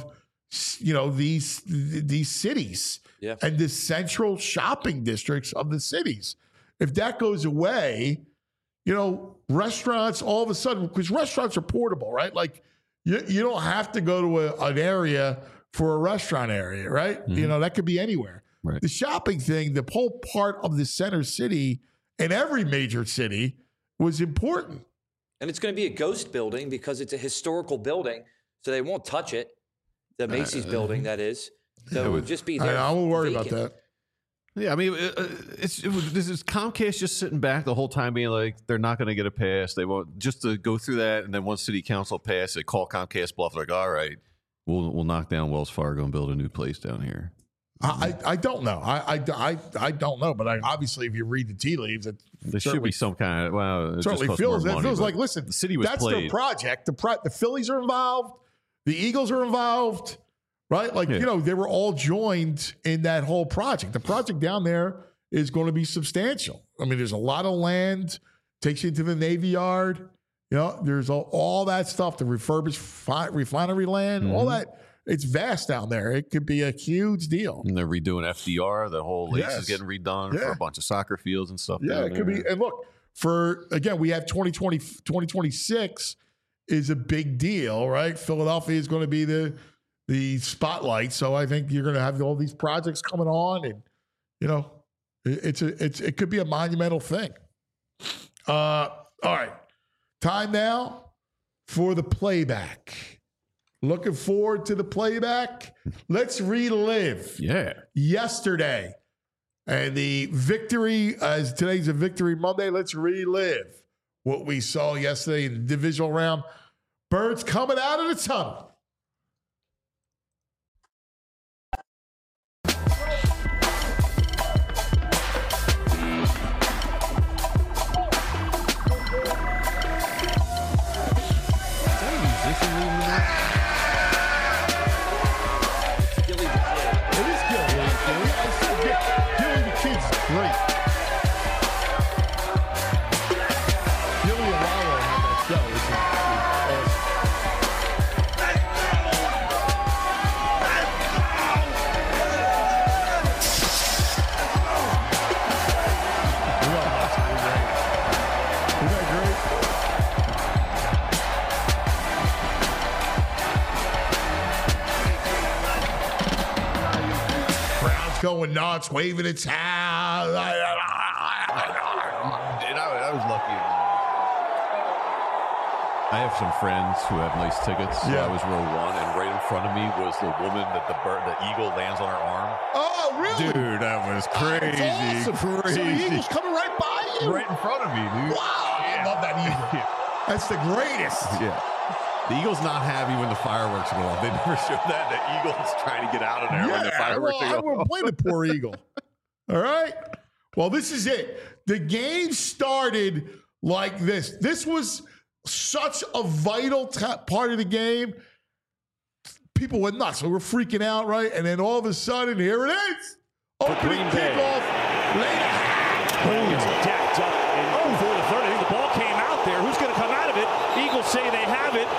S2: these cities and the central shopping districts of the cities. If that goes away, restaurants all of a sudden, because restaurants are portable, right? Like you don't have to go to an area for a restaurant area, right? Mm-hmm. That could be anywhere. Right. The shopping thing, the whole part of the Center City in every major city was important.
S4: And it's going to be a ghost building because it's a historical building, so they won't touch it. The Macy's building, that is. So it would just be there.
S2: I won't worry about that.
S3: Yeah, I mean, this is Comcast just sitting back the whole time being like, they're not going to get a pass. They won't, just to go through that. And then once city council pass it, call Comcast bluff. Like, all right, we'll knock down Wells Fargo and build a new place down here.
S2: I don't know. I don't know. But obviously, if you read the tea leaves,
S3: there should be some kind of, it
S2: certainly feels like, listen,
S3: the city was
S2: that's their project. The Phillies are involved. The Eagles are involved. Right? Like, they were all joined in that whole project. The project down there is going to be substantial. I mean, there's a lot of land, takes you into the Navy Yard. There's all that stuff, the refurbished refinery land, all that it's vast down there. It could be a huge deal.
S3: And they're redoing FDR. The whole lakes is getting redone for a bunch of soccer fields and stuff.
S2: Yeah, it could be. And look, we have 2026 is a big deal, right? Philadelphia is going to be the spotlight. So I think you're going to have all these projects coming on, and it could be a monumental thing. All right, time now for the playback. Looking forward to the playback. Let's relive yesterday and the victory, as today's a Victory Monday. Let's relive what we saw yesterday in the divisional round. Birds coming out of the tunnel. Great. Gilly Alalo had that show. Brown's going nuts, waving its hat.
S3: I was lucky. I have some friends who have nice tickets. So I was row 1, and right in front of me was the woman that the eagle lands on her arm.
S2: Oh, really?
S3: Dude, that was crazy.
S2: That's awesome.
S3: Crazy.
S2: So the eagle's coming right by you?
S3: Right in front of me, dude.
S2: Wow. I love that eagle. That's the greatest.
S3: Yeah. The eagle's not happy when the fireworks go off. They never show that. The eagle's trying to get out of there when the fireworks go off.
S2: I won't blame the poor eagle. All right? Well, this is it. The game started like this. This was such a vital part of the game. People went nuts. So we're freaking out, right? And then all of a sudden, here it is. Opening kickoff.
S8: It's decked up before the third. I think the ball came out there. Who's going to come out of it? Eagles say they have it.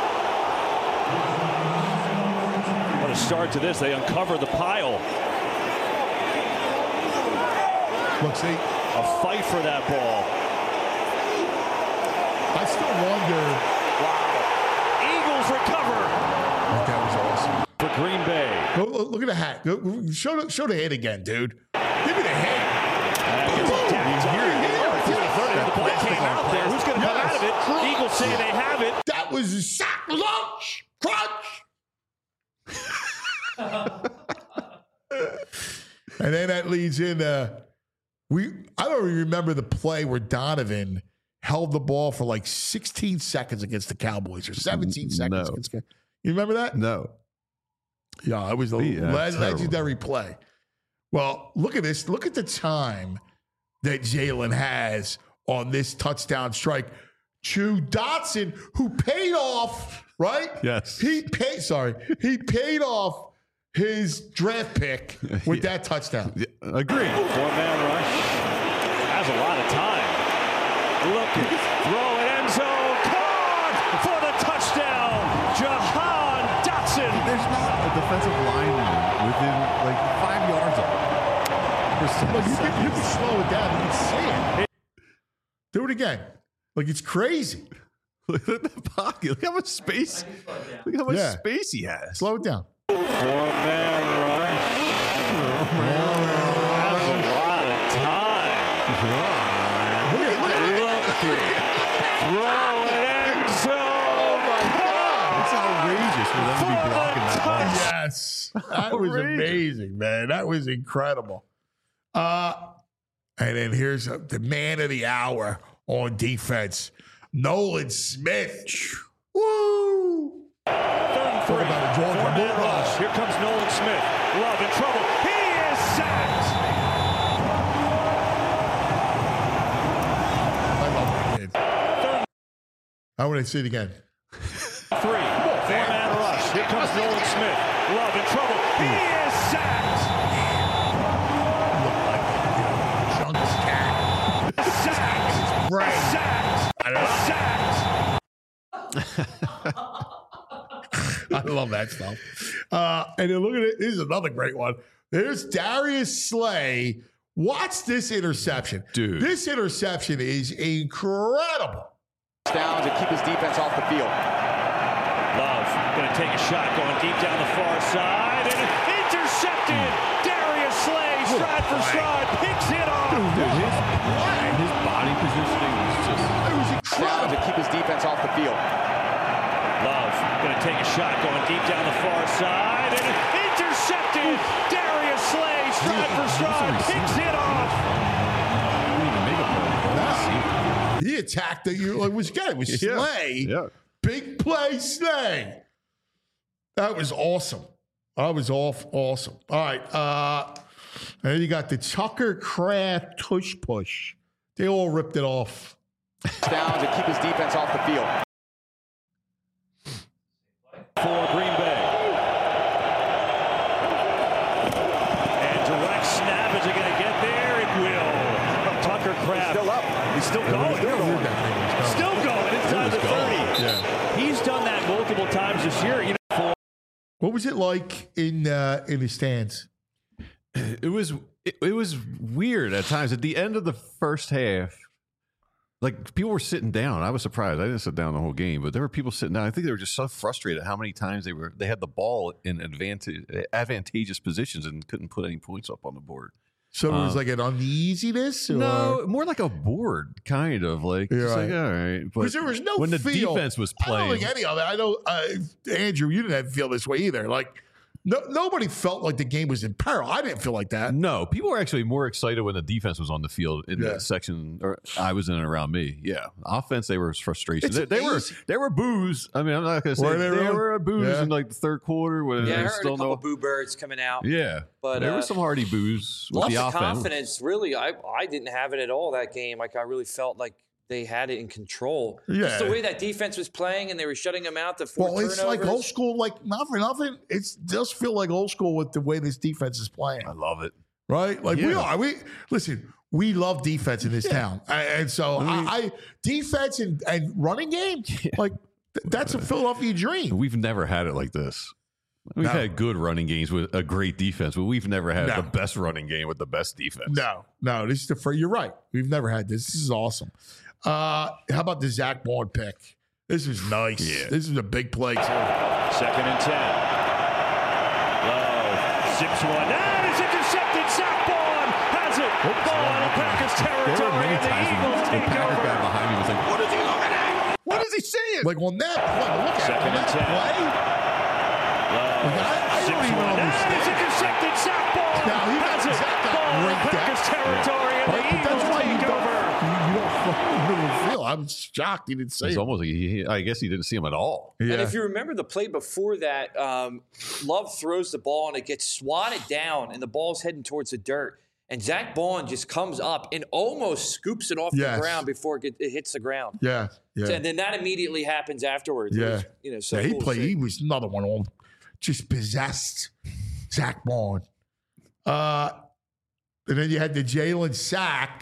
S8: What a start to this. They uncover the pile.
S2: Look, see.
S8: A fight for that ball.
S2: I still wonder.
S8: Wow. Eagles recover.
S2: That was awesome.
S8: For Green Bay.
S2: Look at the hat. Show the hit again, dude. Give me the hit.
S8: The ball came out there. Who's going to come out of it? Eagles say they have it.
S2: That was a sack lunch. Crunch. And then that leads into I don't even remember the play where Donovan held the ball for like 16 seconds against the Cowboys or 17 seconds.
S3: No.
S2: You remember that?
S3: No.
S2: Yeah, it was a legendary play. Well, look at this. Look at the time that Jalen has on this touchdown strike to Dotson, who paid off, right?
S3: Yes.
S2: He paid off his draft pick with that touchdown.
S3: Yeah, agreed.
S8: 4-man rush. Has a lot of time. Looking. Throw it, end zone. Caught for the touchdown. Jahan Dotson.
S3: There's not a defensive lineman within like 5 yards of him.
S2: You can slow it down. You can see it. Do it again. Like, it's crazy.
S3: Look at the pocket. Look how much space. Look how much space he has.
S2: Slow it down.
S8: 4-man rush. That's a lot of time. Look at throw it end zone.
S2: Oh my God.
S3: It's outrageous for them to be blocking that ball.
S2: Yes. That was amazing, man. That was incredible. And then here's the man of the hour on defense, Nolan Smith. Woo!
S8: 3rd and 3. Four-man rush. Here comes Nolan Smith. Love in trouble. He is sacked.
S2: I love that kid. I want to see it again.
S8: 3. Four-man rush. Here comes Nolan Smith. Love in trouble. He is sacked.
S2: Chunks cat.
S8: Sacked.
S2: Right.
S8: Sacked.
S2: I love love that stuff. And then look at it. This is another great one. There's Darius Slay. Watch this interception.
S3: Dude.
S2: This interception is incredible.
S9: Down to keep his defense off the field.
S8: Love going to take a shot, going deep down the far side, and intercepted. Darius Slay, stride for stride, picks it off.
S3: Dude, his body positioning was just...
S2: It was incredible.
S9: Down to keep his defense off the field.
S8: Love going to take a shot, going deep down the far side, and intercepted. Darius Slay, stride for stride, picks it off.
S2: He attacked the it was good. It was Slay.
S3: Yeah.
S2: Big play Slay. That was awesome. That was awesome. All right. And then you got the Tucker Kraft tush push. They all ripped it off.
S9: Down to keep his defense off the field.
S8: For Green Bay. And direct snap. Is it going to get there? It will. Tucker Kraft.
S9: Still up.
S8: He's still going. Still going inside the 30.
S2: Yeah.
S8: He's done that multiple times this year.
S2: What was it like in the stands?
S3: It was weird at times. At the end of the first half, like people were sitting down. I was surprised. I didn't sit down the whole game, but there were people sitting down. I think they were just so frustrated how many times they had the ball in advantageous positions and couldn't put any points up on the board.
S2: So it was like an uneasiness? Or?
S3: No, more like a board, kind of. Like,
S2: You're
S3: it's
S2: right.
S3: like, all right.
S2: Because there was no
S3: when the
S2: feel.
S3: defense was playing.
S2: I don't think any of it. I know, Andrew, you didn't feel this way either. Like, nobody felt like the game was in peril. I didn't feel like that.
S3: No, people were actually more excited when the defense was on the field in the section or I was in and around me. Yeah, offense, they were frustration. They were boos. I mean, I'm not going to say they were boos in like the third quarter. When
S4: I heard a couple boo birds coming out.
S3: Yeah, but there were some hardy boos with the offense.
S4: Confidence, really. I didn't have it at all that game. Like I really felt like they had it in control.
S2: Yeah.
S4: Just the way that defense was playing and they were shutting them out. Turnovers.
S2: It's like old school, like not for nothing. It does feel like old school with the way this defense is playing.
S3: I love it.
S2: Right? Like we love defense in this town. And so I defense and running game, like that's a Philadelphia dream.
S3: We've never had it like this. We've had good running games with a great defense, but we've never had the best running game with the best defense.
S2: No, this is the first. You're right. We've never had this. This is awesome. How about the Zach Bond pick? This is nice. Yeah. This is a big play, too.
S8: 2nd and 10. Love zips one. That is intercepted. Zach Bond has it. Ball in Packers territory, and the Eagles take over.
S3: The guy behind me was like, what is he looking at? What is he seeing?
S2: Like on that play, look at
S8: 2nd and 10.
S2: Play. I don't even understand.
S8: That is intercepted. Zach Bond has it. Ball in Packers territory, and the Eagles take over.
S2: I'm shocked he didn't say
S3: it's
S2: it.
S3: Almost like I guess he didn't see him at all.
S4: Yeah. And if you remember the play before that, Love throws the ball and it gets swatted down and the ball's heading towards the dirt. And Zach Bond just comes up and almost scoops it off the ground before it hits the ground.
S2: Yeah.
S4: So, and then that immediately happens afterwards.
S2: Yeah.
S4: So
S2: he played. He was another one on just possessed Zach Bond. And then you had the Jalen sack.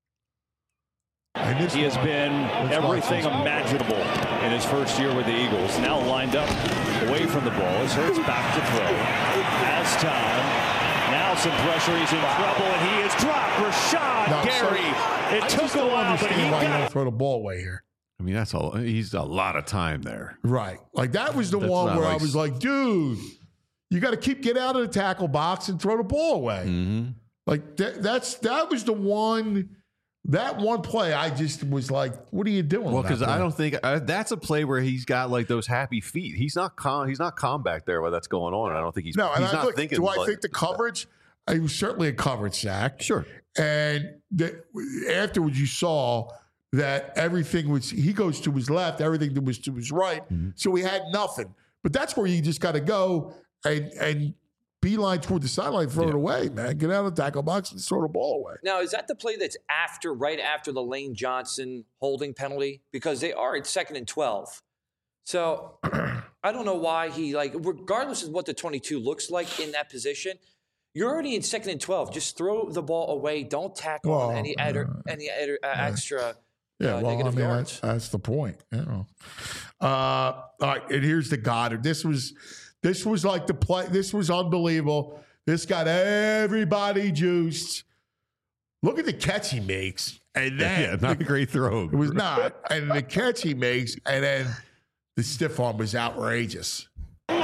S8: He has been everything imaginable in his first year with the Eagles. Now lined up away from the ball. As Hurts back to throw. Has time. Now some pressure. He's in trouble, and he is dropped. Rashad Gary. It took a while, but he got it.
S2: Throw the ball away here.
S3: I mean, he's a lot of time there.
S2: Right. Like that was the one where I was like, dude, you got to get out of the tackle box and throw the ball away.
S3: Mm-hmm.
S2: Like that was the one. That one play, I just was like, "What are you doing?"
S3: Well, because I don't think that's a play where he's got like those happy feet. He's not calm. He's not calm back there while that's going on. I don't think he's not thinking.
S2: Do I think the coverage? It was certainly a coverage sack.
S3: Sure.
S2: And afterwards, you saw that everything was. He goes to his left. Everything was to his right. Mm-hmm. So he had nothing. But that's where you just got to go and beeline toward the sideline, throw it away, man. Get out of the tackle box and throw the ball away.
S4: Now, is that the play that's right after the Lane Johnson holding penalty? Because they are at 2nd and 12. So I don't know why regardless of what the 22 looks like in that position, you're already in 2nd and 12. Just throw the ball away. Don't tackle on any extra negative yards.
S2: That's the point. All right, and here's the Goddard. This was This was like the play. This was unbelievable. This got everybody juiced. Look at the catch he makes. And then
S3: not a great throw.
S2: It was not. And the catch he makes, and then the stiff arm was outrageous.
S8: Throw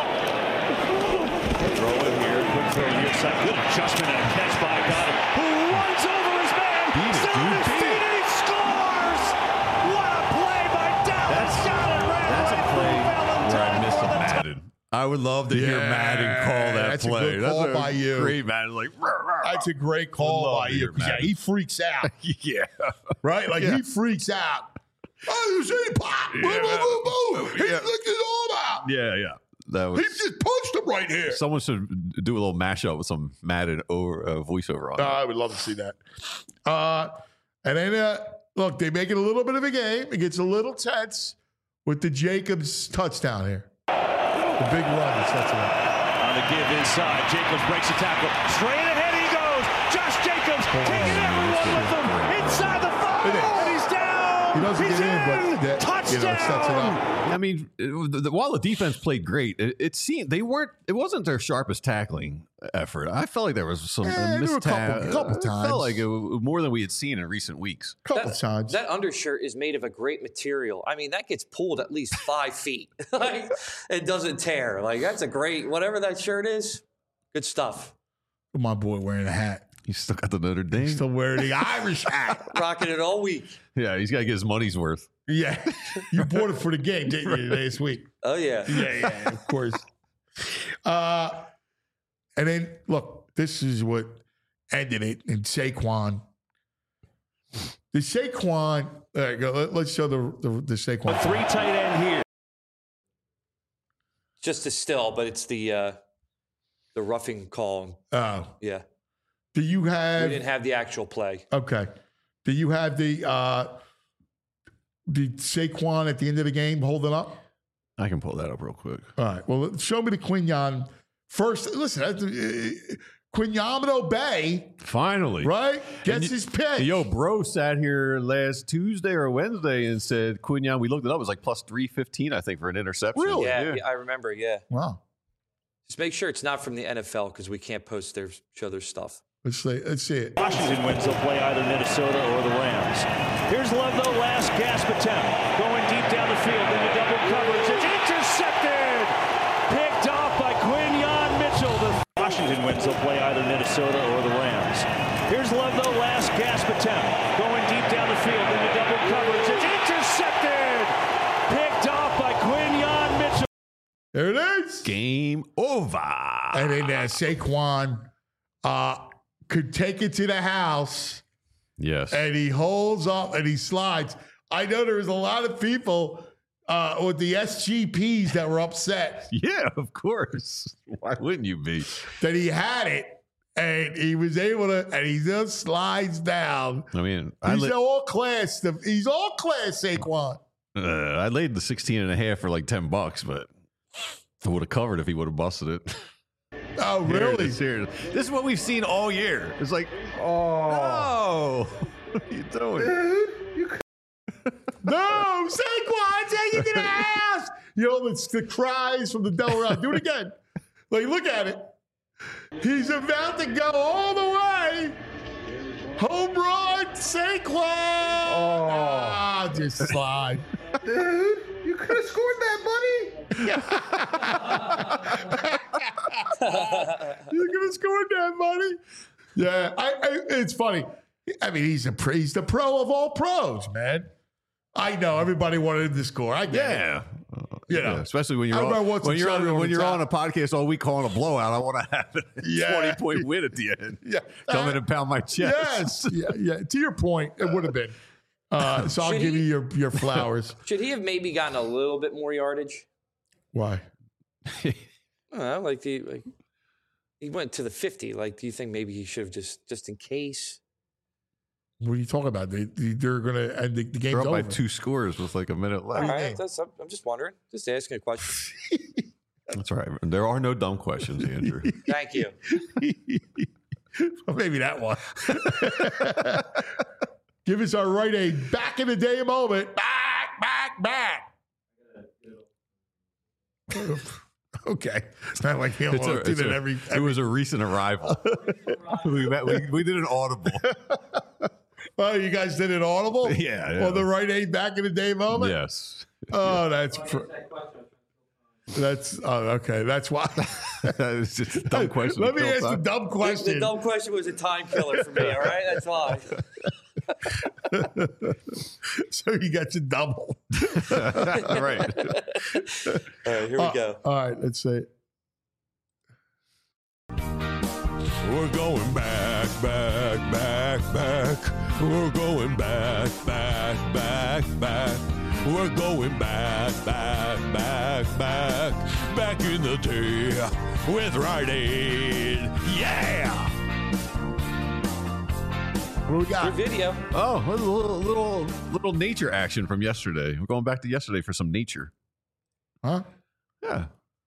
S8: in here. Quick throw near side. Good adjustment and a catch by Goddard, who runs over his man. Still on his feet, and he scores! What a play by Dallas Goedert.
S3: That's a play where I missed a Madden. I would love to hear Madden call that play.
S2: A good call by you.
S3: Great Madden. Like,
S2: that's a great call by you. He freaks out.
S3: Yeah.
S2: Right? Like, he freaks out. Oh, you see? Pop! Boom, boom, boom, boom. He flicked his arm out.
S3: Yeah. That was,
S2: he just punched him right here.
S3: Someone should do a little mashup with some Madden voiceover on it.
S2: I would love to see that. And then, look, they make it a little bit of a game. It gets a little tense with the Jacobs touchdown here. The big run that sets it up.
S8: On the give inside, Jacobs breaks the tackle. Straight ahead he goes. Josh Jacobs taking everyone with him inside the 5, and he's down.
S2: He doesn't get in, but that,
S8: touchdown.
S2: Sets it up.
S3: I mean, while the defense played great, it seemed they weren't. It wasn't their sharpest tackling effort. I felt like there was some
S2: a couple times.
S3: It felt like it was more than we had seen in recent weeks.
S2: Couple times.
S4: That undershirt is made of a great material. I mean, that gets pulled at least 5 feet. Like, it doesn't tear. Like, that's a great, whatever that shirt is, good stuff.
S2: My boy wearing a hat.
S3: He's still got the Notre Dame.
S2: He's still wearing the Irish hat.
S4: Rocking it all week.
S3: Yeah, he's got to get his money's worth.
S2: Yeah. You bought it for the game, didn't you, last week?
S4: Oh, yeah.
S2: Yeah, of course. And then, look, this is what ended it in Saquon. The Saquon, there you go. Let's show the Saquon.
S8: A 3 tight end here.
S4: Just a still, but it's the roughing call.
S2: Oh.
S4: Yeah.
S2: Do you have...
S4: We didn't have the actual play.
S2: Okay. Do you have the Saquon at the end of the game holding up?
S3: I can pull that up real quick.
S2: All right. Well, show me the Quinyon first. Listen, Quinyamino Bay.
S3: Finally.
S2: Right? Gets his pick.
S3: Yo, bro sat here last Tuesday or Wednesday and said Quinyon, we looked it up, it was like plus 315, I think, for an interception.
S2: Really?
S4: Yeah, I remember, yeah.
S2: Wow.
S4: Just make sure it's not from the NFL because we can't post show their stuff.
S2: Let's see it.
S8: Washington wins. They'll play either Minnesota or the Rams. Here's Love, though. Last gasp attempt. Going deep down the field into double coverage. It's intercepted. Picked off by Quinyon Mitchell. Washington wins. They'll play either Minnesota or the Rams. Here's Love, though. Last gasp attempt. Going deep down the field into double coverage. It's intercepted. Picked off by Quinyon Mitchell.
S2: There it is.
S3: Game over.
S2: And then Saquon could take it to the house.
S3: Yes.
S2: And he holds up and he slides. I know there was a lot of people with the SGPs that were upset.
S3: Yeah, of course. Why wouldn't you be?
S2: That he had it and he was able to, and he just slides down.
S3: I mean,
S2: he's all class. He's all class, Saquon.
S3: I laid the 16.5 for like $10, but I would have covered if he would have busted it.
S2: Oh, really?
S3: Here. This is what we've seen all year. It's like, no. What are you doing?
S2: No, Saquon, take it to the house. You know, it's the cries from the Delaware. Do it again. Like, look at it. He's about to go all the way. Home run, Saquon. Just slide.
S6: Dude, you could have scored that, buddy.
S2: You could have scored that, buddy. Yeah, it's funny. I mean, he's the pro of all pros, man. I know everybody wanted him to score. I get it. You know,
S3: especially when you're on a podcast all week calling a blowout. I want to have a 20-point win at the end. Yeah, come in and pound my chest.
S2: Yes, yeah. To your point, it would have been. So I'll give you your flowers.
S4: Should he have maybe gotten a little bit more yardage?
S2: Why?
S4: I don't know, he went to the 50. Like, do you think maybe he should have just in case?
S2: What are you talking about? They're going to end the game's
S3: They're up
S2: over.
S3: by 2 scores with like a minute left.
S4: All right, I'm just wondering. Just asking a question.
S3: That's right. There are no dumb questions, Andrew.
S4: Thank you.
S2: Well, maybe that one. Give us our Rite Aid back in the day moment. Back. Okay. It's not like it
S3: was a recent arrival. we did an audible.
S2: Oh, you guys did an audible?
S3: Yeah.
S2: On the Rite Aid back in the day moment?
S3: Yes.
S2: Oh, that's okay. That's why.
S3: It's just a dumb question.
S2: Let me ask the dumb question.
S4: The dumb question was a time killer for me, all right? That's why.
S2: So you got your double.
S3: All right.
S4: All right, here we go.
S2: All right, let's see.
S1: We're going back. We're going back. We're going back in the day with Rite Aid. Yeah!
S2: What we got?
S4: Your video.
S3: Oh, a little nature action from yesterday. We're going back to yesterday for some nature.
S2: Huh?
S3: Yeah.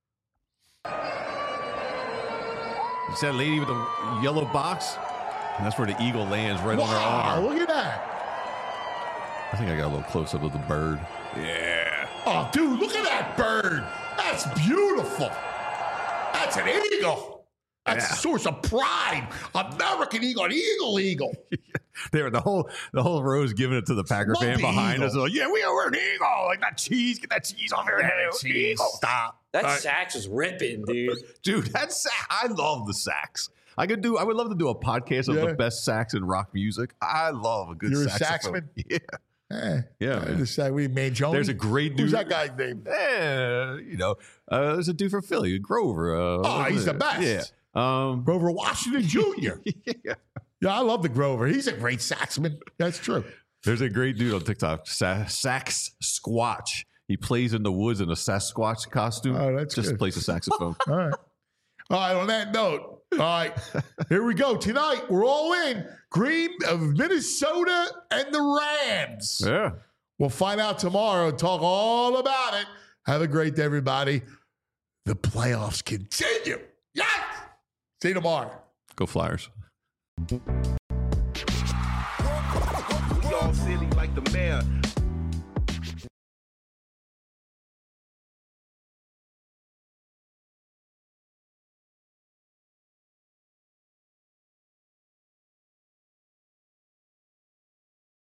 S3: You see that lady with the yellow box? And that's where the eagle lands right on her arm.
S2: Look at that.
S3: I think I got a little close up of the bird. Yeah.
S2: Oh, dude, look at that bird. That's beautiful. That's an eagle. That's a source of pride. American eagle, an eagle.
S3: There, the whole row's giving it to the Packer fan behind us. Like, yeah, we're an eagle. Like that cheese. Get that cheese off your head. Eagle. Stop.
S4: That sax is ripping, dude.
S3: Dude, that sax. I love the sax. I would love to do a podcast of the best sax in rock music. I love a good saxophone.
S2: You're a saxman?
S3: Yeah.
S2: We made Jones.
S3: There's a great dude.
S2: Who's that guy's name?
S3: There's a dude from Philly, Grover.
S2: He's the best.
S3: Yeah.
S2: Grover Washington Jr. Yeah, I love the Grover. He's a great saxman. That's true.
S3: There's a great dude on TikTok, Sax Squatch. He plays in the woods in a Sasquatch costume.
S2: Oh, that's
S3: just
S2: good.
S3: plays a saxophone.
S2: All right. On that note, all right, here we go. Tonight, we're all in. Green of Minnesota and the Rams.
S3: Yeah.
S2: We'll find out tomorrow and talk all about it. Have a great day, everybody. The playoffs continue. Yes! See you tomorrow.
S3: Go Flyers.
S10: We all silly like the mayor.